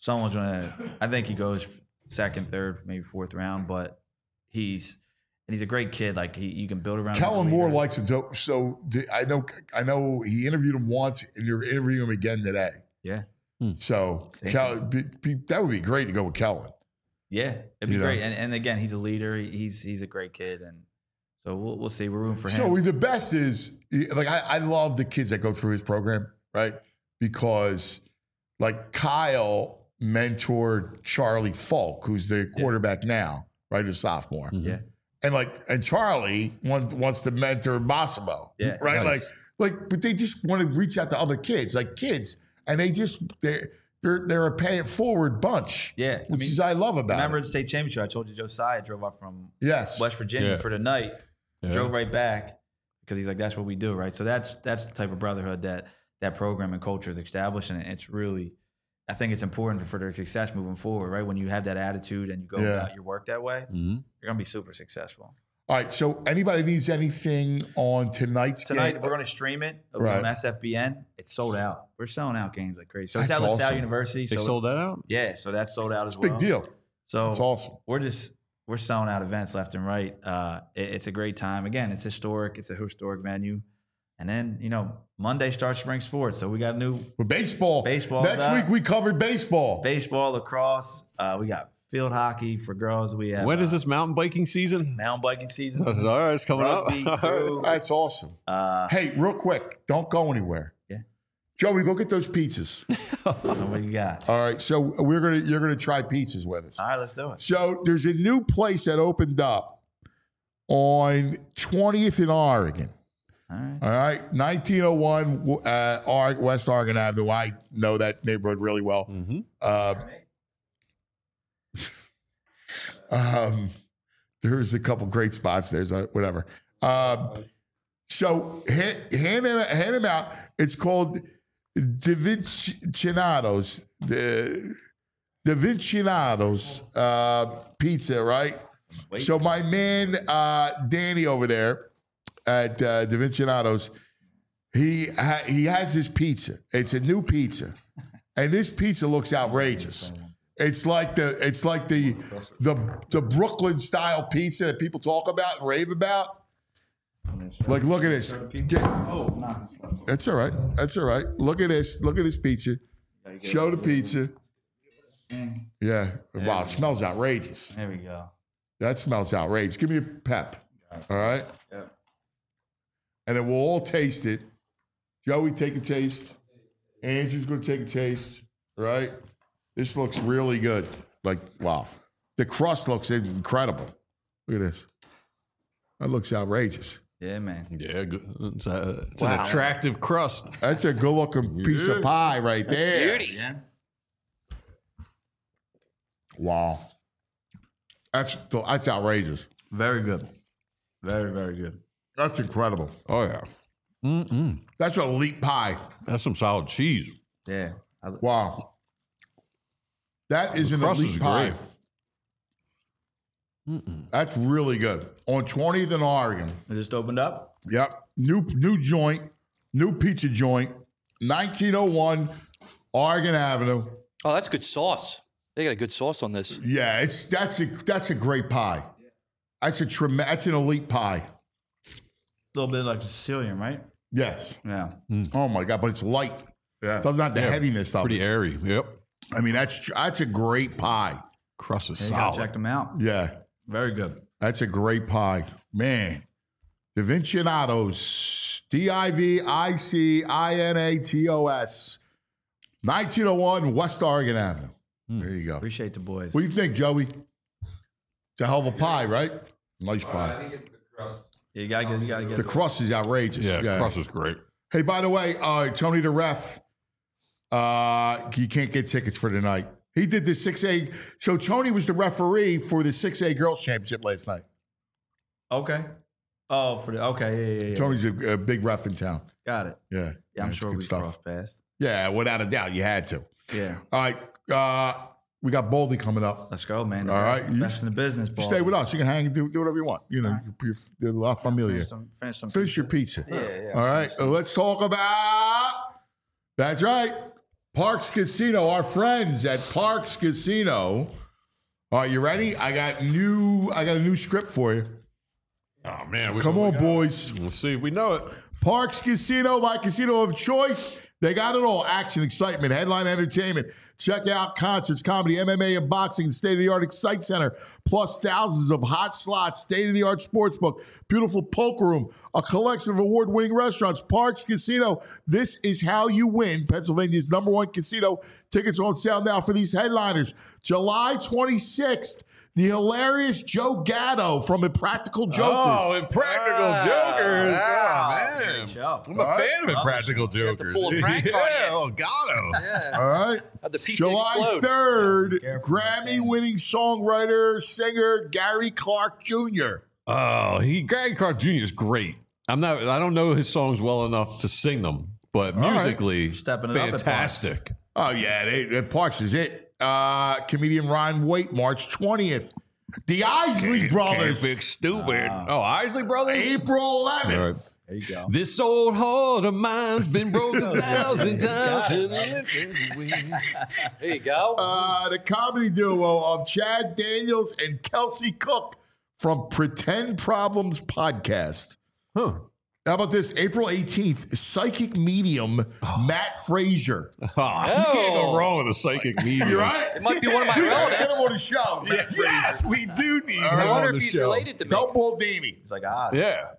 I think he goes 2nd, 3rd, maybe 4th round, but he's a great kid. Like you can build around. Kellen Moore likes him. So I know he interviewed him once, and you're interviewing him again today. Yeah. So that would be great to go with Kellen. Yeah, it'd be great. And again, he's a leader. He's a great kid, and so we'll see. We're rooting for him. So the best is like I love the kids that go through his program, right? Because like Kyle mentored Charlie Falk, who's the quarterback now, right? A sophomore. Yeah. And Charlie wants to mentor Massimo. Yeah. Right? Nice. But they just want to reach out to other kids, and they're a pay it forward bunch. Yeah. Which is I love about remember it. the state championship, I told you Josiah drove up from Yes. West Virginia for the night, Yeah. drove right back because he's like, that's what we do, right? So that's the type of brotherhood that program and culture is established, and it's really, I think it's important for their success moving forward, right? When you have that attitude and you go about your work that way, you're gonna be super successful. All right. So anybody needs anything on tonight's Tonight game? we're gonna stream it on SFBN. It's sold out. We're selling out games like crazy. So it's That's at LaSalle awesome. University. They so sold that out? Yeah, so that's sold out as well. Big deal. So That's awesome. We're selling out events left and right. It's a great time. Again, it's historic. It's a historic venue. And then, Monday starts spring sports. So we got Baseball. Next week we covered baseball. Baseball, lacrosse. We got field hockey for girls. We have When is this mountain biking season? mountain biking season. All right, it's coming Rugby, up. crew. That's awesome. Hey, real quick, don't go anywhere. Yeah. Joey, go get those pizzas. What you got? All right, so you're gonna try pizzas with us. All right, let's do it. So there's a new place that opened up on 20th in Oregon. All right, 1901 West Oregon Avenue. I know that neighborhood really well. There's a couple great spots. There's whatever. So hand him out. It's called Da Vincinados. The Da Vincinados pizza, right? So my man Danny over there at Da Vincinados, he has this pizza. It's a new pizza, and this pizza looks outrageous. It's like the Brooklyn style pizza that people talk about and rave about. Like, look at this. That's all right. That's all right. Look at this. Look at this pizza. Show the pizza. Yeah. Wow, it smells outrageous. There we go. That smells outrageous. Give me a pep. All right? Yeah. And then we'll all taste it. Joey, take a taste. Andrew's going to take a taste. Right? This looks really good. Like, wow. The crust looks incredible. Look at this. That looks outrageous. Yeah, man. Yeah, good. It's an attractive crust. That's a good-looking piece of pie right there. Beauty. Yeah. Wow. That's outrageous. Very good. Very, very good. That's incredible. Oh, yeah. That's an elite pie. That's some solid cheese. Yeah. Wow. That is an crust elite is pie. great. That's really good. On 20th in Oregon. It just opened up? Yep. New joint. New pizza joint. 1901 Oregon Avenue. Oh, that's good sauce. They got a good sauce on this. Yeah, that's a great pie. That's an elite pie. A little bit like Sicilian, right? Yes. Yeah. Oh my God, but it's light. Yeah. Doesn't have the heaviness of Pretty it. airy. Yep. I mean, that's a great pie. Crust is You gotta solid. check them out. Yeah. Very good. That's a great pie. Man. Da Vincinatos. DIVICINATOS. 1901 West Oregon Avenue. There you go. Appreciate the boys. What do you think, Joey? It's a hell of a pie, right? Nice pie. Yeah, you gotta get The crust is outrageous. Yeah, the crust is great. Hey, by the way, Tony the ref, you can't get tickets for tonight. He did the 6A. So Tony was the referee for the 6A Girls Championship last night. Okay. Oh, yeah. Tony's a big ref in town. Got it. Yeah. Yeah, I'm it's sure good we crossed paths. Yeah, without a doubt, you had to. Yeah. All right, we got Baldy coming up. Let's go, man. All right. Best in the business, You ball. stay with us. You can hang and do whatever you want. You know, you're La Familia. Finish your pizza. Yeah. All right, let's talk about. That's right, Parks Casino. Our friends at Parks Casino. All right, you ready? I got a new script for you. Oh, man. Come on, boys. We'll see if we know it. Parks Casino, my casino of choice. They got it all. Action, excitement, headline entertainment. Check out concerts, comedy, MMA, and boxing, state-of-the-art Excite Center, plus thousands of hot slots, state-of-the-art sportsbook, beautiful poker room, a collection of award-winning restaurants, Parks Casino. This is how you win. Pennsylvania's #1 casino. Tickets on sale now for these headliners. July 26th, the hilarious Joe Gatto from Impractical Jokers. Oh, Impractical Jokers. Wow. Man. Great show. I'm a fan of Impractical Jokers. pull a prank on yeah, you. oh, Gatto. Yeah. All right. How'd the pizza July explode? 3rd, Careful, Grammy-winning songwriter, singer Gary Clark Jr. Oh, Gary Clark Jr. is great. I don't know his songs well enough to sing them, but All right. musically, Stepping it up at Parks. fantastic. Oh, yeah, Parks is it. Comedian Ryan Waite, March 20th. The Isley Brothers, Big stupid. Oh, Isley Brothers? April 11th. All right. There you go. This old heart of mine's been broken 1,000 times. There you go. The comedy duo of Chad Daniels and Kelsey Cook from Pretend Problems Podcast. Huh. How about this? April 18th, psychic medium Matt Frazier. Oh, you can't go wrong with a psychic medium. You right? It might be one of my Get him relatives. on the show. Matt Frazier. Yes, we do need him I on wonder the if he's show. related to me. Tell Baldini. It's like odds. Yeah.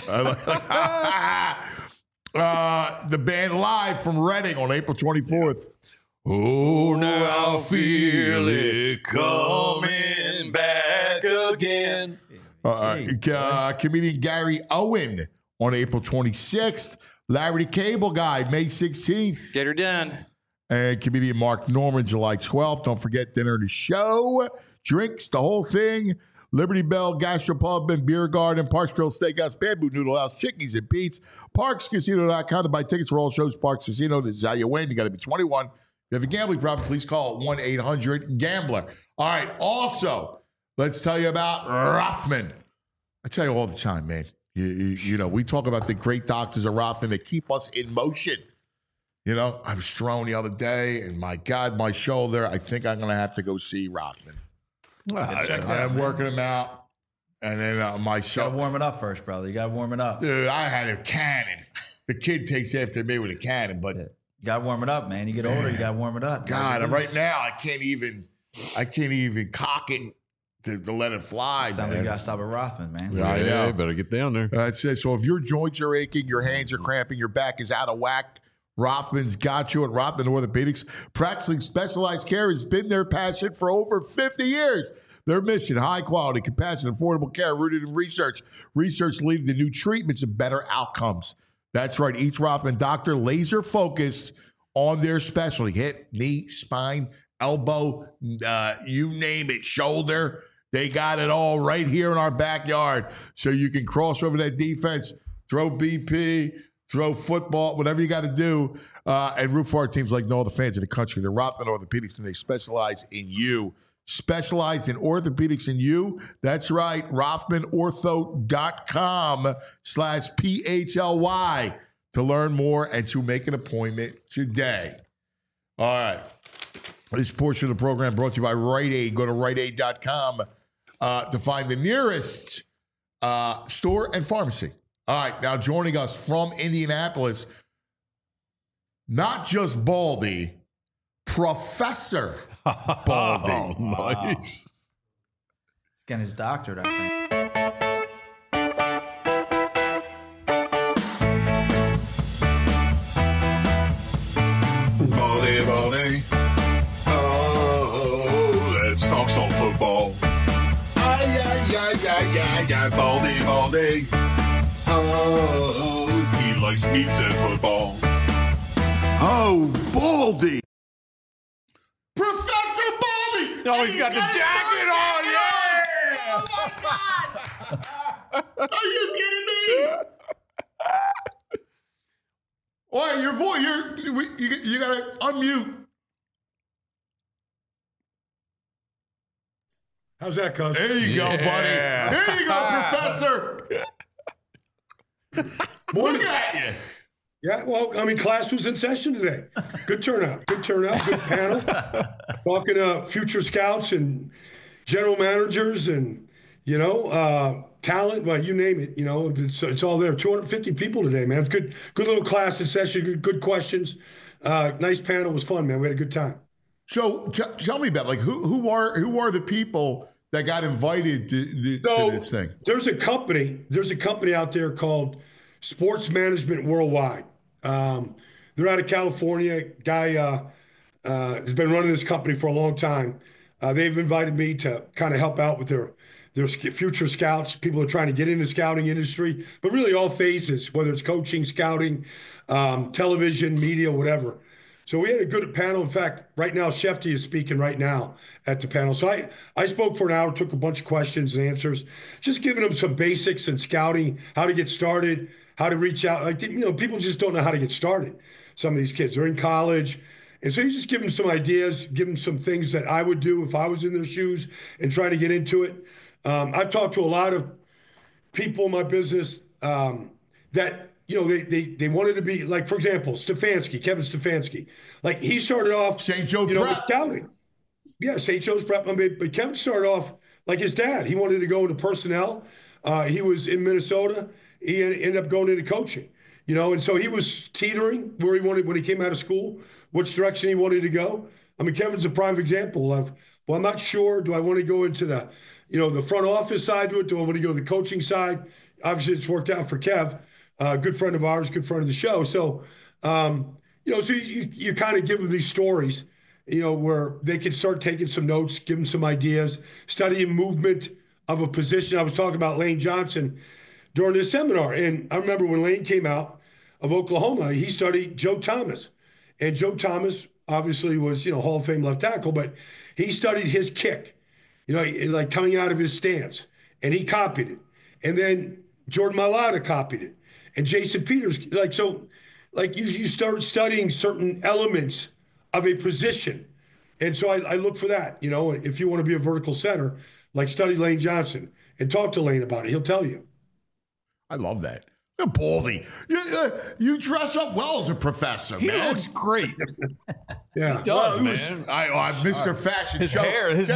The band live from Reading on April 24th. Oh, now I feel it coming back again. Comedian Gary Owen on April 26th. Larry the Cable Guy, May 16th. Get her done. And comedian Mark Norman, July 12th. Don't forget dinner and the show. Drinks, the whole thing. Liberty Bell, Gastropub, and Beer Garden, Parks Grill Steakhouse, Bamboo Noodle House, Chickies and Pete's, ParksCasino.com to buy tickets for all shows. Parks Casino, this is how you win. You got to be 21. If you have a gambling problem, please call 1-800-GAMBLER. All right, also, let's tell you about Rothman. I tell you all the time, man. You know, we talk about the great doctors of Rothman that keep us in motion. You know, I was thrown the other day, and my God, my shoulder, I think I'm going to have to go see Rothman. I'm working him out, and then my You shoulder. gotta warm it up first, brother. You gotta warm it up. Dude, I had a cannon. The kid takes after me with a cannon, but You gotta warm it up, man. You get older, you gotta warm it up. God, right now I can't even cock it to let it fly. Sounds like Man. you gotta stop at Rothman, man. Yeah, I know. Better get down there. That's it. So if your joints are aching, your hands are cramping, your back is out of whack, Rothman's got you at Rothman Orthopedics. Practicing specialized care has been their passion for over 50 years. Their mission, high quality, compassionate, affordable care rooted in research. Research leading to new treatments and better outcomes. That's right. Each Rothman doctor laser focused on their specialty. Hip, knee, spine, elbow, you name it, shoulder. They got it all right here in our backyard. So you can cross over that defense, throw BP, throw football, whatever you got to do, and root for our teams like no other fans in the country. They're Rothman Orthopedics, and they specialize in you. Specialized in orthopedics in you. That's right. RothmanOrtho.com/PHLY to learn more and to make an appointment today. All right. This portion of the program brought to you by Rite Aid. Go to RiteAid.com to find the nearest store and pharmacy. All right. Now joining us from Indianapolis, not just Baldy, Professor Baldy. Oh, nice. He's getting his doctorate, I think. Baldy, Baldy. Oh, let's talk some football. Ay, Baldy, Baldy. Oh, he likes meats and football. Oh, Baldy. Professor Baldy! Oh, he's got the jacket on, yeah! Oh, my God! Are you kidding me? Why, your voice, you got to unmute. How's that, cuz? There you go, buddy. There you go, Professor. Look at you. Yeah, well, I mean, class was in session today. Good turnout. Good panel. Talking to future scouts and general managers and, talent, well, you name it, it's all there. 250 people today, man. It's good little class session, good questions. Nice panel. It was fun, man. We had a good time. So tell me about who are the people that got invited to this thing? There's a company out there called Sports Management Worldwide. They're out of California. Guy has been running this company for a long time. They've invited me to kind of help out with their future scouts, people who are trying to get in the scouting industry, but really all phases, whether it's coaching, scouting, television, media, whatever. So we had a good panel. In fact, right now, Shefty is speaking right now at the panel. So I spoke for an hour, took a bunch of questions and answers, just giving them some basics in scouting, how to get started, how to reach out. Like, people just don't know how to get started. Some of these kids are in college. And so you just give them some ideas, give them some things that I would do if I was in their shoes and trying to get into it. I've talked to a lot of people in my business that, they wanted to be, like, for example, Kevin Stefanski. Like, he started off, St. Joe Prep. with scouting. Yeah, St. Joe's Prep. But Kevin started off like his dad. He wanted to go into personnel. He was in Minnesota. He ended up going into coaching, and so he was teetering where he wanted when he came out of school, which direction he wanted to go. I mean, Kevin's a prime example of, well, I'm not sure. Do I want to go into the front office side to it? Do I want to go to the coaching side? Obviously, it's worked out for Kev, good friend of ours, good friend of the show. So, so you kind of give them these stories, where they can start taking some notes, give them some ideas, studying movement of a position. I was talking about Lane Johnson during this seminar. And I remember when Lane came out of Oklahoma, he studied Joe Thomas. And Joe Thomas obviously was, Hall of Fame left tackle, but he studied his kick, like coming out of his stance, and he copied it. And then Jordan Mailata copied it. And Jason Peters, you start studying certain elements of a position. And so I look for that, if you want to be a vertical center, like study Lane Johnson and talk to Lane about it. He'll tell you. I love that. Baldy, you dress up well as a professor, man. He looks great. Yeah, he does, man. I'm Mr. Fashion. His hair. Let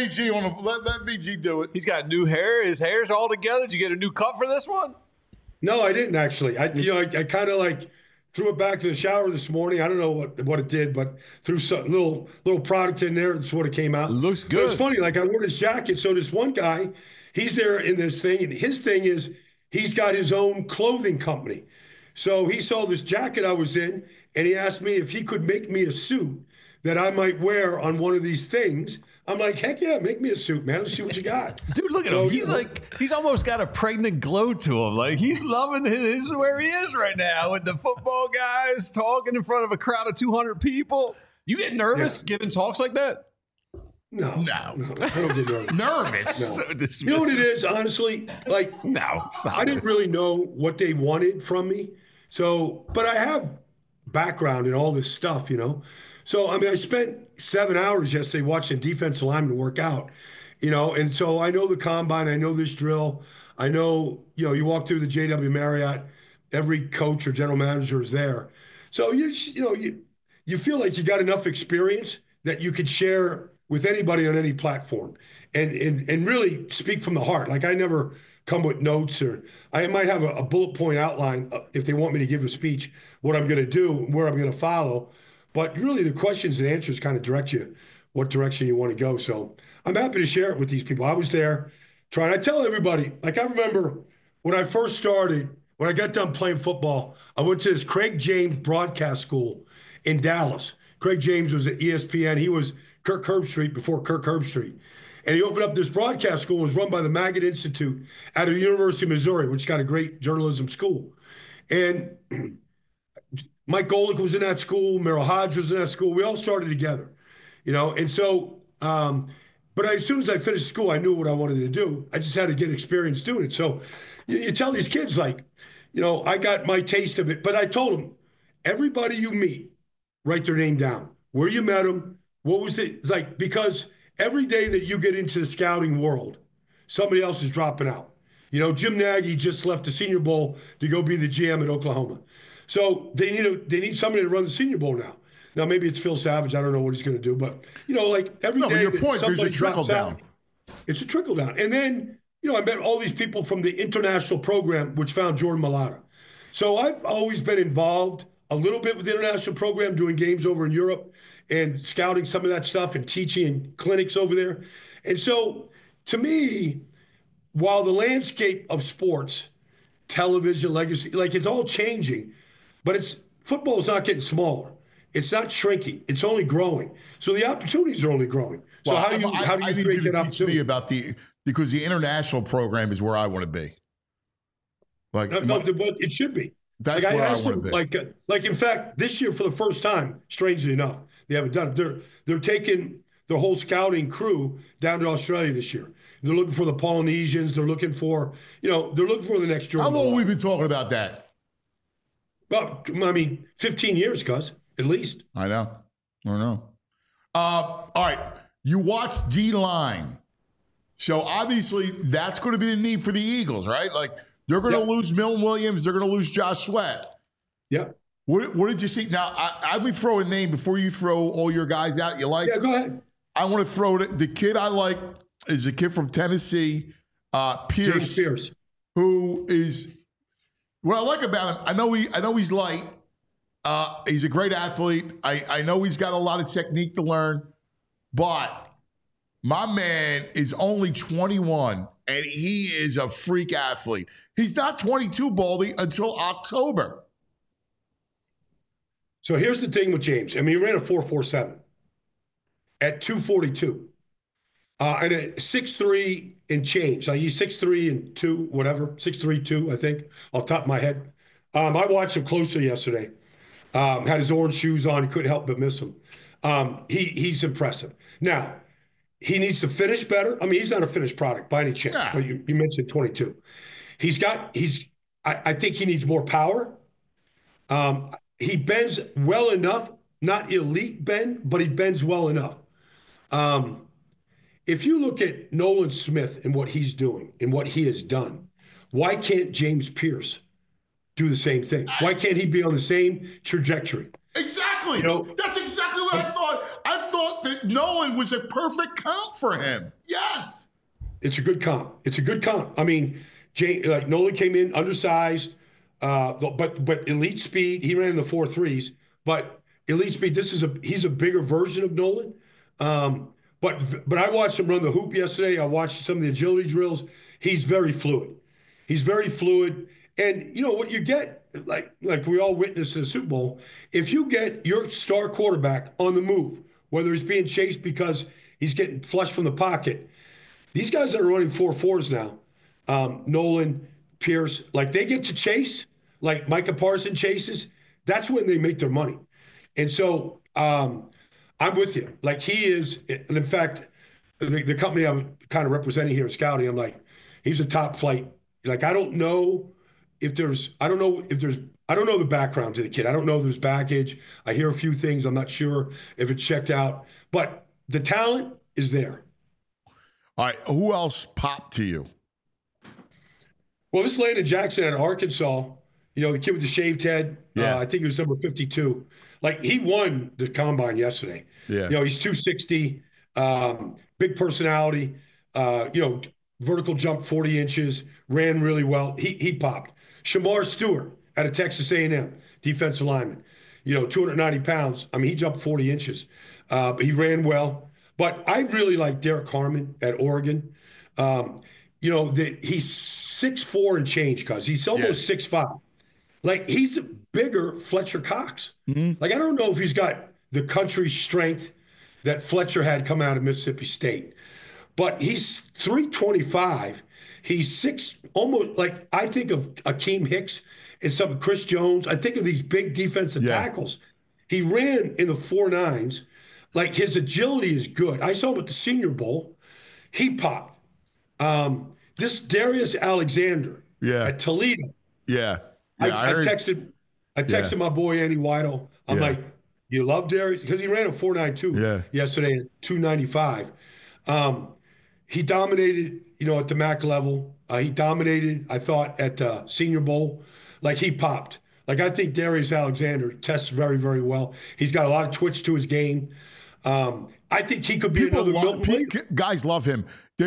VG do it. He's got new hair. His hair's all together. Did you get a new cut for this one? No, I didn't actually. I kind of threw it back to the shower this morning. I don't know what it did, but threw some little product in there. That's what it came out. It looks good. But it's funny. I wore this jacket. So this one guy, he's there in this thing, and his thing is, he's got his own clothing company. So he saw this jacket I was in, and he asked me if he could make me a suit that I might wear on one of these things. I'm like, heck yeah, make me a suit, man. Let's see what you got. Dude, look at him. He's almost got a pregnant glow to him. Like, he's loving his where he is right now with the football guys talking in front of a crowd of 200 people. You get nervous giving talks like that? No, I don't get nervous. Nervous? No. So you know what it is, honestly? No, I didn't really know what they wanted from me. So, but I have background in all this stuff, So, I mean, I spent 7 hours yesterday watching defensive linemen work out, and so I know the combine, I know this drill. I know, you walk through the JW Marriott, every coach or general manager is there. So, you feel like you got enough experience that you could share with anybody on any platform and really speak from the heart. Like, I never come with notes, or I might have a bullet point outline if they want me to give a speech, what I'm going to do, where I'm going to follow. But really the questions and answers kind of direct you what direction you want to go. So I'm happy to share it with these people. I was there trying. I tell everybody, I remember when I first started, when I got done playing football, I went to this Craig James broadcast school in Dallas. Craig James was at ESPN. He was Kirk Herbstreit before Kirk Herbstreit. And he opened up this broadcast school. It was run by the Magnet Institute out of the University of Missouri, which got a great journalism school. And Mike Golick was in that school. Merrill Hodge was in that school. We all started together, And so, but as soon as I finished school, I knew what I wanted to do. I just had to get experience doing it. So you tell these kids, I got my taste of it. But I told them, everybody you meet, write their name down, where you met them, what was it like? Because every day that you get into the scouting world, somebody else is dropping out. Jim Nagy just left the Senior Bowl to go be the GM at Oklahoma. So they need somebody to run the Senior Bowl now. Now, maybe it's Phil Savage. I don't know what he's going to do. But, every day your that point, there's a somebody trickle drops down. out, it's a trickle down. And then I met all these people from the international program, which found Jordan Mailata. So I've always been involved a little bit with the international program, doing games over in Europe and scouting some of that stuff and teaching clinics over there. And so to me, while the landscape of sports, television, legacy, like it's all changing, but football is not getting smaller. It's not shrinking. It's only growing. So the opportunities are only growing. So Well, how do you I need create you to that teach me opportunity? about because the international program is where I want to be. Like, No, but it should be. That's like where I asked wanna them, be. like in fact, this year for the first time, strangely enough, they haven't done it. They're taking their whole scouting crew down to Australia this year. They're looking for the Polynesians. They're looking for, they're looking for the next Jordan. how long have we Mailata. been talking about that? Well, I mean, 15 years, cuz, at least. I know. All right. You watched D-line. So obviously that's going to be the need for the Eagles, right? Like they're going to lose Milton Williams. They're going to lose Josh Sweat. Yep. What did you see? Now, I would throw a name before you throw all your guys out you like. Yeah, go ahead. I want to throw the kid I like is a kid from Tennessee, Pierce. James Pierce. Who is what I like about him. I know he's light. He's a great athlete. I know he's got a lot of technique to learn, but my man is only 21 and he is a freak athlete. He's not 22, Baldy, until October. So here's the thing with James. I mean, he ran a 4.47 at 242. And at 6'3" and change. Like he's 6'3" and 2, whatever. 6'3", 2, I think, off the top of my head. I watched him closely yesterday. Had his orange shoes on. He couldn't help but miss him. He's impressive. Now, he needs to finish better. I mean, he's not a finished product by any chance. Yeah. But you mentioned 22. I think he needs more power. He bends well enough, not elite bend, but he bends well enough. If you look at Nolan Smith and what he's doing and what he has done, why can't James Pierce do the same thing? Why can't he be on the same trajectory? Exactly. That's exactly what I thought. I thought that Nolan was a perfect comp for him. Yes. It's a good comp. I mean, Nolan came in undersized, but elite speed. He ran in the 4.3s, but elite speed. He's a bigger version of Nolan. But I watched him run the hoop yesterday. I watched some of the agility drills. He's very fluid. And you know what you get, like we all witnessed in the Super Bowl, if you get your star quarterback on the move, whether he's being chased because he's getting flushed from the pocket, these guys that are running 4.4s now, Nolan, Pierce, like they get to chase, like Micah Parsons chases, that's when they make their money. And so I'm with you. Like he is, and in fact, the company I'm kind of representing here in scouting, I'm like, he's a top flight. Like I don't know the background to the kid. I don't know if there's baggage. I hear a few things. I'm not sure if it's checked out, but the talent is there. All right. Who else popped to you? Well, this Landon Jackson at Arkansas, the kid with the shaved head. Yeah. I think he was number 52. Like he won the combine yesterday. Yeah. He's 260, big personality, vertical jump 40 inches, ran really well. He popped. Shamar Stewart out of Texas A&M, defensive lineman, 290 pounds. I mean, he jumped 40 inches. But he ran well. But I really like Derek Harmon at Oregon. He's 6'4" and change, cuz he's almost 6'5". Like he's bigger Fletcher Cox. Mm-hmm. Like I don't know if he's got the country strength that Fletcher had come out of Mississippi State, but he's 325. He's almost like I think of Akeem Hicks and some Chris Jones. I think of these big defensive tackles. He ran in the 4.9s. Like his agility is good. I saw him at the Senior Bowl. He popped. This Darius Alexander at Toledo. Yeah. I texted my boy Andy Weidel. I'm like, you love Darius? Because he ran a 4.92 yesterday at 295. He dominated, at the MAC level. He dominated, I thought, at the Senior Bowl. Like he popped. Like I think Darius Alexander tests very, very well. He's got a lot of twitch to his game. I think he could be another Milton Williams. Guys love him.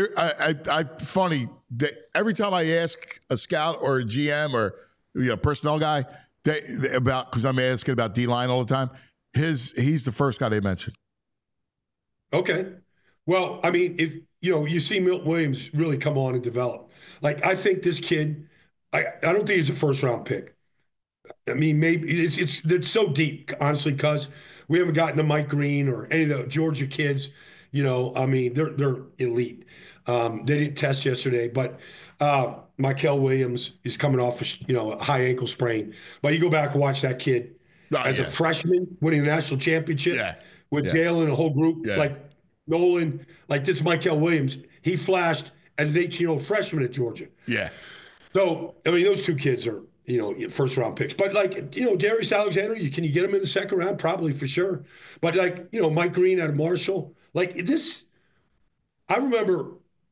Funny that every time I ask a scout or a GM or personnel guy because I'm asking about D-line all the time, he's the first guy they mention. Okay. Well, I mean, if you see Milton Williams really come on and develop. Like, I think this kid, I don't think he's a first-round pick. I mean, maybe it's so deep, honestly, because we haven't gotten to Mike Green or any of the Georgia kids. I mean, they're elite. They didn't test yesterday, but Mykel Williams is coming off a high ankle sprain. But you go back and watch that kid as a freshman winning the national championship with Jalen and a whole group like Nolan, like this Mykel Williams. He flashed as an 18-year-old freshman at Georgia. Yeah. So, I mean, those two kids are, first-round picks. But, Darius Alexander, can you get him in the second round? Probably, for sure. But, Mike Green out of Marshall. This, I remember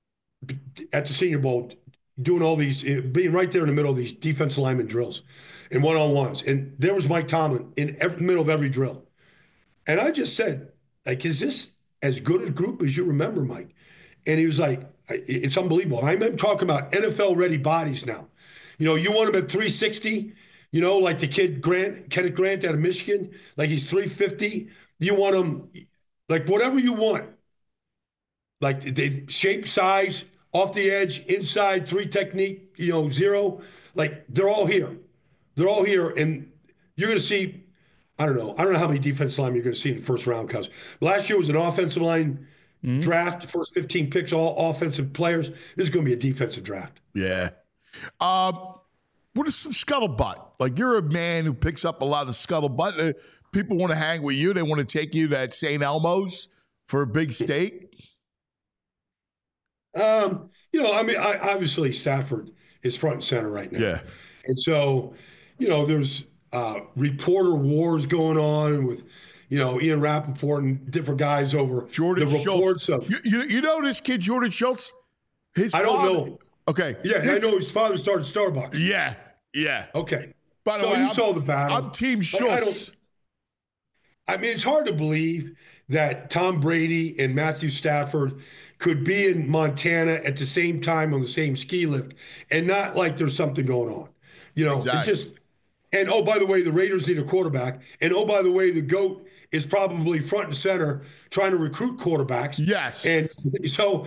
at the Senior Bowl doing all these, being right there in the middle of these defensive lineman drills and one-on-ones. And there was Mike Tomlin in the middle of every drill. And I just said, is this as good a group as you remember, Mike? And he was like, it's unbelievable. I'm talking about NFL-ready bodies now. You want him at 360, like the kid Kenneth Grant out of Michigan, like he's 350. You want him, like whatever you want. Like the shape, size, off the edge, inside, 3 technique, 0. Like they're all here. They're all here. And you're going to see, I don't know how many defensive linemen you're going to see in the first round, because last year was an offensive line draft, first 15 picks, all offensive players. This is going to be a defensive draft. Yeah. What is some scuttlebutt? Like, you're a man who picks up a lot of scuttlebutt. People want to hang with you. They want to take you to that St. Elmo's for a big steak. Obviously Stafford is front and center right now. Yeah. And so, there's reporter wars going on with, Ian Rappaport and different guys over Jordan the reports Schultz. of. You know this kid, Jordan Schultz? I don't know. Okay. Yeah, I know his father started Starbucks. Yeah. Okay. By the way, you saw the battle. I'm Team Schultz. I mean, it's hard to believe that Tom Brady and Matthew Stafford could be in Montana at the same time on the same ski lift and not like there's something going on. Exactly. And oh, by the way, the Raiders need a quarterback. And oh, by the way, the GOAT is probably front and center trying to recruit quarterbacks. Yes. And so,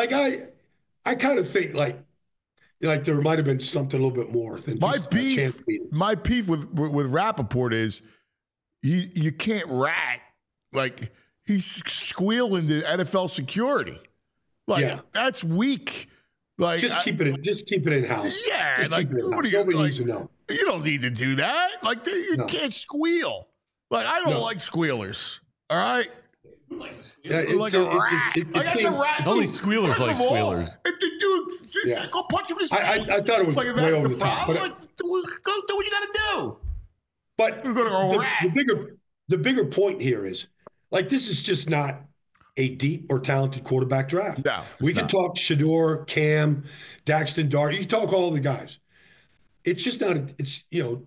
I kind of think like there might have been something a little bit more than my just beef. a chance meeting. My beef with Rappaport is you can't rat like he's squealing to NFL security. That's weak. Like just keep it in house. Yeah, just like nobody needs to know. You don't need to do that. Like you can't squeal. Like I don't like squealers. All right. Who likes to squeal? Yeah, like a rat. That's a rat. Only squealers like squealers. If the dude just go punch him in his face. I thought it was like if way that's over the the top. problem. Go do what you got to do. But You're going to go rat. The bigger point here is like this is just not a deep or talented quarterback draft. No, we can talk Shador, Cam, Daxton Dart. You can talk all the guys. It's just not. It's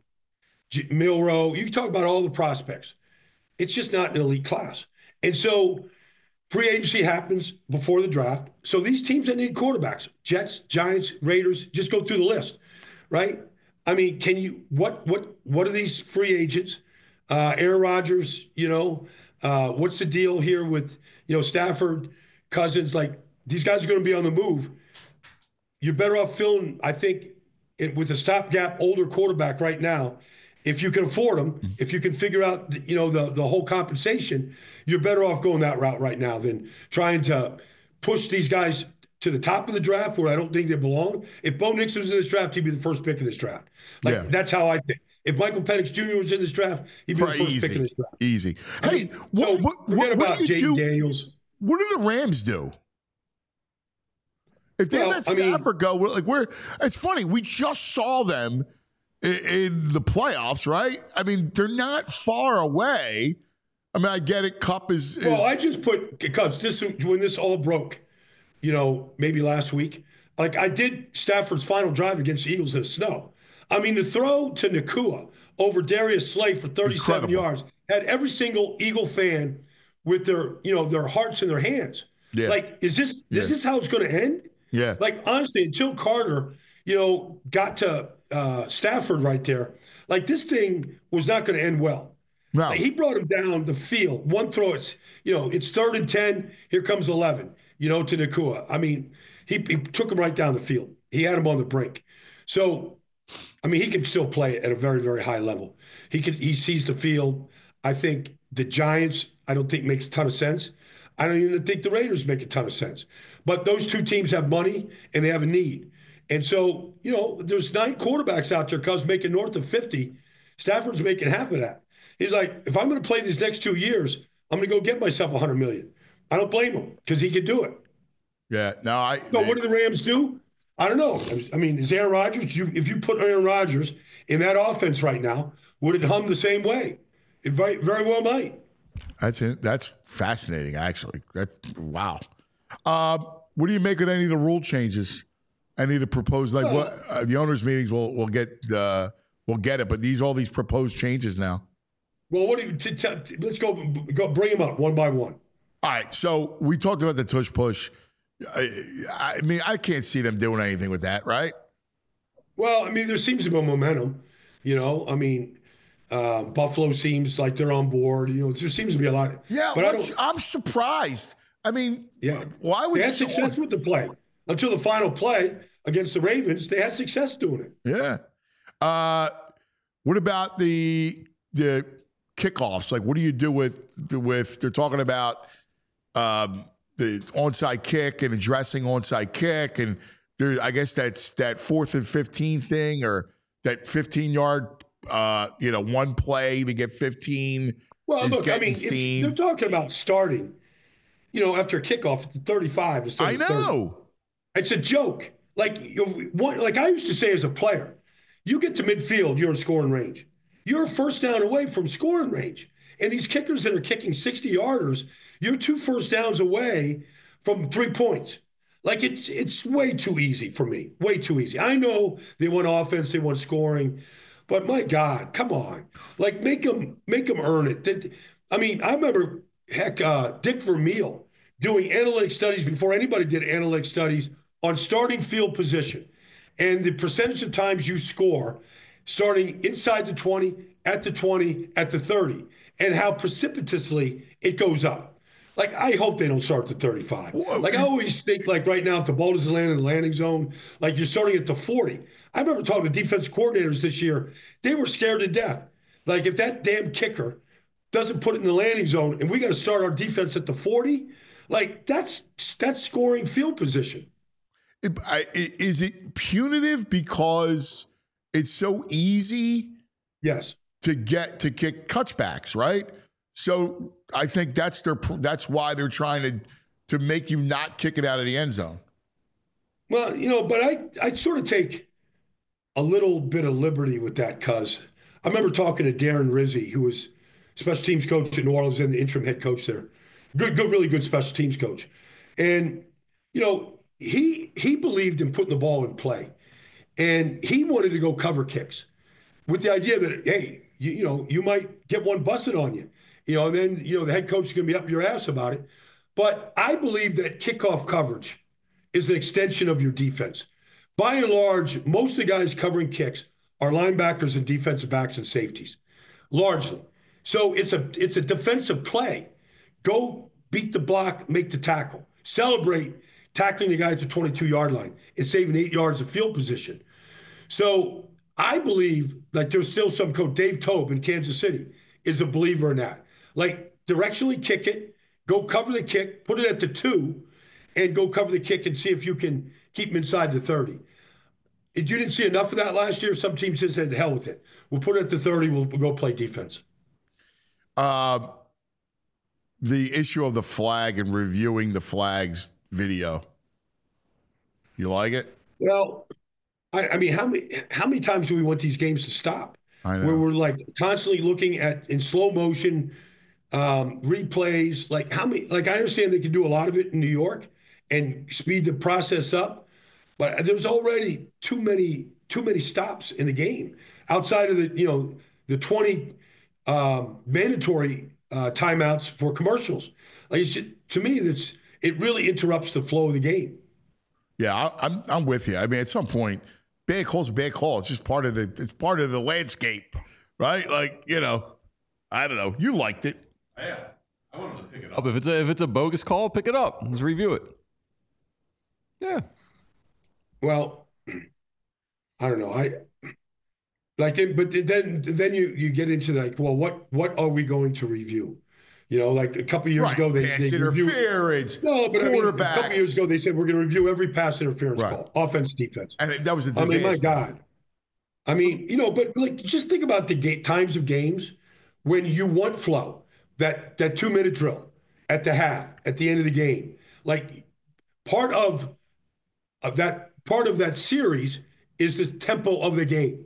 Milroe. You can talk about all the prospects. It's just not an elite class. And so free agency happens before the draft. So these teams that need quarterbacks, Jets, Giants, Raiders, just go through the list, right? I mean, can you what are these free agents? Aaron Rodgers, what's the deal here with Stafford, Cousins? Like these guys are going to be on the move. You're better off filling, I think, with a stopgap older quarterback right now. If you can afford them, if you can figure out, the whole compensation, you're better off going that route right now than trying to push these guys to the top of the draft where I don't think they belong. If Bo Nix was in this draft, he'd be the first pick of this draft. That's how I think. If Michael Penix Jr. was in this draft, he'd be the first pick of this draft. Easy. Hey, forget about Jaden Daniels. What do the Rams do? If they let Stafford go, it's funny. We just saw them in the playoffs, right? I mean, they're not far away. I mean, I get it. Kupp is. Well, I just put because when this all broke, maybe last week. Like I did Stafford's final drive against the Eagles in the snow. I mean, the throw to Nakua over Darius Slay for 37 yards had every single Eagle fan with their hearts in their hands. Yeah. Like, is this how it's going to end? Yeah. Like, honestly, until Carter, got to Stafford right there, like this thing was not going to end well. No. Like, he brought him down the field. One throw, it's 3rd and 10. Here comes 11, to Nacua. I mean, he took him right down the field. He had him on the brink. So, I mean, he can still play at a very, very high level. He sees the field. I think the Giants, I don't think makes a ton of sense. I don't even think the Raiders make a ton of sense. But those two teams have money and they have a need. And so, there's 9 quarterbacks out there, Cubs making north of 50. Stafford's making half of that. He's like, if I'm going to play these next 2 years, I'm going to go get myself $100 million. I don't blame him because he could do it. Yeah. No, So what do the Rams do? I don't know. I mean, is Aaron Rodgers, if you put Aaron Rodgers in that offense right now, would it hum the same way? It very, very well might. That's fascinating, actually. Wow. What do you make of any of the rule changes? Any of the proposed, the owners' meetings will get it, but all these proposed changes now. Well, let's go bring them up one by one. All right. So we talked about the tush push. I mean, I can't see them doing anything with that, right? Well, I mean, there seems to be momentum. I mean, Buffalo seems like they're on board. There seems to be a lot. Yeah, but I'm surprised. I mean, why would they had success with the play until the final play against the Ravens? They had success doing it. Yeah. What about the kickoffs? Like, what do you do with they're talking about the onside kick and addressing onside kick, and I guess that's that 4th and 15 thing, or that 15-yard, one play to get 15. Well, look, I mean, they're talking about starting, after a kickoff at the 35 instead of 30. I know. It's a joke. Like I used to say as a player, you get to midfield, you're in scoring range. You're a first down away from scoring range. And these kickers that are kicking 60-yarders, you're 2 first downs away from 3 points. Like, it's way too easy for me. Way too easy. I know they want offense, they want scoring, but my God, come on. Like, make them earn it. I mean, I remember, Dick Vermeil doing analytic studies before anybody did analytic studies on starting field position and the percentage of times you score starting inside the 20, at the 20, at the 30, and how precipitously it goes up. Like, I hope they don't start at the 35. Like, I always think, like, right now, if the ball doesn't land in the landing zone, like, you're starting at the 40. I remember talking to defense coordinators this year. They were scared to death. Like, if that damn kicker doesn't put it in the landing zone and we got to start our defense at the 40, like, that's scoring field position. Is it punitive because it's so easy? Yes. To kick touchbacks, right? So I think that's why they're trying to make you not kick it out of the end zone. Well, but I sort of take a little bit of liberty with that, because I remember talking to Darren Rizzi, who was special teams coach at New Orleans and the interim head coach there. Good, really good special teams coach. And, he believed in putting the ball in play. And he wanted to go cover kicks with the idea that, hey, you might get one busted on you. And then, the head coach is going to be up your ass about it. But I believe that kickoff coverage is an extension of your defense. By and large, most of the guys covering kicks are linebackers and defensive backs and safeties, largely. So it's a defensive play. Go beat the block, make the tackle. Celebrate tackling the guy at the 22-yard line and saving 8 yards of field position. So I believe like there's still some coach, Dave Tobe in Kansas City, is a believer in that. Like, directionally kick it, go cover the kick, put it at the 2, and go cover the kick and see if you can keep him inside the 30. If you didn't see enough of that last year, some teams just said, the hell with it. We'll put it at the 30, we'll go play defense. The issue of the flag and reviewing the flags video. You like it? Well, I mean, how many times do we want these games to stop? I know. Where we're like constantly looking at in slow motion replays. Like, how many? Like, I understand they can do a lot of it in New York and speed the process up, but there's already too many stops in the game outside of the 20 mandatory timeouts for commercials. Like to me, it really interrupts the flow of the game. Yeah, I'm with you. I mean, at some point, bad call's a bad call. It's just part of the landscape, right? Like, I don't know. You liked it. Yeah, I wanted to pick it up. If it's a bogus call, pick it up. Let's review it. Yeah. Well, I don't know. But then you get into like, well, what are we going to review? Like a couple of years ago, they interference. No, but I mean, a couple of years ago, they said we're going to review every pass interference call, offense, defense. And that was a disaster. I mean, my God. I mean, but like, just think about the times of games when you want flow, that 2-minute drill at the half, at the end of the game. Like part of that series is the tempo of the game,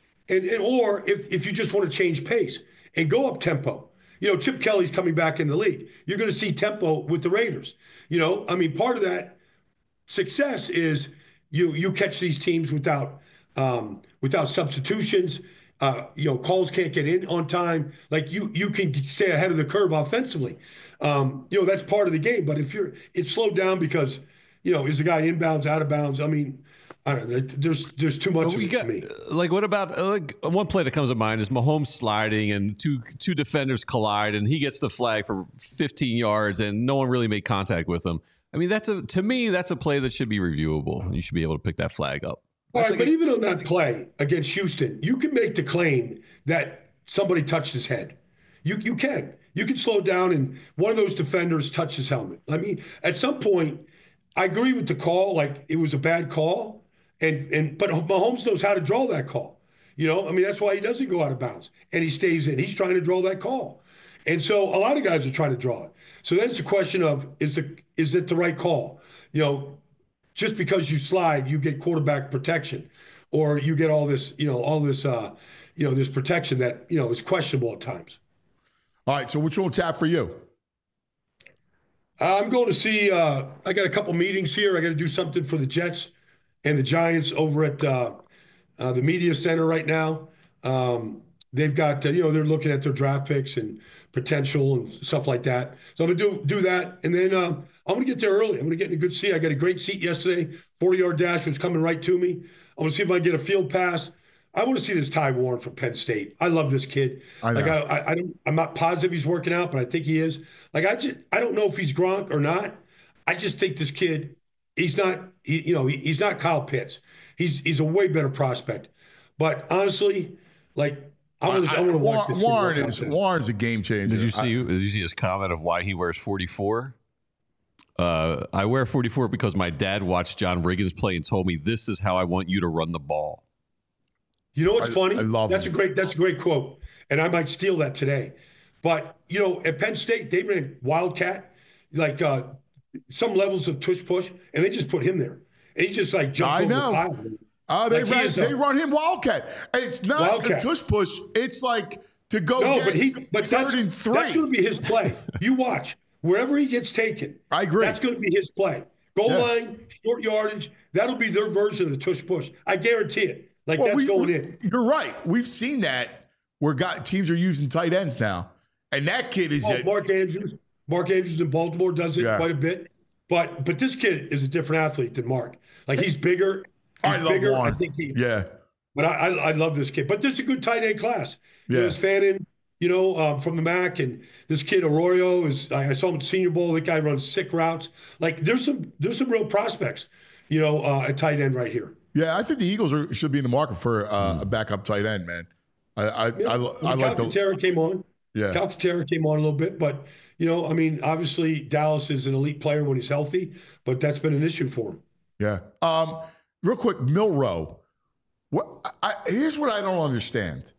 or if you just want to change pace and go up tempo. Chip Kelly's coming back in the league. You're going to see tempo with the Raiders. I mean, part of that success is you catch these teams without substitutions. Calls can't get in on time. Like you can stay ahead of the curve offensively. That's part of the game. But if it's slowed down because is the guy inbounds, out of bounds? I mean, I don't know. There's too much of it to me. Like, what about one play that comes to mind is Mahomes sliding and two defenders collide and he gets the flag for 15 yards and no one really made contact with him. I mean, to me, that's a play that should be reviewable. You should be able to pick that flag up. All right, but even on that play against Houston, you can make the claim that somebody touched his head. You can. You can slow down and one of those defenders touched his helmet. I mean, at some point, I agree with the call. Like, it was a bad call. But Mahomes knows how to draw that call. I mean, that's why he doesn't go out of bounds and he stays in. He's trying to draw that call. And so a lot of guys are trying to draw it. So then it's a question of, is it the right call? Just because you slide, you get quarterback protection, or you get all this protection that, is questionable at times. All right. So which one's tap for you? I'm going to see, I got a couple meetings here. I got to do something for the Jets and the Giants over at the media center right now. They've got, they're looking at their draft picks and potential and stuff like that. So I'm going to do that. And then I'm going to get there early. I'm going to get in a good seat. I got a great seat yesterday. 40-yard dash was coming right to me. I'm going to see if I can get a field pass. I want to see this Ty Warren from Penn State. I love this kid. I'm not positive he's working out, but I think he is. Like, I don't know if he's Gronk or not. I just think this kid, he's not Kyle Pitts. He's a way better prospect. But honestly, like, I want to watch this. Warren's a game changer. Did you see his comment of why he wears 44? I wear 44 because my dad watched John Riggins play and told me this is how I want you to run the ball. You know what's funny? I love that's a great quote, and I might steal that today. But at Penn State, they ran Wildcat, like some levels of tush push, and they just put him there, and he just like jumps over the pile. They run him Wildcat. It's not Wildcat. a tush push. It's like to go. No, get but third and that's 3. going to be his play. You watch wherever he gets taken. I agree. That's going to be his play. Goal line, short yardage. That'll be their version of the tush push. I guarantee it. Like, that's going in. You're right. We've seen that where teams are using tight ends now, and that kid is Mark Andrews. Mark Andrews in Baltimore does it quite a bit, but this kid is a different athlete than Mark. Like, he's bigger. I love bigger. Warren. I think But I love this kid. But this is a good tight end class. Yeah. There's Fannin, from the MAC, and this kid Arroyo is. I saw him at the Senior Bowl. That guy runs sick routes. Like, there's some real prospects, at tight end right here. Yeah, I think the Eagles should be in the market for a backup tight end, man. I like the Calcaterra came on. Yeah, Calcaterra came on a little bit, but obviously Dallas is an elite player when he's healthy, but that's been an issue for him. Yeah. Real quick, Milroe. Here's what I don't understand.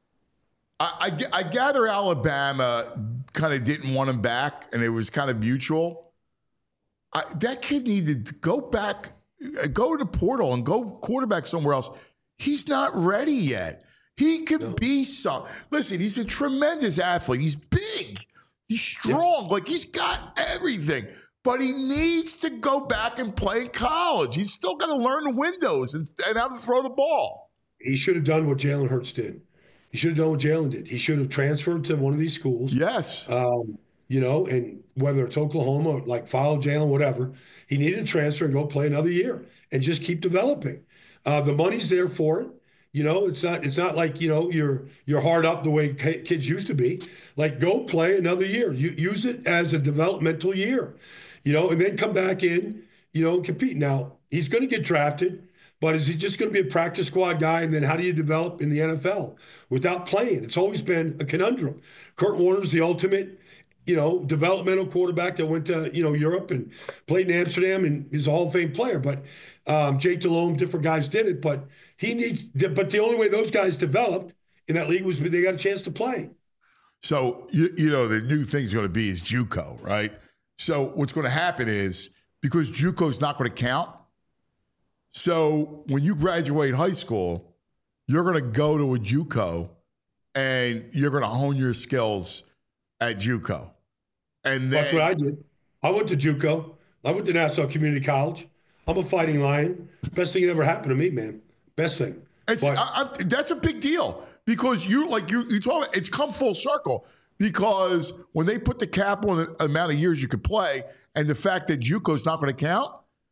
I gather Alabama kind of didn't want him back, and it was kind of mutual. That kid needed to go back. Go to the portal and go quarterback somewhere else. He's not ready yet. He could be some. Listen, he's a tremendous athlete. He's big. He's strong. Like, he's got everything. But he needs to go back and play in college. He's still got to learn the windows and how to throw the ball. He should have done what Jalen Hurts did. He should have done what Jalen did. He should have transferred to one of these schools. Yes. And whether it's Oklahoma or like follow Jalen, whatever, he needed to transfer and go play another year and just keep developing. The money's there for it. It's not like, you're hard up the way kids used to be. Like, go play another year. Use it as a developmental year, and then come back in, and compete. Now, he's going to get drafted, but is he just going to be a practice squad guy? And then how do you develop in the NFL without playing? It's always been a conundrum. Kurt Warner's the ultimate, developmental quarterback that went to, Europe and played in Amsterdam and is a Hall of Fame player. But Jake Delhomme, different guys did it. But the only way those guys developed in that league was they got a chance to play. So, the new thing's going to be is JUCO, right? So what's going to happen is, because JUCO's not going to count, so when you graduate high school, you're going to go to a JUCO and you're going to hone your skills at JUCO. And then, that's what I did. I went to JUCO. I went to Nassau Community College. I'm a fighting lion. Best thing that ever happened to me, man. Best thing. That's a big deal, because you talk about, it's come full circle, because when they put the cap on the amount of years you could play, and the fact that JUCO's not going to count,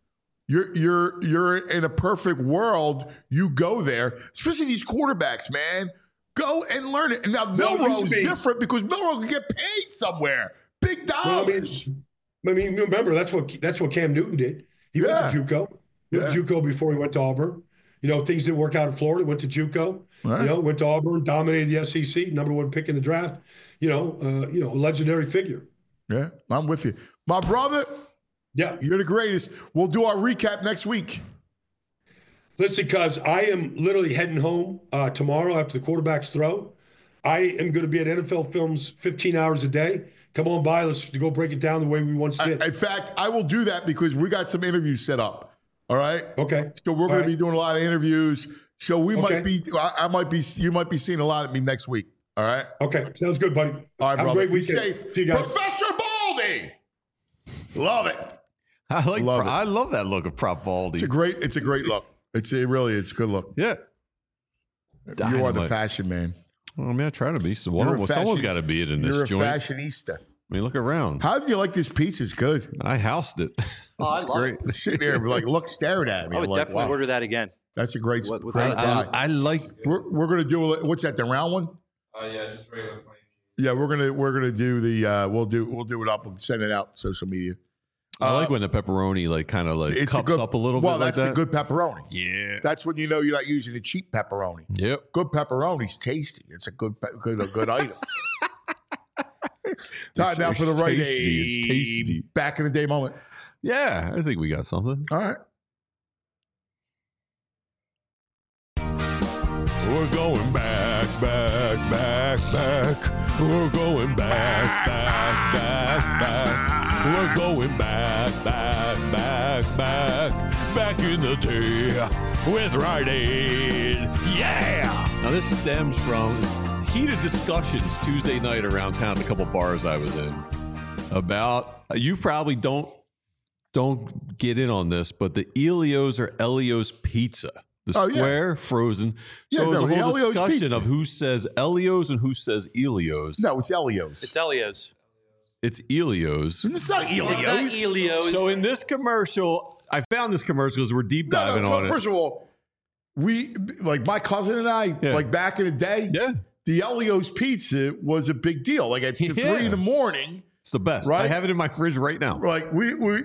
you're in a perfect world. You go there, especially these quarterbacks, man. Go and learn it. And now Milroe's different, because Milroe can get paid somewhere, big dollars. Well, remember that's what Cam Newton did. He went to JUCO. He went to JUCO before he went to Auburn. Things didn't work out in Florida. Went to JUCO. Right. Went to Auburn, dominated the SEC, number 1 pick in the draft. Legendary figure. Yeah, I'm with you, my brother. Yeah, you're the greatest. We'll do our recap next week. Listen, cuz I am literally heading home tomorrow after the quarterback's throw. I am going to be at NFL Films 15 hours a day. Come on by. Let's go break it down the way we once did. In fact, I will do that, because we got some interviews set up. All right. Okay. So we're going to be doing a lot of interviews. So we might be, you might be seeing a lot of me next week. All right. Okay. Sounds good, buddy. All right, Have brother. a great Be weekend. safe. See you guys. Professor Baldy. Love it. I love that look of Prop Baldy. It's a great look. It's a good look. Yeah. You are the fashion man. Well, I try to be. Someone's got to be it in this joint. You're a fashionista. Look around. How do you like this pizza? It's good. I housed it. Oh, it's great. Sitting there, staring at me. I would definitely order that again. That's a great spot. I like. We're gonna do what's that? The round one? Yeah, just regular plain. Yeah, we're gonna do the. We'll do it up and send it out social media. I like when the pepperoni cups up a little bit. Well, that's a good pepperoni. Yeah, that's when you know you're not using a cheap pepperoni. Yep, good pepperoni's tasty. It's a good item. Time now for the right age. Tasty. Back in the day moment. Yeah, I think we got something. All right. We're going back. We're going back. We're going back in the day with Rite Aid. Yeah. Now this stems from heated discussions Tuesday night around town at a couple bars I was in about, you probably don't get in on this, but the Elio's or Elio's pizza. The square frozen. So it was a whole discussion pizza of who says Elio's and who says Elio's. No, it's Elio's. It's Elio's. It's Elio's. It's not Elio's. It's not Elio's. So in this commercial, I found this commercial because we're deep diving on it. First of all, we, like my cousin and I, like back in the day, the Elio's pizza was a big deal. Like at 3 in the morning. It's the best. Right? I have it in my fridge right now. Like we were,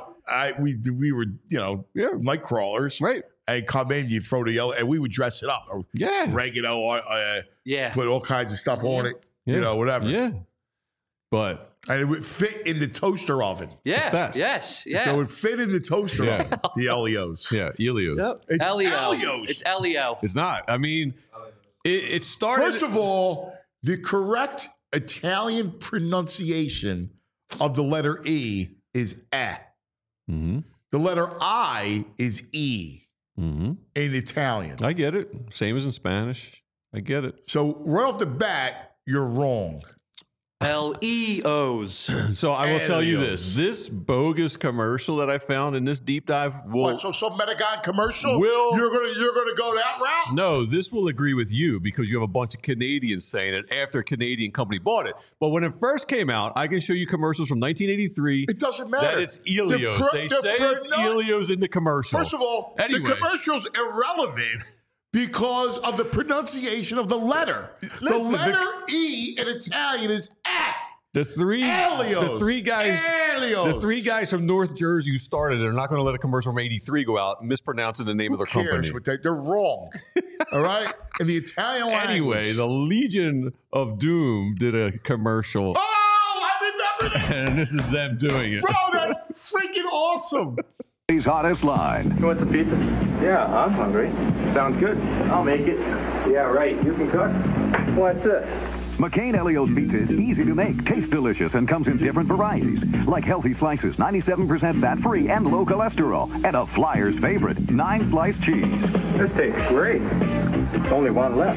night crawlers. Right. And come in, you throw the yellow, and we would dress it up. Oregano, put all kinds of stuff on it, whatever. Yeah. But and it would fit in the toaster oven. Yeah. Yes. Yeah. So it would fit in the toaster oven. The Elio's. Yeah, Elio's. Yep. It's Elio's. It's Elio. It's not. I mean, it started. First of all, the correct Italian pronunciation of the letter E is eh. Mm-hmm. The letter I is E in Italian. I get it. Same as in Spanish. I get it. So right off the bat, you're wrong. L-E-O's. So I will tell you Alios. this bogus commercial that I found in this deep dive will. What, so some Metagon commercial? Will- You're gonna go that route? No, this will agree with you because you have a bunch of Canadians saying it after a Canadian company bought it. But when it first came out, I can show you commercials from 1983. It doesn't matter. That it's Elios. They say it's Elios in the commercial. First of all, Anyway. the commercial's irrelevant because of the pronunciation of the letter. Listen, the letter E in Italian is at. The three guys from North Jersey who started it are not going to let a commercial from 83 go out mispronouncing the name of their company. But they're wrong. All right? In the Italian language. Anyway, the Legion of Doom did a commercial. Oh, I remember that. And this is them doing it. Bro, that's freaking awesome. His hottest line. You want the pizza? Yeah, I'm hungry. Sounds good. I'll make it. Yeah, right. You can cook? What's this? McCain Elio's pizza is easy to make, tastes delicious, and comes in different varieties, like healthy slices, 97% fat-free and low cholesterol, and a Flyers favorite, 9-slice cheese. This tastes great. Only one left.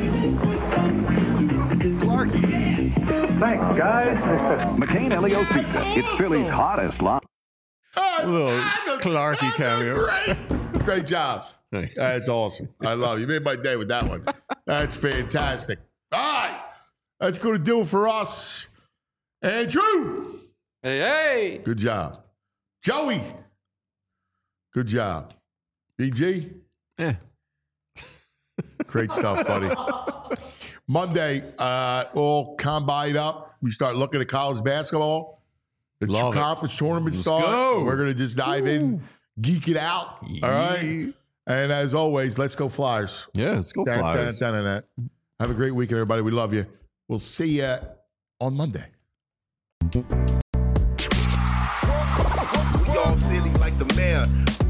Clarky. Thanks, guys. McCain Elio's pizza. It's Philly's hottest line. Little Clarky cameo. Great job. That's awesome. I love you. You made my day with that one. That's fantastic. All right. That's going to do it for us. Andrew. Hey. Good job. Joey. Good job. BG. Great stuff, buddy. Monday, all combined up. We start looking at college basketball. The conference tournament starts. We're going to just dive in, geek it out. All right. And as always, let's go Flyers. Yeah, let's go Flyers. Have a great weekend, everybody. We love you. We'll see you on Monday. We all silly like the mayor.